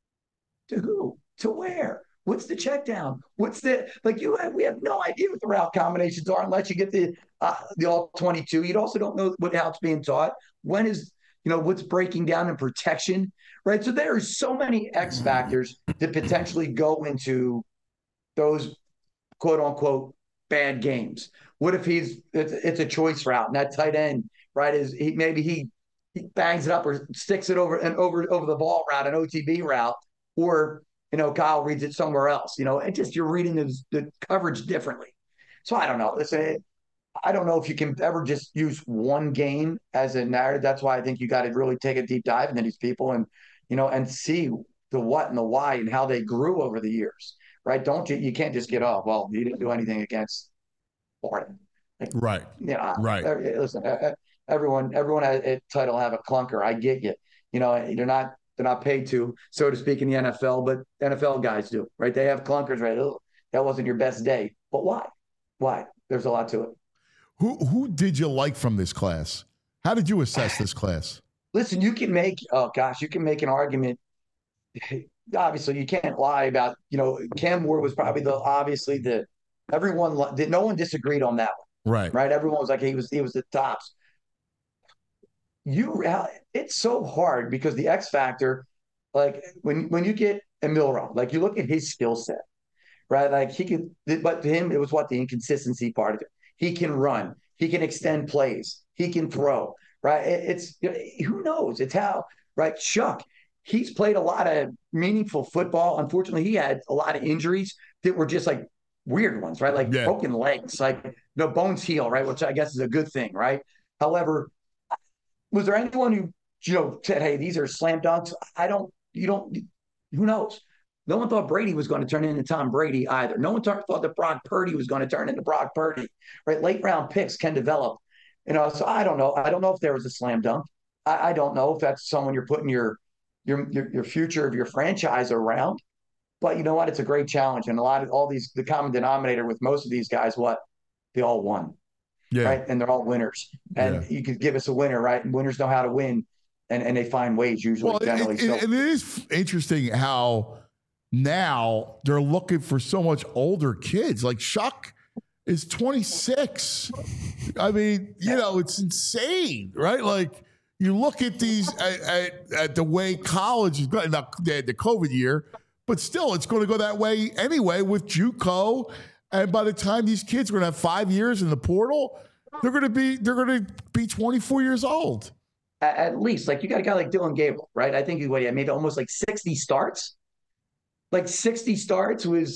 To who? To where? What's the check down? What's the like? You have, we have no idea what the route combinations are unless you get the uh, the all twenty-two. You also don't know what how it's being taught. When is you know what's breaking down in protection, right? So there are so many X factors that potentially go into those quote unquote bad games. What if he's it's, it's a choice route and that tight end, right? Is he maybe he he bangs it up or sticks it over and over over the ball route, an O T B route, or you know, Kyle reads it somewhere else, you know, and just you're reading the, the coverage differently. So I don't know. Listen, I don't know if you can ever just use one game as a narrative. That's why I think you got to really take a deep dive into these people and, you know, and see the what and the why and how they grew over the years, right? Don't you, you can't just get off, well, you didn't do anything against Florida. Like, Right. you know, Right. Listen, everyone, everyone at title have a clunker. I get you. You know, they're not, They're not paid to, so to speak, in the N F L, but N F L guys do, right? They have clunkers, right? Oh, that wasn't your best day. But why? Why? There's a lot to it. Who who did you like from this class? How did you assess this class? Listen, you can make, oh gosh, you can make an argument. Obviously, you can't lie about, you know, Cam Ward was probably the, obviously the, everyone, no one disagreed on that one, Right. right? Everyone was like, he was, he was the tops. You, it's so hard because the X factor, like when when you get a Milrow, like you look at his skill set, right? Like he can, but to him, it was what the inconsistency part of it. He can run, he can extend plays, he can throw, right? It's who knows? It's how, right? Chuck, he's played a lot of meaningful football. Unfortunately, he had a lot of injuries that were just like weird ones, right? Like Yeah. broken legs, like no bones heal, right? Which I guess is a good thing, right? However, was there anyone who, you know, said, hey, these are slam dunks? I don't, you don't, who knows? No one thought Brady was going to turn into Tom Brady either. No one th- thought that Brock Purdy was going to turn into Brock Purdy, right? Late round picks can develop, you know, so I don't know. I don't know if there was a slam dunk. I, I don't know if that's someone you're putting your, your, your, your future of your franchise around, but you know what? It's a great challenge. And a lot of all these, the common denominator with most of these guys, what? They all won. Yeah. Right. And they're all winners. And Yeah. you could give us a winner, right? And winners know how to win and, and they find ways usually, Well, generally. it, so it, and it is interesting how now they're looking for so much older kids. Like Shuck is twenty-six. I mean, you know, it's insane, right? Like you look at these at, at, at the way college is going. Now they had the COVID year, but still, it's going to go that way anyway with JUCO. And by the time these kids are going to have five years in the portal, they're going to be they're going to be twenty-four years old. at, at least, like you got a guy like Dylan Gabriel, right? I think he what he had made almost like sixty starts. Like sixty starts was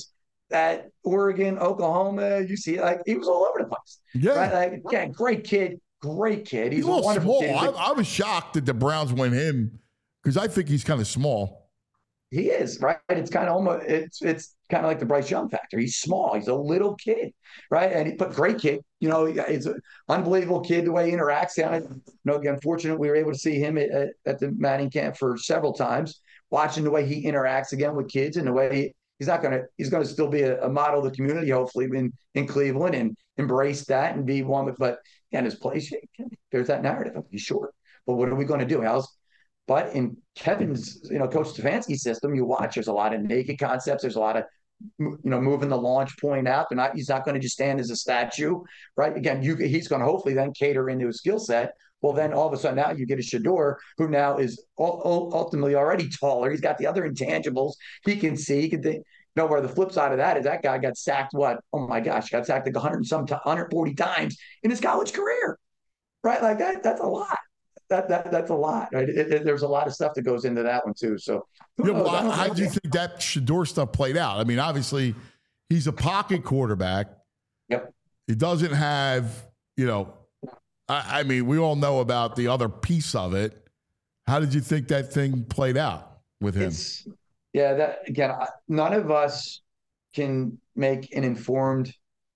at Oregon, Oklahoma. You see, like he was all over the place. Yeah. Right? Like, yeah, great kid, great kid. He's, He's a little wonderful small. kid. I, I was shocked that the Browns went him because I think he's kind of small. He is, right? It's kind of almost it's it's kind of like the Bryce Young factor. He's small. He's a little kid, right? And he, but great kid. You know, he's an unbelievable kid the way he interacts. And I, you know, again, fortunate we were able to see him at, at the Manning camp for several times, watching the way he interacts again with kids and the way he, he's not going to he's going to still be a, a model of the community, hopefully in in Cleveland, and embrace that and be one with. But again, his place, there's that narrative. He's short, but what are we going to do? How's But in Kevin's, you know, Coach Stefanski's system, you watch, there's a lot of naked concepts. There's a lot of, you know, moving the launch point out. They're not, he's not going to just stand as a statue, right? Again, you, he's going to hopefully then cater into his skill set. Well, then all of a sudden now you get a Shedeur who now is ultimately already taller. He's got the other intangibles. He can see, he can think. You know, where the flip side of that is that guy got sacked, what? Oh my gosh, got sacked like one hundred and some, one hundred forty times in his college career, right? Like that, that's a lot. That, that that's a lot, right? It, it, there's a lot of stuff that goes into that one too. So, yeah, well, how, how do you think that Shedeur stuff played out? I mean, obviously, he's a pocket quarterback. Yep. He doesn't have, you know, I, I mean, we all know about the other piece of it. How did you think that thing played out with him? It's, yeah, that again, none of us can make an informed,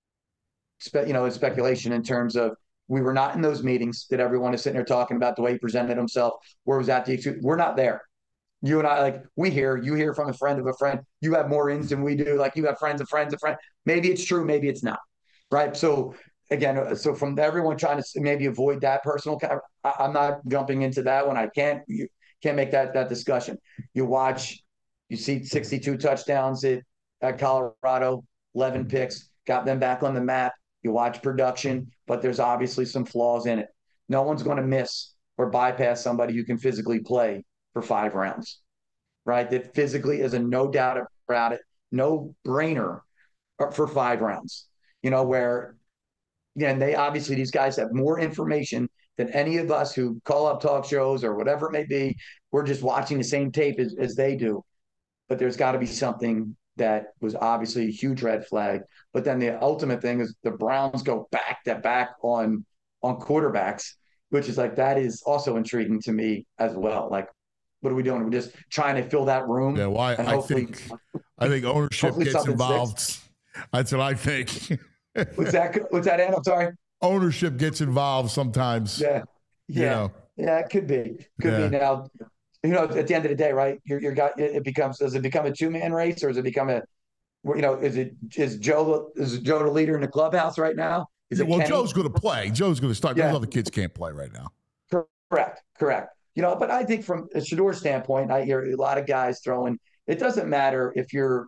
spe, you know, speculation in terms of. We were not in those meetings that everyone is sitting there talking about the way he presented himself. Where was that? The we're not there. You and I, like we hear, you hear from a friend of a friend. You have more ins than we do. Like you have friends of friends of friends. Maybe it's true. Maybe it's not. Right. So again, so from everyone trying to maybe avoid that personal, I, I'm not jumping into that one. I can't. You can't make that that discussion. You watch. You see sixty-two touchdowns at at Colorado, eleven picks, got them back on the map. You watch production, but there's obviously some flaws in it. No one's going to miss or bypass somebody who can physically play for five rounds, right? That physically is a no doubt about it, no brainer for five rounds. You know, where, again, they obviously, these guys have more information than any of us who call up talk shows or whatever it may be. We're just watching the same tape as, as they do. But there's got to be something that was obviously a huge red flag. But then the ultimate thing is the Browns go back to back on on quarterbacks, which is like, that is also intriguing to me as well. Like, what are we doing? We're just trying to fill that room. Yeah, well, I, I think I think ownership gets involved. Sticks. That's what I think. What's that? What's that, Ann? I'm sorry. Ownership gets involved sometimes. Yeah, yeah, you know. Yeah. It could be. Could yeah. be now. You know, at the end of the day, right? You're, you're got it becomes. Does it become a two man race, or does it become a? You know, is it is Joe is Joe the leader in the clubhouse right now? Is yeah, it well, Kenny? Joe's going to play. Joe's going to start. Yeah. Those other kids can't play right now. Correct, correct. You know, but I think from a Shedeur standpoint, I hear a lot of guys throwing. It doesn't matter if you're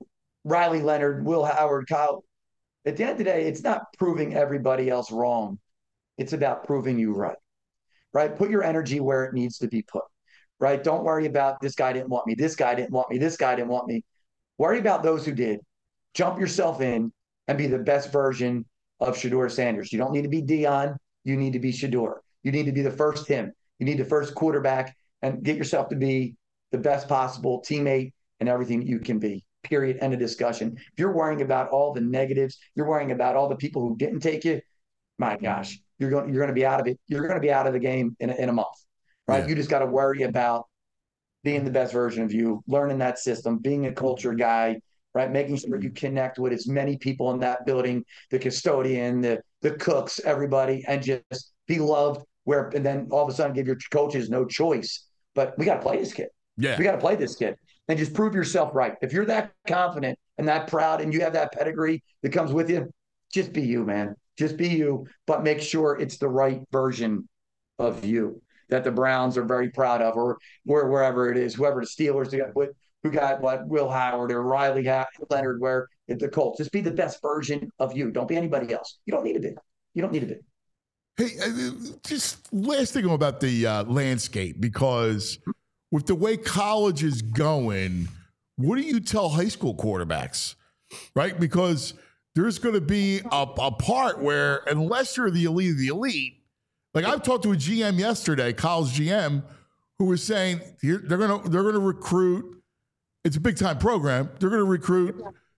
Riley Leonard, Will Howard, Kyle. At the end of the day, it's not proving everybody else wrong. It's about proving you right. Right? Put your energy where it needs to be put. Right? Don't worry about this guy didn't want me. This guy didn't want me. This guy didn't want me. Worry about those who did. Jump yourself in and be the best version of Shedeur Sanders. You don't need to be Dion. You need to be Shedeur. You need to be the first him. You need the first quarterback and get yourself to be the best possible teammate and everything you can be. Period. End of discussion. If you're worrying about all the negatives, you're worrying about all the people who didn't take you, my gosh, you're going you're going to be out of it. You're going to be out of the game in a, in a month. Right? Yeah. You just got to worry about being the best version of you, learning that system, being a culture guy, right? Making sure you connect with as many people in that building, the custodian, the the cooks, everybody, and just be loved. Where and then all of a sudden give your coaches no choice. But we got to play this kid. Yeah, we got to play this kid and just prove yourself right. If you're that confident and that proud, and you have that pedigree that comes with you, just be you, man. Just be you, but make sure it's the right version of you that the Browns are very proud of, or where wherever it is, whoever the Steelers got, what who got what Will Howard or Riley Leonard, where at the Colts, just be the best version of you. Don't be anybody else. You don't need to be. You don't need to be. Hey, just last thing about the uh, landscape, because with the way college is going, what do you tell high school quarterbacks, right? Because there's going to be a, a part where unless you're the elite of the elite, like I've talked to a G M yesterday, college G M, who was saying they're going to they're going to recruit. It's a big time program. They're going to recruit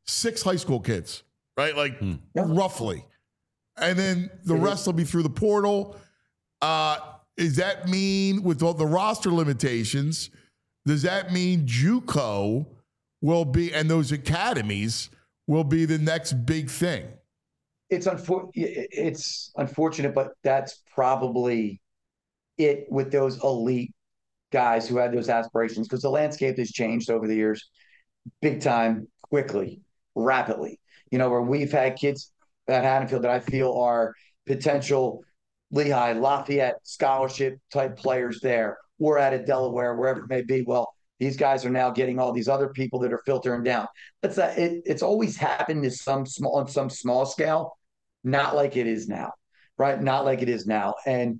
six high school kids, right? Like Hmm. roughly. And then the rest will be through the portal. Uh, does that mean with all the roster limitations, does that mean JUCO will be, and those academies will be the next big thing? It's unfor- it's unfortunate, but that's probably it with those elite guys who had those aspirations, because the landscape has changed over the years big time, quickly, rapidly. You know, where we've had kids at Haddonfield that I feel are potential Lehigh, Lafayette scholarship type players there, or at a Delaware, wherever it may be. Well, these guys are now getting all these other people that are filtering down. It's a, it, it's always happened to some small on some small scale, not like it is now, right? Not like it is now. And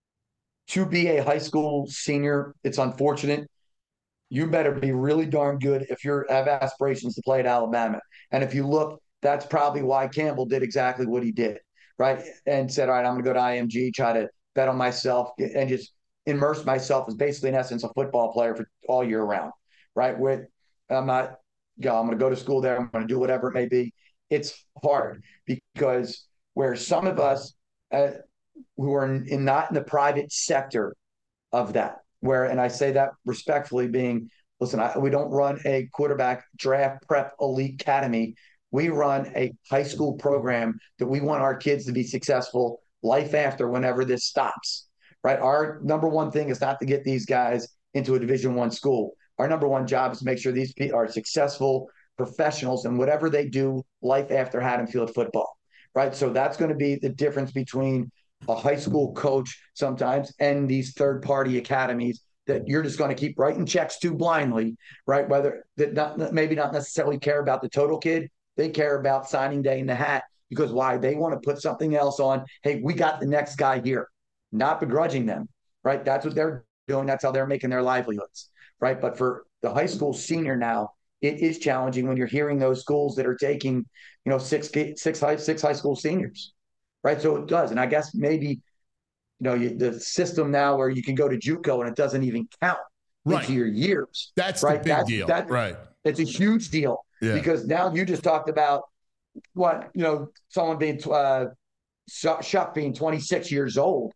to be a high school senior, it's unfortunate. You better be really darn good if you have aspirations to play at Alabama. And if you look, that's probably why Campbell did exactly what he did, right? And said, all right, I'm going to go to I M G, try to bet on myself, and just immerse myself as basically, in essence, a football player for all year round, right? With I'm not, you know, I'm going to go to school there. I'm going to do whatever it may be. It's hard because where some of us uh, who are in, in not in the private sector of that, where, and I say that respectfully, being, listen, I, we don't run a quarterback draft prep elite academy. We run a high school program that we want our kids to be successful life after, whenever this stops, right? Our number one thing is not to get these guys into a Division One school. Our number one job is to make sure these people are successful professionals in whatever they do life after Haddonfield football, right? So that's going to be the difference between a high school coach sometimes and these third-party academies that you're just going to keep writing checks to blindly, right? Whether that not maybe not necessarily care about the total kid, they care about signing day in the hat, because why? They want to put something else on. Hey, we got the next guy here, not begrudging them, right? That's what they're doing. That's how they're making their livelihoods, right? But for the high school senior now, it is challenging when you're hearing those schools that are taking, you know, six, six, high, six high school seniors, right? So it does. And I guess maybe, you know, you, the system now where you can go to JUCO and it doesn't even count Right. into your years. That's right? the big That's, deal. that, Right. It's a huge deal. Yeah. Because now you just talked about what, you know, someone being uh, Shough being twenty-six years old.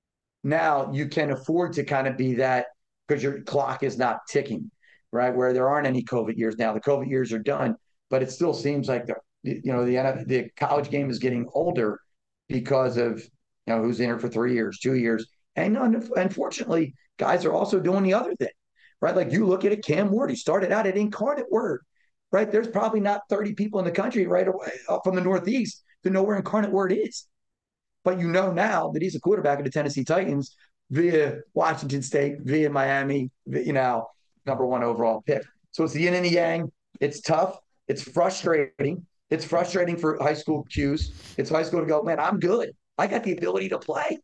Now you can afford to kind of be that because your clock is not ticking, right? Where there aren't any COVID years now. The COVID years are done, but it still seems like the you know the the college game is getting older because of, you know, who's in it for three years, two years, and unfortunately, guys are also doing the other thing, right? Like you look at it, Cam Ward, he started out at Incarnate Word. Right, there's probably not thirty people in the country right away up from the Northeast to know where Incarnate Word is. But you know now that he's a quarterback of the Tennessee Titans via Washington State, via Miami, you know, number one overall pick. So it's the yin and the yang. It's tough. It's frustrating. It's frustrating for high school Qs. It's high school to go, man, I'm good. I got the ability to play.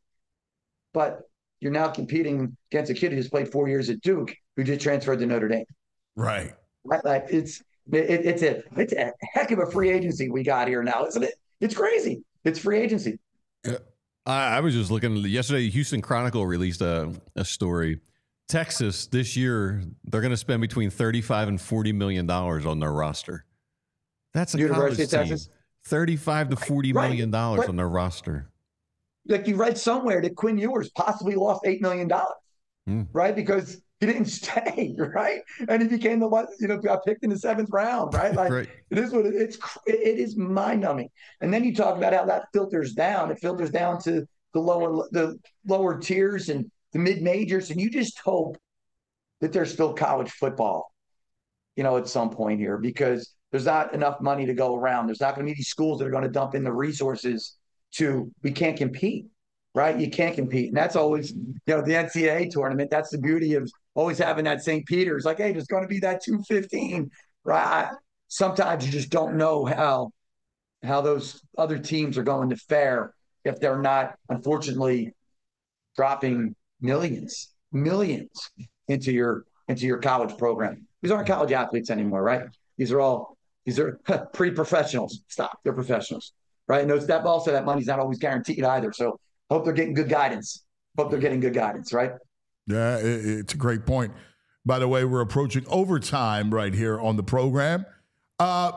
But you're now competing against a kid who just played four years at Duke, who just transferred to Notre Dame. Right. Right, like it's. It, it's a it's a heck of a free agency we got here now, isn't it? It's crazy. It's free agency. Yeah. I, I was just looking yesterday. Houston Chronicle released a, a story. Texas this year, they're going to spend between thirty-five and forty million dollars on their roster. That's a University of college Texas, team. Thirty-five to forty right. million dollars But, on their roster. like you read somewhere that Quinn Ewers possibly lost eight million dollars, mm. right? Because he didn't stay, right? And he became the one, you know, got picked in the seventh round, right? Like right. it is what it, it's. It is mind numbing. And then you talk about how that filters down. It filters down to the lower, the lower tiers and the mid majors, and you just hope that there's still college football, you know, at some point here, because there's not enough money to go around. There's not going to be these schools that are going to dump in the resources to. We can't compete. Right? You can't compete. And that's always, you know, the N C double A tournament. That's the beauty of always having that Saint Peter's. Like, hey, there's going to be that two fifteen. Right? Sometimes you just don't know how how those other teams are going to fare if they're not, unfortunately, dropping millions, millions into your into your college program. These aren't college athletes anymore, right? These are all these are pre-professionals. Stop. They're professionals. Right? And those, that also that money's not always guaranteed either. So hope they're getting good guidance. Hope they're getting good guidance, right? Yeah, it, it's a great point. By the way, we're approaching overtime right here on the program. Uh,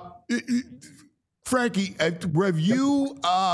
Frankie, have you? Uh,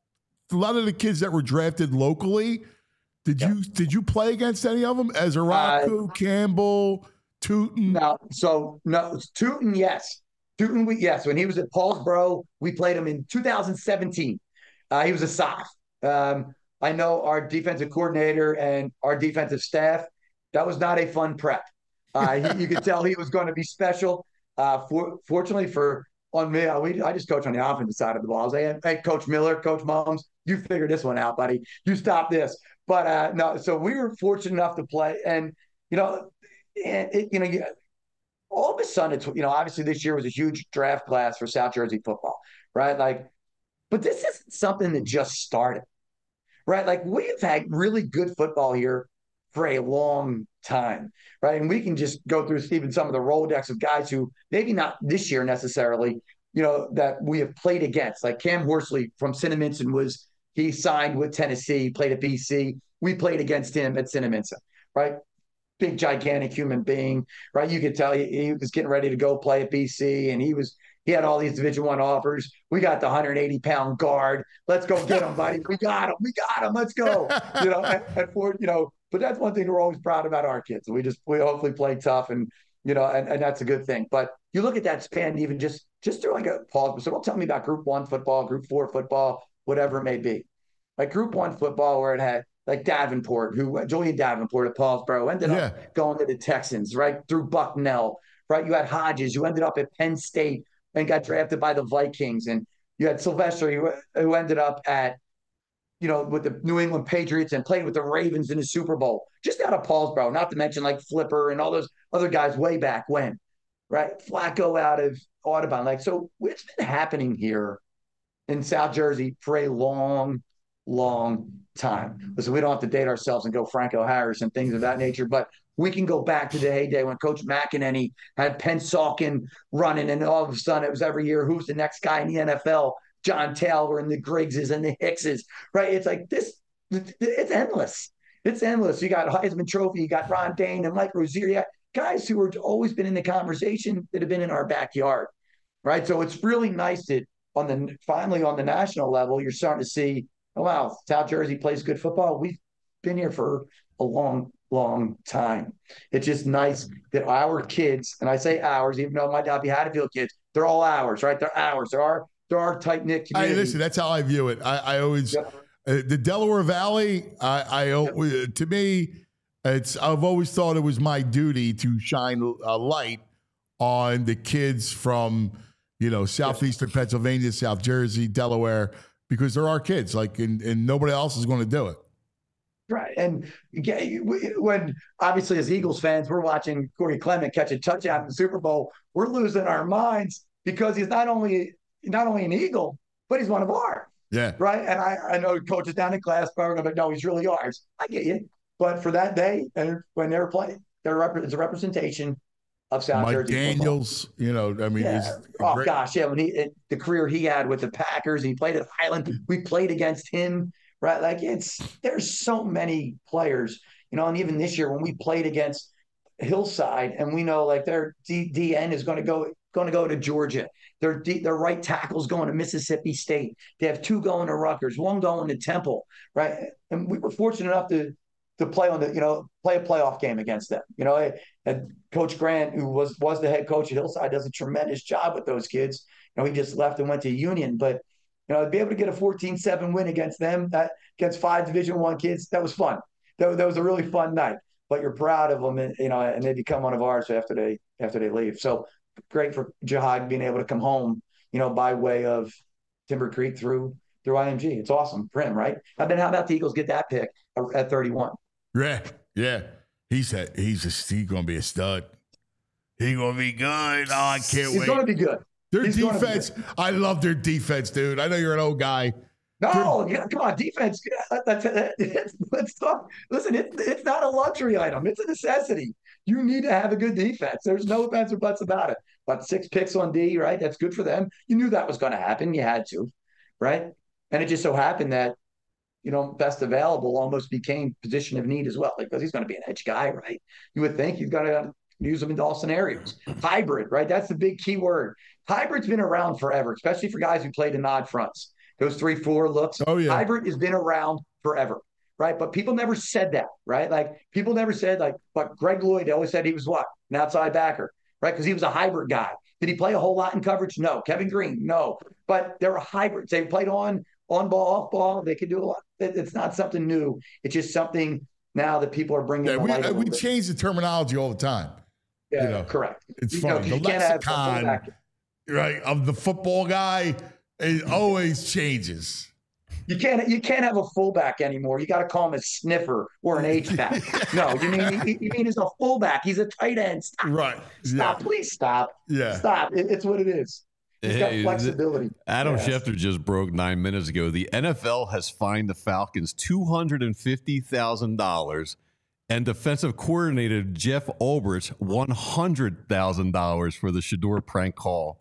a lot of the kids that were drafted locally, did you did you play against any of them? Ezeraku, uh, Campbell, Tootin? No, so no, Tootin, yes. Tootin, we, yes. When he was at Paulsboro, we played him in two thousand seventeen. Uh, he was a soph. Um, I know our defensive coordinator and our defensive staff, that was not a fun prep. Uh, he, you could tell he was going to be special. Uh, for, fortunately for on me, I, we, I just coach on the offensive side of the ball. I was like, hey, Coach Miller, Coach Mums, you figure this one out, buddy. You stop this. But uh, no, so we were fortunate enough to play. And, you know, it, it, you know, you, all of a sudden, it's, you know, obviously this year was a huge draft class for South Jersey football, right? Like, but this isn't something that just started, right? Like, we've had really good football here for a long time, right? And we can just go through even some of the Rolodex of guys who maybe not this year necessarily, you know, that we have played against. Like Cam Horsley from Cinnaminson was, he signed with Tennessee, played at B C. We played against him at Cinnaminson, right? Big, gigantic human being, right? You could tell he, he was getting ready to go play at B C, and he was he had all these Division One offers. We got the one hundred eighty pound guard. Let's go get him, buddy. We got him. We got him. Let's go. You know, and, and for you know, but that's one thing we're always proud about our kids. We just we hopefully play tough, and you know, and, and that's a good thing. But you look at that span, even just just through like a pause. So don't tell me about Group One football, Group Four football, whatever it may be. Like Group One football, where it had like Davenport, who Julian Davenport at Paulsboro ended yeah. up going to the Texans, right? Through Bucknell, right? You had Hodges, who ended up at Penn State and got drafted by the Vikings. And you had Sylvester, who, who ended up at, you know, with the New England Patriots and played with the Ravens in the Super Bowl, just out of Paulsboro, not to mention like Flipper and all those other guys way back when, right? Flacco out of Audubon. Like, so it's been happening here in South Jersey for a long, long time. Listen, we don't have to date ourselves and go Franco Harris and things of that nature, but we can go back to the heyday when Coach McEnany had Penn Salkin running, and all of a sudden it was every year, who's the next guy in the N F L? John Taylor and the Griggses and the Hickses, right? It's like this, it's endless. It's endless. You got Heisman Trophy, you got Ron Dane and Mike Rozier, you got guys who have always been in the conversation that have been in our backyard, right? So it's really nice that on the finally on the national level, you're starting to see, oh, wow, South Jersey plays good football. We've been here for a long, long time. It's just nice that our kids, and I say ours, even though it might not be Haddonfield kids, they're all ours, right? They're ours. They're our, they're our tight-knit community. Hey, listen, that's how I view it. I, I always, yep. uh, the Delaware Valley, I, I yep. to me, it's I've always thought it was my duty to shine a light on the kids from, you know, southeastern yep. Pennsylvania, South Jersey, Delaware, because they're our kids, like, and, and nobody else is going to do it. Right. And when, obviously, as Eagles fans, we're watching Corey Clement catch a touchdown in the Super Bowl, we're losing our minds because he's not only not only an Eagle, but he's one of ours. Yeah. Right. And I, I know coaches down in Glassboro, but no, he's really ours. I get you. But for that day, and when they're playing, they're rep- it's a representation of South Mike Jersey Daniels, football. You know, I mean, yeah. oh great- gosh, yeah. When he it, the career he had with the Packers, he played at Highland. We played against him, right? Like it's there's so many players, you know. And even this year when we played against Hillside, and we know like their D- DN is going to go going to go to Georgia. Their D- their right tackle's going to Mississippi State. They have two going to Rutgers, one going to Temple, right? And we were fortunate enough to. to play on the, you know, play a playoff game against them. You know, and Coach Grant, who was was the head coach at Hillside, does a tremendous job with those kids. You know, he just left and went to Union. But, you know, to be able to get a fourteen seven win against them, that against five Division One kids, that was fun. That, that was a really fun night. But you're proud of them, and, you know, and they become one of ours after they after they leave. So great for Jihad being able to come home, you know, by way of Timber Creek through through I M G. It's awesome for him, right? And then how about the Eagles get that pick at thirty-one? Yeah, yeah. He's a, he's a, he's going to be a stud. He's going to be good. Oh, I can't he's wait. He's going to be good. Their he's defense, I love their defense, dude. I know you're an old guy. No, yeah, come on, defense. That's, that's, let's talk. Listen, it, it's not a luxury item. It's a necessity. You need to have a good defense. There's no ifs or buts about it. But six picks on D, right? That's good for them. You knew that was going to happen. You had to, right? And it just so happened that, you know, best available almost became position of need as well, because he's going to be an edge guy, right? You would think he's going to use them in all scenarios. Hybrid, right? That's the big key word. Hybrid's been around forever, especially for guys who played in odd fronts. Those three, four looks. Oh, yeah. Hybrid has been around forever, right? But people never said that, right? Like people never said like, but Greg Lloyd always said he was what? An outside backer, right? Because he was a hybrid guy. Did he play a whole lot in coverage? No. Kevin Green? No. But they're hybrids. They played on, on ball, off ball. They could do a lot. It's not something new. It's just something now that people are bringing. Yeah, we, light we change the terminology all the time. Yeah, you know, correct. It's you funny. Know, the lexicon, right, of the football guy, it always changes. You can't you can't have a fullback anymore. You got to call him a sniffer or an H-back. No, you mean you, you mean he's a fullback. He's a tight end. Stop. Right. Stop. Yeah. Please stop. Yeah. Stop. It, it's what it is. He's Hey, got flexibility. Adam yes. Schefter just broke nine minutes ago. The N F L has fined the Falcons two hundred fifty thousand dollars and defensive coordinator Jeff Ulbrich one hundred thousand dollars for the Shador prank call.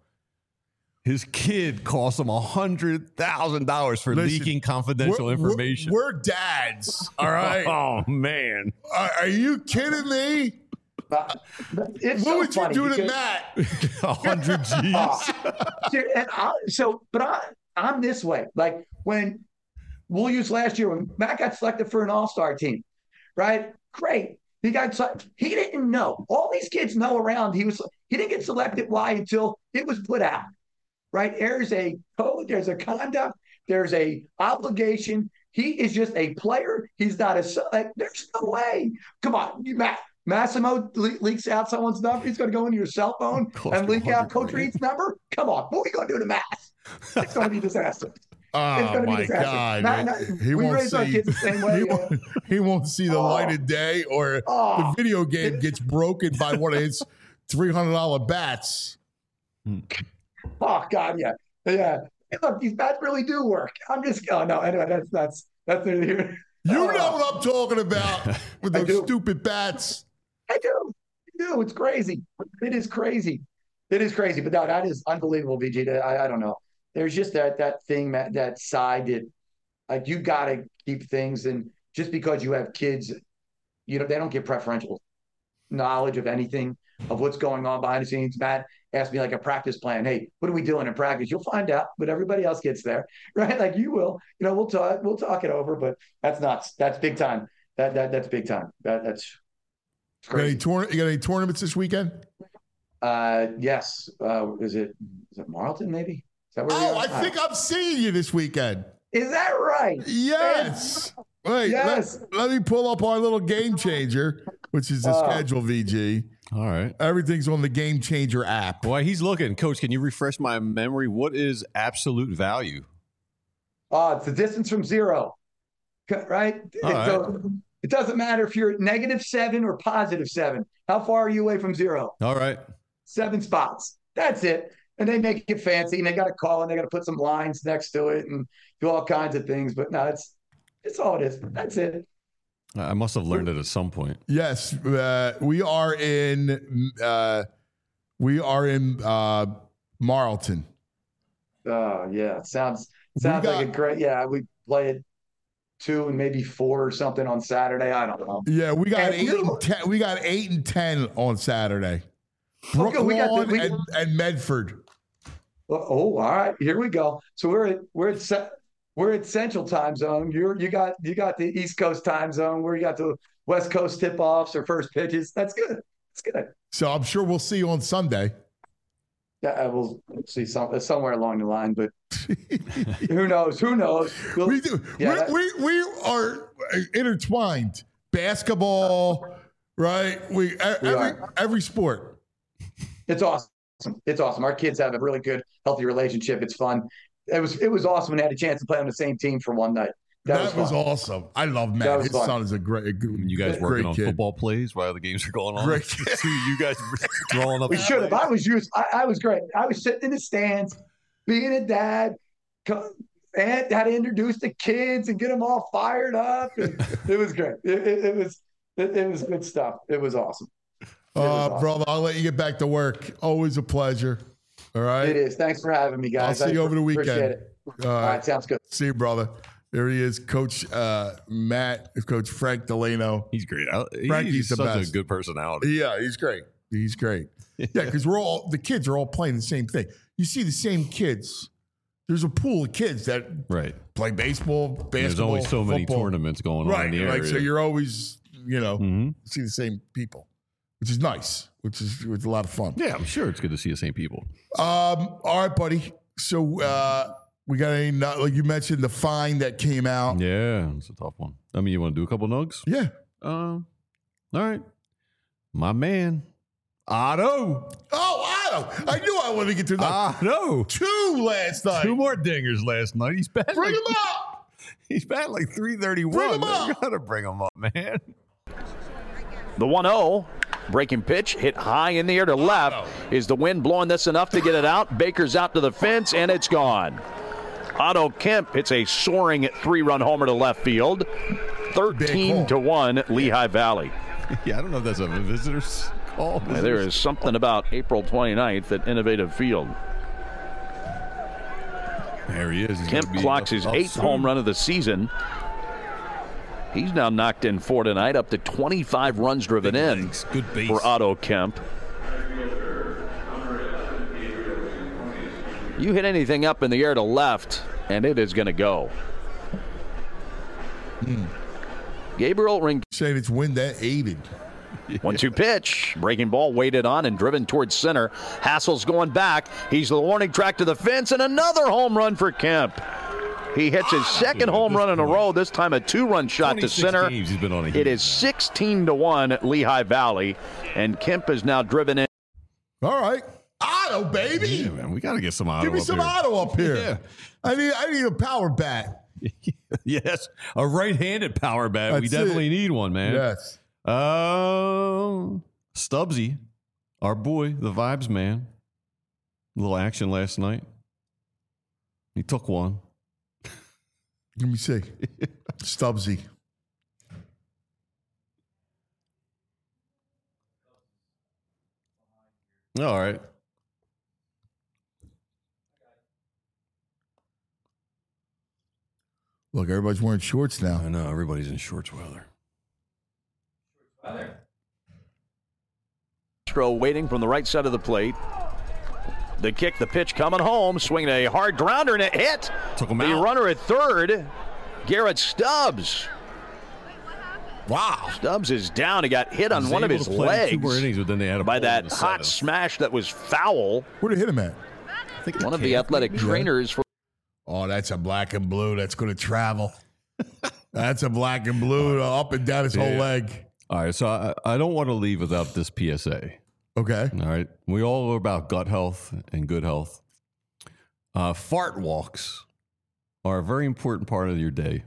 His kid cost him one hundred thousand dollars for Listen, leaking confidential we're, information. We're, we're dads, all right? Oh, man. Are, are you kidding me? Uh, it's what so would funny you do to because, Matt? one hundred G's. Uh, and I, so, but I, I'm this way. Like when we'll use last year when Matt got selected for an all-star team, right? Great. He got he didn't know. All these kids know around. He was he didn't get selected. Why? Until it was put out. Right? There's a code. There's a conduct. There's a obligation. He is just a player. He's not a. Like, there's no way. Come on, you Matt. Massimo le- leaks out someone's number. He's going to go into your cell phone and leak out Coach Reed's number. Come on, what are we going to do to Matt? It's going to be a disaster. Oh my God! Not, not, he we won't raise our see. kids the same way. He, you know? won't, he won't see the Oh. light of day, or Oh. the video game gets broken by one of his three hundred dollar bats. Oh God, yeah, yeah. Hey, look, these bats really do work. I'm just. Oh no. Anyway, that's that's that's it here. You Oh. know what I'm talking about with I those do. stupid bats. I do. I do. It's crazy. It is crazy. It is crazy. But no, that is unbelievable, V G. I, I don't know. There's just that that thing, that, that side that, like, you got to keep things. And just because you have kids, you know, they don't get preferential knowledge of anything, of what's going on behind the scenes. Matt asked me like a practice plan. Hey, what are we doing in practice? You'll find out, but everybody else gets there, right? Like you will. You know, we'll talk. We'll talk it over. But that's nuts. That's big time. That that that's big time. That that's. You got, any tour- you got any tournaments this weekend? Uh, yes. Uh, is it is it Marlton? Maybe. Is that where we Oh, are? I think I'm seeing you this weekend. Is that right? Yes. Wait, Yes. Let, let me pull up our little game changer, which is the Oh. schedule, V G. All right. Everything's on the Game Changer app. While he's looking, Coach, can you refresh my memory? What is absolute value? Oh, it's the distance from zero, right? All right. So it doesn't matter if you're at negative seven or positive seven. How far are you away from zero? All right. Seven spots. That's it. And they make it fancy, and they got to call, and they got to put some lines next to it, and do all kinds of things. But no, it's it's all it is. That's it. I must have learned it at some point. Yes, uh, we are in. Uh, we are in uh, Marlton. Oh yeah, sounds sounds got- like a great. Yeah, we play it two and maybe four or something on Saturday. I don't know. Yeah, we got And eight you- and ten. We got eight and ten on Saturday. Okay, we got the- Brooklawn we- and, and Medford. Oh, all right, here we go. So we're at we're at Ce- we're at Central Time Zone. You're you got you got the East Coast Time Zone where you got the West Coast tip offs or first pitches. That's good. That's good. So I'm sure we'll see you on Sunday. Yeah, we'll see some somewhere along the line, but who knows? Who knows? We'll- We do. Yeah, that- we, we we are intertwined. Basketball, right? We, e- every are. every sport. It's awesome. It's awesome. Our kids have a really good, healthy relationship. It's fun. It was it was awesome when they had a chance to play on the same team for one night. That, That, was, was, fun. awesome. I love That Matt. was His fun. son is a great, a good, You guys great working on kid. football plays while the games are going on? Great. See you guys drawing up. We should have. I was used. I, I was great. I was sitting in the stands, being a dad, co- and had to introduce the kids and get them all fired up. And it was great. It, it, it was it, it was good stuff. It was awesome. It Uh, was awesome. brother, I'll let you get back to work. Always a pleasure. All right. It is. Thanks for having me, guys. I'll see I you over the appreciate weekend. it. All All right. right, sounds good. See you, brother. There he is, Coach uh, Matt, Coach Frank Delano. He's great. I- Frankie's He's the such best. a good personality. Yeah, he's great. He's great. Yeah, because we're all the kids are all playing the same thing. You see the same kids. There's a pool of kids that right. play baseball, basketball. There's always so many football. tournaments going right, on in the area. Like, so you're always, you know, mm-hmm. see the same people, which is nice, which is which is a lot of fun. Yeah, I'm sure it's good to see the same people. Um, all right, buddy. So uh, we got any, like you mentioned, the fine that came out. Yeah, it's a tough one. I mean, you want to do a couple nugs? Yeah. Um, uh, all right. My man, Otto. Oh, Otto. I knew I wanted to get to that. Otto. Two last night. Two more dingers last night. He's batting. Bring like, him up. He's batting like three thirty-one. Bring him You up. gotta bring him up, man. The one oh. Breaking pitch, hit high in the air to left. Is the wind blowing this enough to get it out? Baker's out to the fence, and it's gone. Otto Kemp hits a soaring three-run homer to left field. thirteen to one, Lehigh Valley. Yeah, I don't know if that's a visitor's call. Visitors. There is something about April twenty-ninth at Innovative Field. There he is. He's Kemp clocks his eighth soon. home run of the season. He's now knocked in four tonight, up to twenty-five runs driven Big in Good base. for Otto Kemp. You hit anything up in the air to left, and it is going to go. Hmm. Gabriel Ring. Saying it's wind that aided. one two pitch. Breaking ball weighted on and driven towards center. Hassel's going back. He's the warning track to the fence, and another home run for Kemp. He hits his second home run in a row, this time a two-run shot to center. Games he's been on a it is sixteen to one Lehigh Valley, and Kemp is now driven in. All right. Otto, baby. Yeah, man, we got to get some Otto Give me up some here. Otto up here. Yeah. I need I need a power bat. Yes, a right-handed power bat. That's we definitely it. need one, man. Yes. Uh, Stubbsy, our boy, the Vibes man. A little action last night. He took one. Let me see. Stubbsy. All right. Look, everybody's wearing shorts now. I know. Everybody's in shorts weather. Castro waiting from the right side of the plate. The kick, the pitch coming home, swinging a hard grounder, and it hit. Took him the out. runner at third, Garrett Stubbs. Wow. Stubbs is down. He got hit on Was one of able his to play legs two more innings, but then they had a by ball in that the hot seventh. smash that was foul. Where'd it hit him at? I think One of the athletic maybe? trainers for Oh, that's a black and blue. That's going to travel. That's a black and blue up and down his whole Yeah. leg. All right, so I, I don't want to leave without this P S A. Okay. All right, we all are about gut health and good health. Uh, fart walks are a very important part of your day.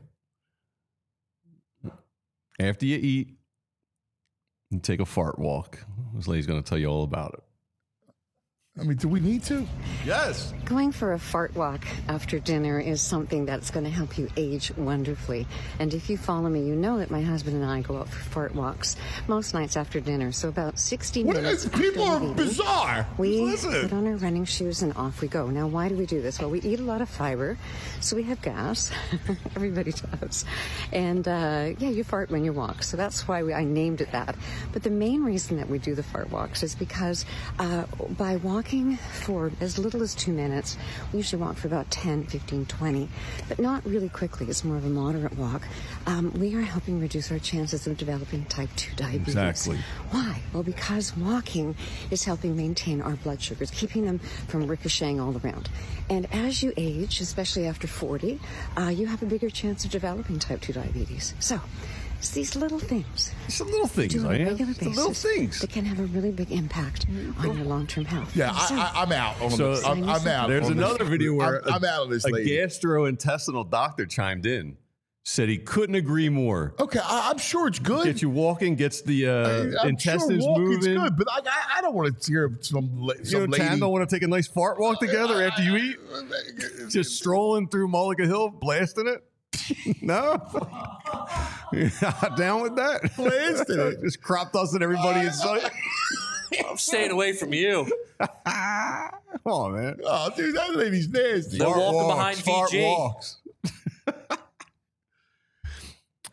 After you eat, you take a fart walk. This lady's going to tell you all about it. I mean, do we need to? Yes. Going for a fart walk after dinner is something that's going to help you age wonderfully. And if you follow me, you know that my husband and I go out for fart walks most nights after dinner. So about sixty What minutes is, after people are we've eaten, bizarre. we Listen. put on our running shoes and off we go. Now, why do we do this? Well, we eat a lot of fiber, so we have gas. Everybody does. And, uh, yeah, you fart when you walk. So that's why we, I named it that. But the main reason that we do the fart walks is because uh, by walking for as little as two minutes, we usually walk for about ten, fifteen, twenty, but not really quickly. It's more of a moderate walk. Um, we are helping reduce our chances of developing type two diabetes. Exactly. Why? Well, because walking is helping maintain our blood sugars, keeping them from ricocheting all around. And as you age, especially after forty, uh, you have a bigger chance of developing type two diabetes. So, it's these little things. It's the little things, do on a I am. regular It's the basis little things. that can have a really big impact on your long-term health. Yeah, So- I, I, I'm out. On So this. I'm, I'm out. There's on this. another video where I'm, I'm out of this a lady. gastrointestinal doctor chimed in, said he couldn't agree more. Okay, I, I'm sure it's good. Gets you walking, gets the uh, I, I'm intestines sure walking's moving. good, but I, I, I don't want to hear some, la- You some know, lady. Tan don't want to take a nice fart walk together after you eat? Just strolling through Mulligan Hill, blasting it? No? You're not down with that? Blasting it. Just crop dusting everybody in sight? I'm staying away from you. Come on, man. Oh, dude, that lady's nasty. They're Fart walking walks, behind fart V G. walks.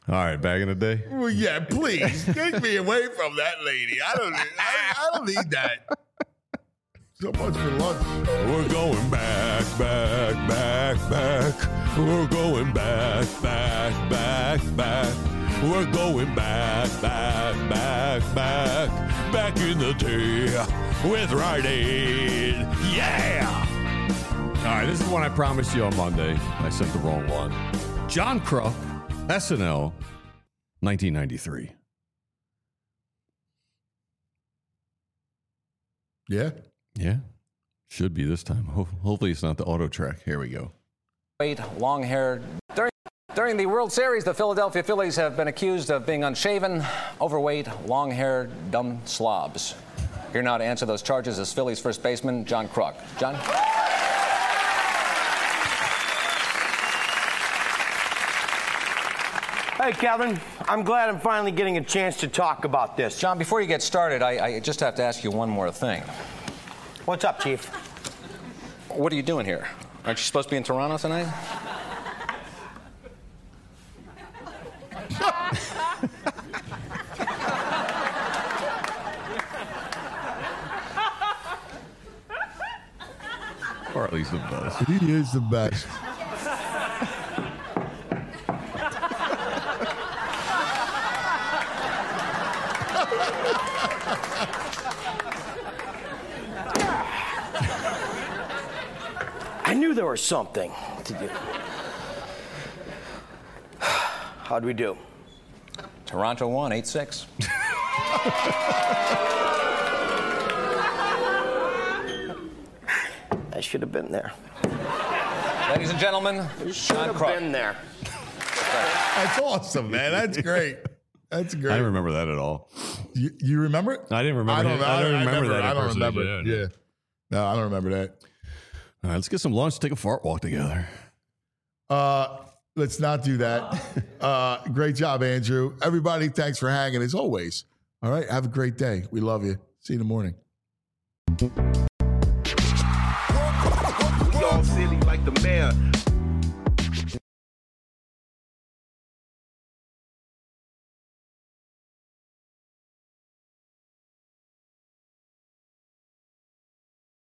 All right, back in the day. Well, yeah, please take me away from that lady. I don't. I, I don't need that. So much for lunch. We're going back, back, back, back. We're going back, back, back, back. We're going back, back, back, back. Back in the day with Rite Aid. Yeah! All right, this is one I promised you on Monday. I sent the wrong one. John Kruk, S N L, nineteen ninety-three. Yeah? Yeah. Should be this time. Ho- hopefully it's not the auto track. Here we go. Wait, long-haired. During, during the World Series, the Philadelphia Phillies have been accused of being unshaven, overweight, long-haired, dumb slobs. Here now to answer those charges is Phillies first baseman John Kruk. John? Hey, Kevin. I'm glad I'm finally getting a chance to talk about this. John, before you get started, I, I just have to ask you one more thing. What's up, Chief? What are you doing here? Aren't you supposed to be in Toronto tonight? Hartley's the best. He is the best. I knew there was something to do. How'd we do? Toronto won, eight six. I should have been there. Ladies and gentlemen, Should John have Kruk. been there. That's awesome, man. That's great. That's great. I don't remember that at all. You, you remember it? I didn't remember I don't, him. I don't I remember never- that I don't impersonation. remember it. Yeah. No, I don't remember that. All right, let's get some lunch. Take a fart walk together. Uh, let's not do that. Uh, great job, Andrew. Everybody, thanks for hanging as always. All right, have a great day. We love you. See you in the morning. Y'all silly like the mayor.